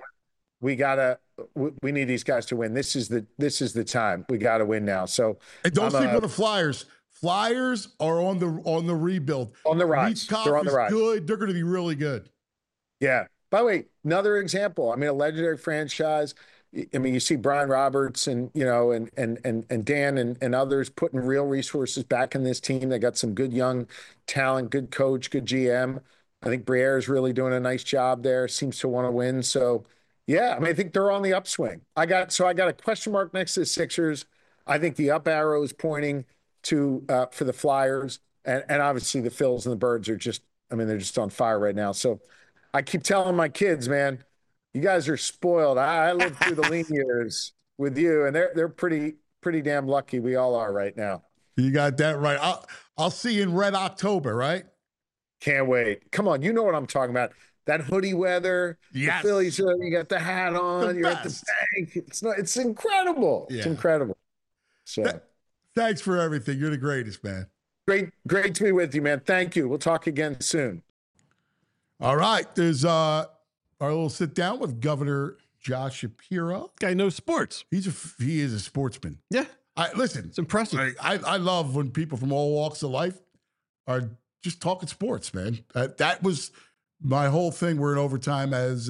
we need these guys to win. This is the time. We got to win now. So and don't sleep on the Flyers. Flyers are on the rebuild. On the rise. They're on the rise. Good. They're going to be really good. Yeah. By the way, another example. I mean, a legendary franchise. I mean, you see Brian Roberts and and Dan and others putting real resources back in this team. They got some good young talent, good coach, good GM. I think Briere is really doing a nice job there. Seems to want to win. So, yeah, I mean, I think they're on the upswing. I got a question mark next to the Sixers. I think the up arrow is pointing to for the Flyers, and obviously the Phils and the Birds are just, I mean, they're just on fire right now. So I keep telling my kids, man, you guys are spoiled. I lived through the lean years with you, and they're pretty damn lucky. We all are right now. You got that right. I'll see you in Red October, right? Can't wait. Come on, you know what I'm talking about. That hoodie weather, yes. The Phillies, you got the hat on, you're at the bank. It's incredible. Yeah. It's incredible. So thanks for everything. You're the greatest, man. Great to be with you, man. Thank you. We'll talk again soon. All right. There's our little sit down with Governor Josh Shapiro. Guy knows sports. He is a sportsman. Yeah. Listen, it's impressive. I love when people from all walks of life are just talking sports, man. That was my whole thing. We're in overtime as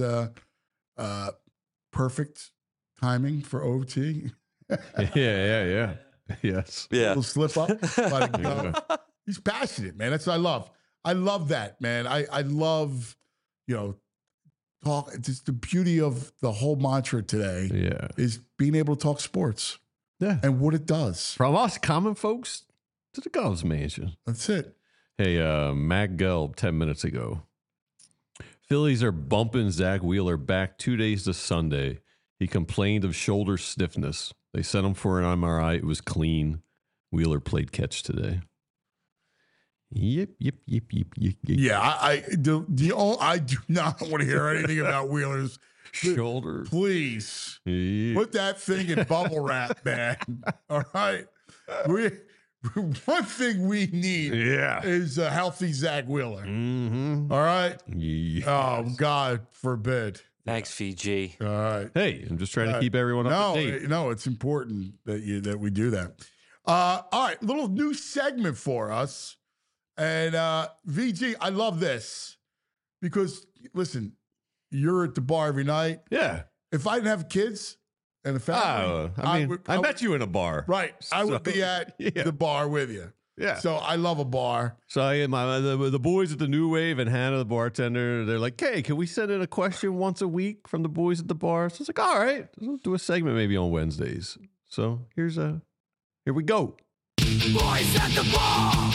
perfect timing for OT. Yeah. Yes. Yeah. A little slip up. He's passionate, man. That's what I love. I love that, man. I love, talk. It's just the beauty of the whole mantra today. Yeah. Is being able to talk sports. Yeah. And what it does. From us common folks to the Govs mansion. That's it. Hey, Mac Gelb, 10 minutes ago. Phillies are bumping Zach Wheeler back 2 days to Sunday. He complained of shoulder stiffness. They sent him for an MRI. It was clean. Wheeler played catch today. Yep. Yeah, I do not want to hear anything about Wheeler's shoulder. Please Yep. put that thing in bubble wrap, man. All right. One thing we need is a healthy Zach Wheeler. Mm-hmm. All right? Yes. Oh, God forbid. Thanks, Fiji. All right. Hey, I'm just trying to keep everyone up to date. No, it's important that we do that. All right, little new segment for us. And VG, I love this because, listen, you're at the bar every night. Yeah. If I didn't have kids and a family, I met you in a bar. Right. I would be at the bar with you. Yeah. So I love a bar. So the boys at the New Wave and Hannah, the bartender, they're like, hey, can we send in a question once a week from the boys at the bar? So it's like, all right, we'll do a segment maybe on Wednesdays. So here we go. Boys at the bar.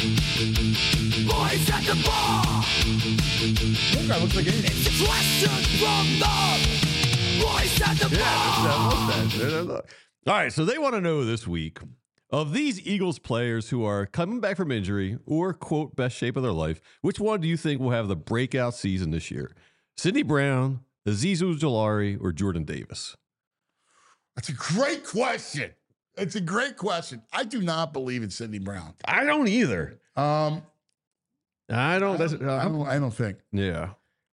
Boys at the bar. That guy looks like anything. It's a question from the boys at the bar. All right, so they want to know this week, of these Eagles players who are coming back from injury or, quote, best shape of their life, which one do you think will have the breakout season this year? Sidney Brown, Azeez Ojulari, or Jordan Davis? That's a great question. It's a great question. I do not believe in Sidney Brown. I don't either. I don't think. Yeah.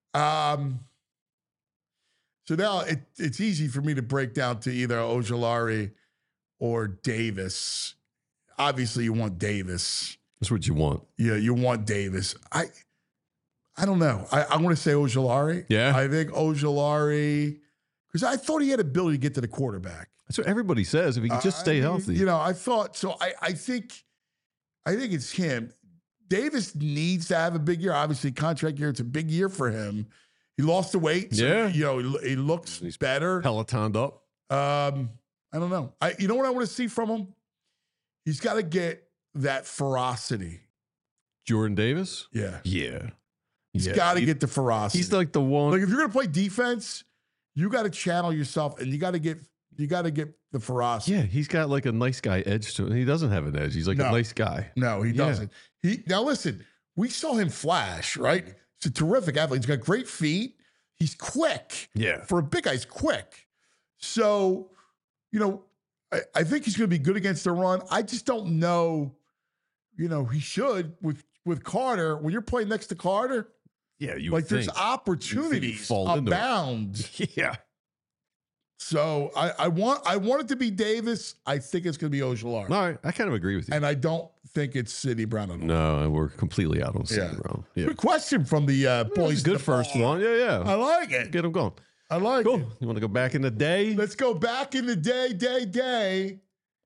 So now it's easy for me to break down to either Ojulari or Davis. Obviously, you want Davis. That's what you want. Yeah, you want Davis. I don't know. I want to say Ojulari. Yeah. I think Ojulari, because I thought he had ability to get to the quarterback. That's what everybody says, if he could just stay healthy. You know, I thought so. I think it's him. Davis needs to have a big year. Obviously, contract year, it's a big year for him. He lost the weight. So, you know, he looks better. Pelotoned up. I don't know. You know what I want to see from him? He's got to get that ferocity. Jordan Davis? Yeah. Yeah. He's got to get the ferocity. He's like the one. Like if you're going to play defense, you got to channel yourself and you got to get the ferocity. Yeah, he's got like a nice guy edge to him. He doesn't have an edge. He's like a nice guy. No, he doesn't. Now listen, we saw him flash, right? He's a terrific athlete. He's got great feet. He's quick. Yeah. For a big guy, he's quick. So, you know, I think he's going to be good against the run. I just don't know, you know, he should with Carter. When you're playing next to Carter, yeah, you like think. there's opportunities Fall into abound. Yeah. So I want it to be Davis. I think it's going to be Ojulari. All right, I kind of agree with you. And I don't think it's Sidney Brown at all. No, we're completely out on Sidney Brown. Yeah. Good question from the boys. Good first one. Yeah. I like it. Get them going. I like it. You want to go back in the day? Let's go back in the day.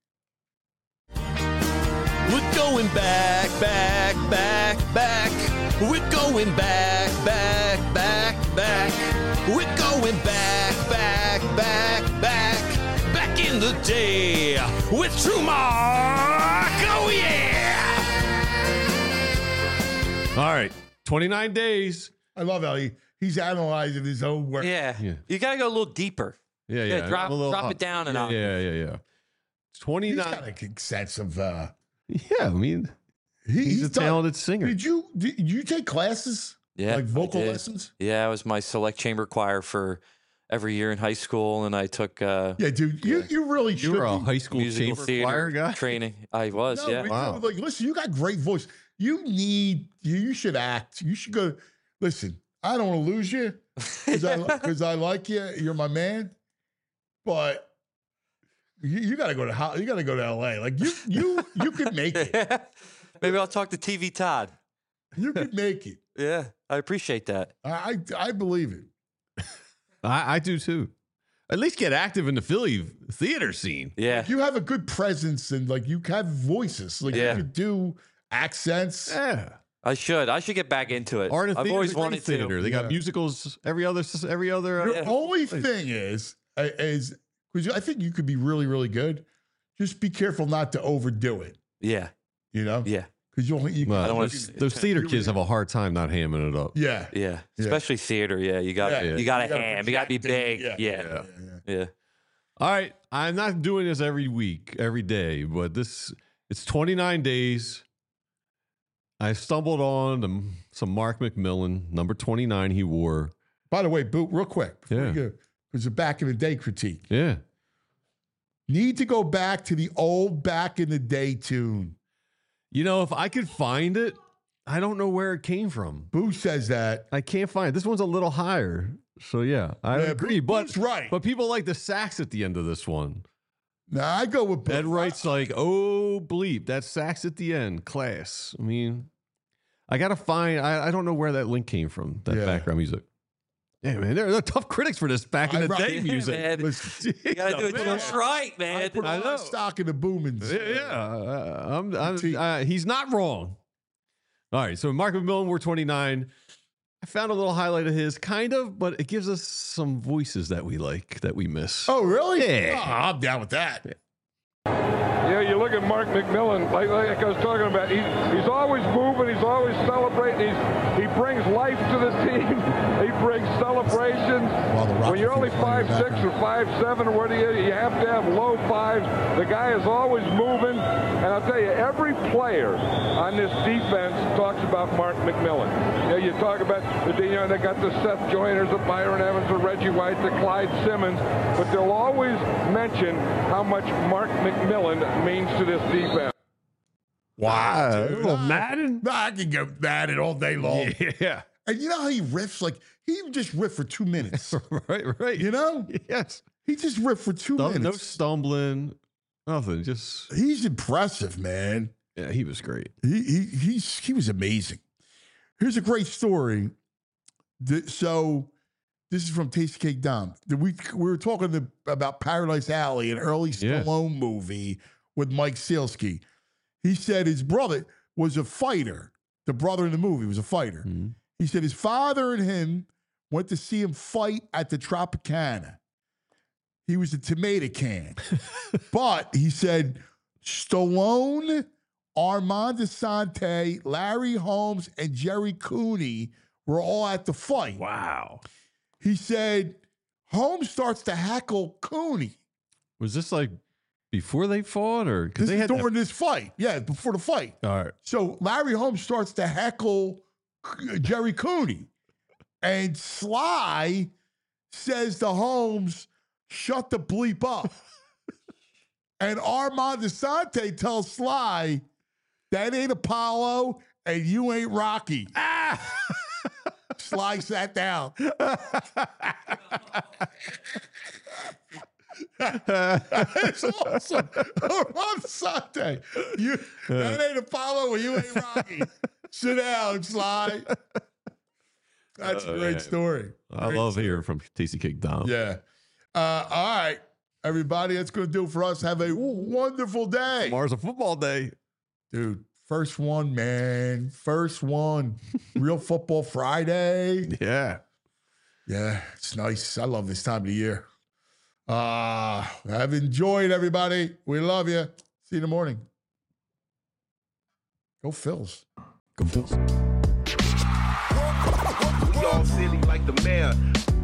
We're going back. We're going back. We're going back in the day with True Mark. Oh, yeah. All right. 29 days. I love how he's analyzing his own work. Yeah. You got to go a little deeper. Yeah. Drop it down and Yeah. 29. He's got a sense of. Yeah, I mean, he's a talented singer. Did you take classes? Yeah. Like vocal lessons? Yeah, I was my select chamber choir for every year in high school, and I took. Yeah, dude, you really should. You were a high school musical chamber theater choir guy? training. I was, yeah. Wow. Like, listen, you got great voice. You should act. You should go. Listen, I don't want to lose you because I like you. You're my man, but. You got to go to LA. Like you could make it. Maybe I'll talk to TV Todd. You could make it. Yeah, I appreciate that. I believe it. I do too. At least get active in the Philly theater scene. Yeah, like you have a good presence and like you have voices. Like you could do accents. Yeah, I should get back into it. Art and I've theater, always wanted theater. to. They got musicals every other. Your only thing is because I think you could be really, really good. Just be careful not to overdo it. Yeah. You know? Yeah. Because those theater kids have a hard time not hamming it up. Yeah. Yeah. Especially theater. Yeah. You got to ham. You got to be big. Yeah. All right. I'm not doing this every week, every day, but it's 29 days. I stumbled on some Mark McMillan, number 29 he wore. By the way, Boot, real quick. Before you go, there's a back in the day critique. Yeah. Need to go back to the old back in the day tune. You know, if I could find it, I don't know where it came from. Boo says that. I can't find it. This one's a little higher. So, yeah, I agree. Boo's right. But people like the sax at the end of this one. Nah, I go with Boo. Ed Wright's like, oh, bleep, that sax at the end, class. I mean, I got to find, I don't know where that link came from, that background music. Yeah, man, they're tough critics for this back in the day music. Man. Listen, you got to do it just right, man. I know. Stock in the boomings. Yeah. He's not wrong. All right, so Mark McMillan, we're 29. I found a little highlight of his, kind of, but it gives us some voices that we like, that we miss. Oh, really? Yeah. Oh, I'm down with that. Yeah, you look at Mark McMillan, like I was talking about, he's always moving, he's always celebrating, he brings life to the team, he brings celebrations. When you're only 5'6" or 5'7" or whatever you have to have low fives. The guy is always moving, and I'll tell you, every player on this defense talks about Mark McMillan. You talk about, they got the Seth Joyners, the Byron Evans, the Reggie White, the Clyde Simmons, but they'll always mention how much Mark McMillan means to this defense. Wow. Little Madden? I can go Madden all day long. Yeah. And you know how he riffs? Like, he just riffed for 2 minutes. Right. You know? Yes. He just riffed for 2 minutes. No stumbling, nothing. Just he's impressive, man. Yeah, he was great. He was amazing. Here's a great story. So this is from Tasty Cake Dom. We were talking about Paradise Alley, an early Stallone movie with Mike Sielski. He said his brother was a fighter. The brother in the movie was a fighter. Mm-hmm. He said his father and him went to see him fight at the Tropicana. He was a tomato can. But he said Stallone, Armand Asante, Larry Holmes, and Jerry Cooney were all at the fight. Wow. He said Holmes starts to heckle Cooney. Was this like before they fought, or because they had during this fight? Yeah, before the fight. All right. So Larry Holmes starts to heckle Jerry Cooney, and Sly says to Holmes, "Shut the bleep up." And Armand Asante tells Sly, "That ain't Apollo, and you ain't Rocky." Sly sat down. It's awesome. Armand Asante, that ain't Apollo, and you ain't Rocky. Sit down, Sly. That's a great story. I love hearing from Tasty Cake Dom. Yeah. All right, everybody, that's going to do it for us. Have a wonderful day. Tomorrow's a football day. Dude, first one, man. First one. Real Football Friday. Yeah. Yeah, it's nice. I love this time of the year. I've enjoyed, everybody. We love you. See you in the morning. Go Phils. Go Phils. We all silly like the mayor.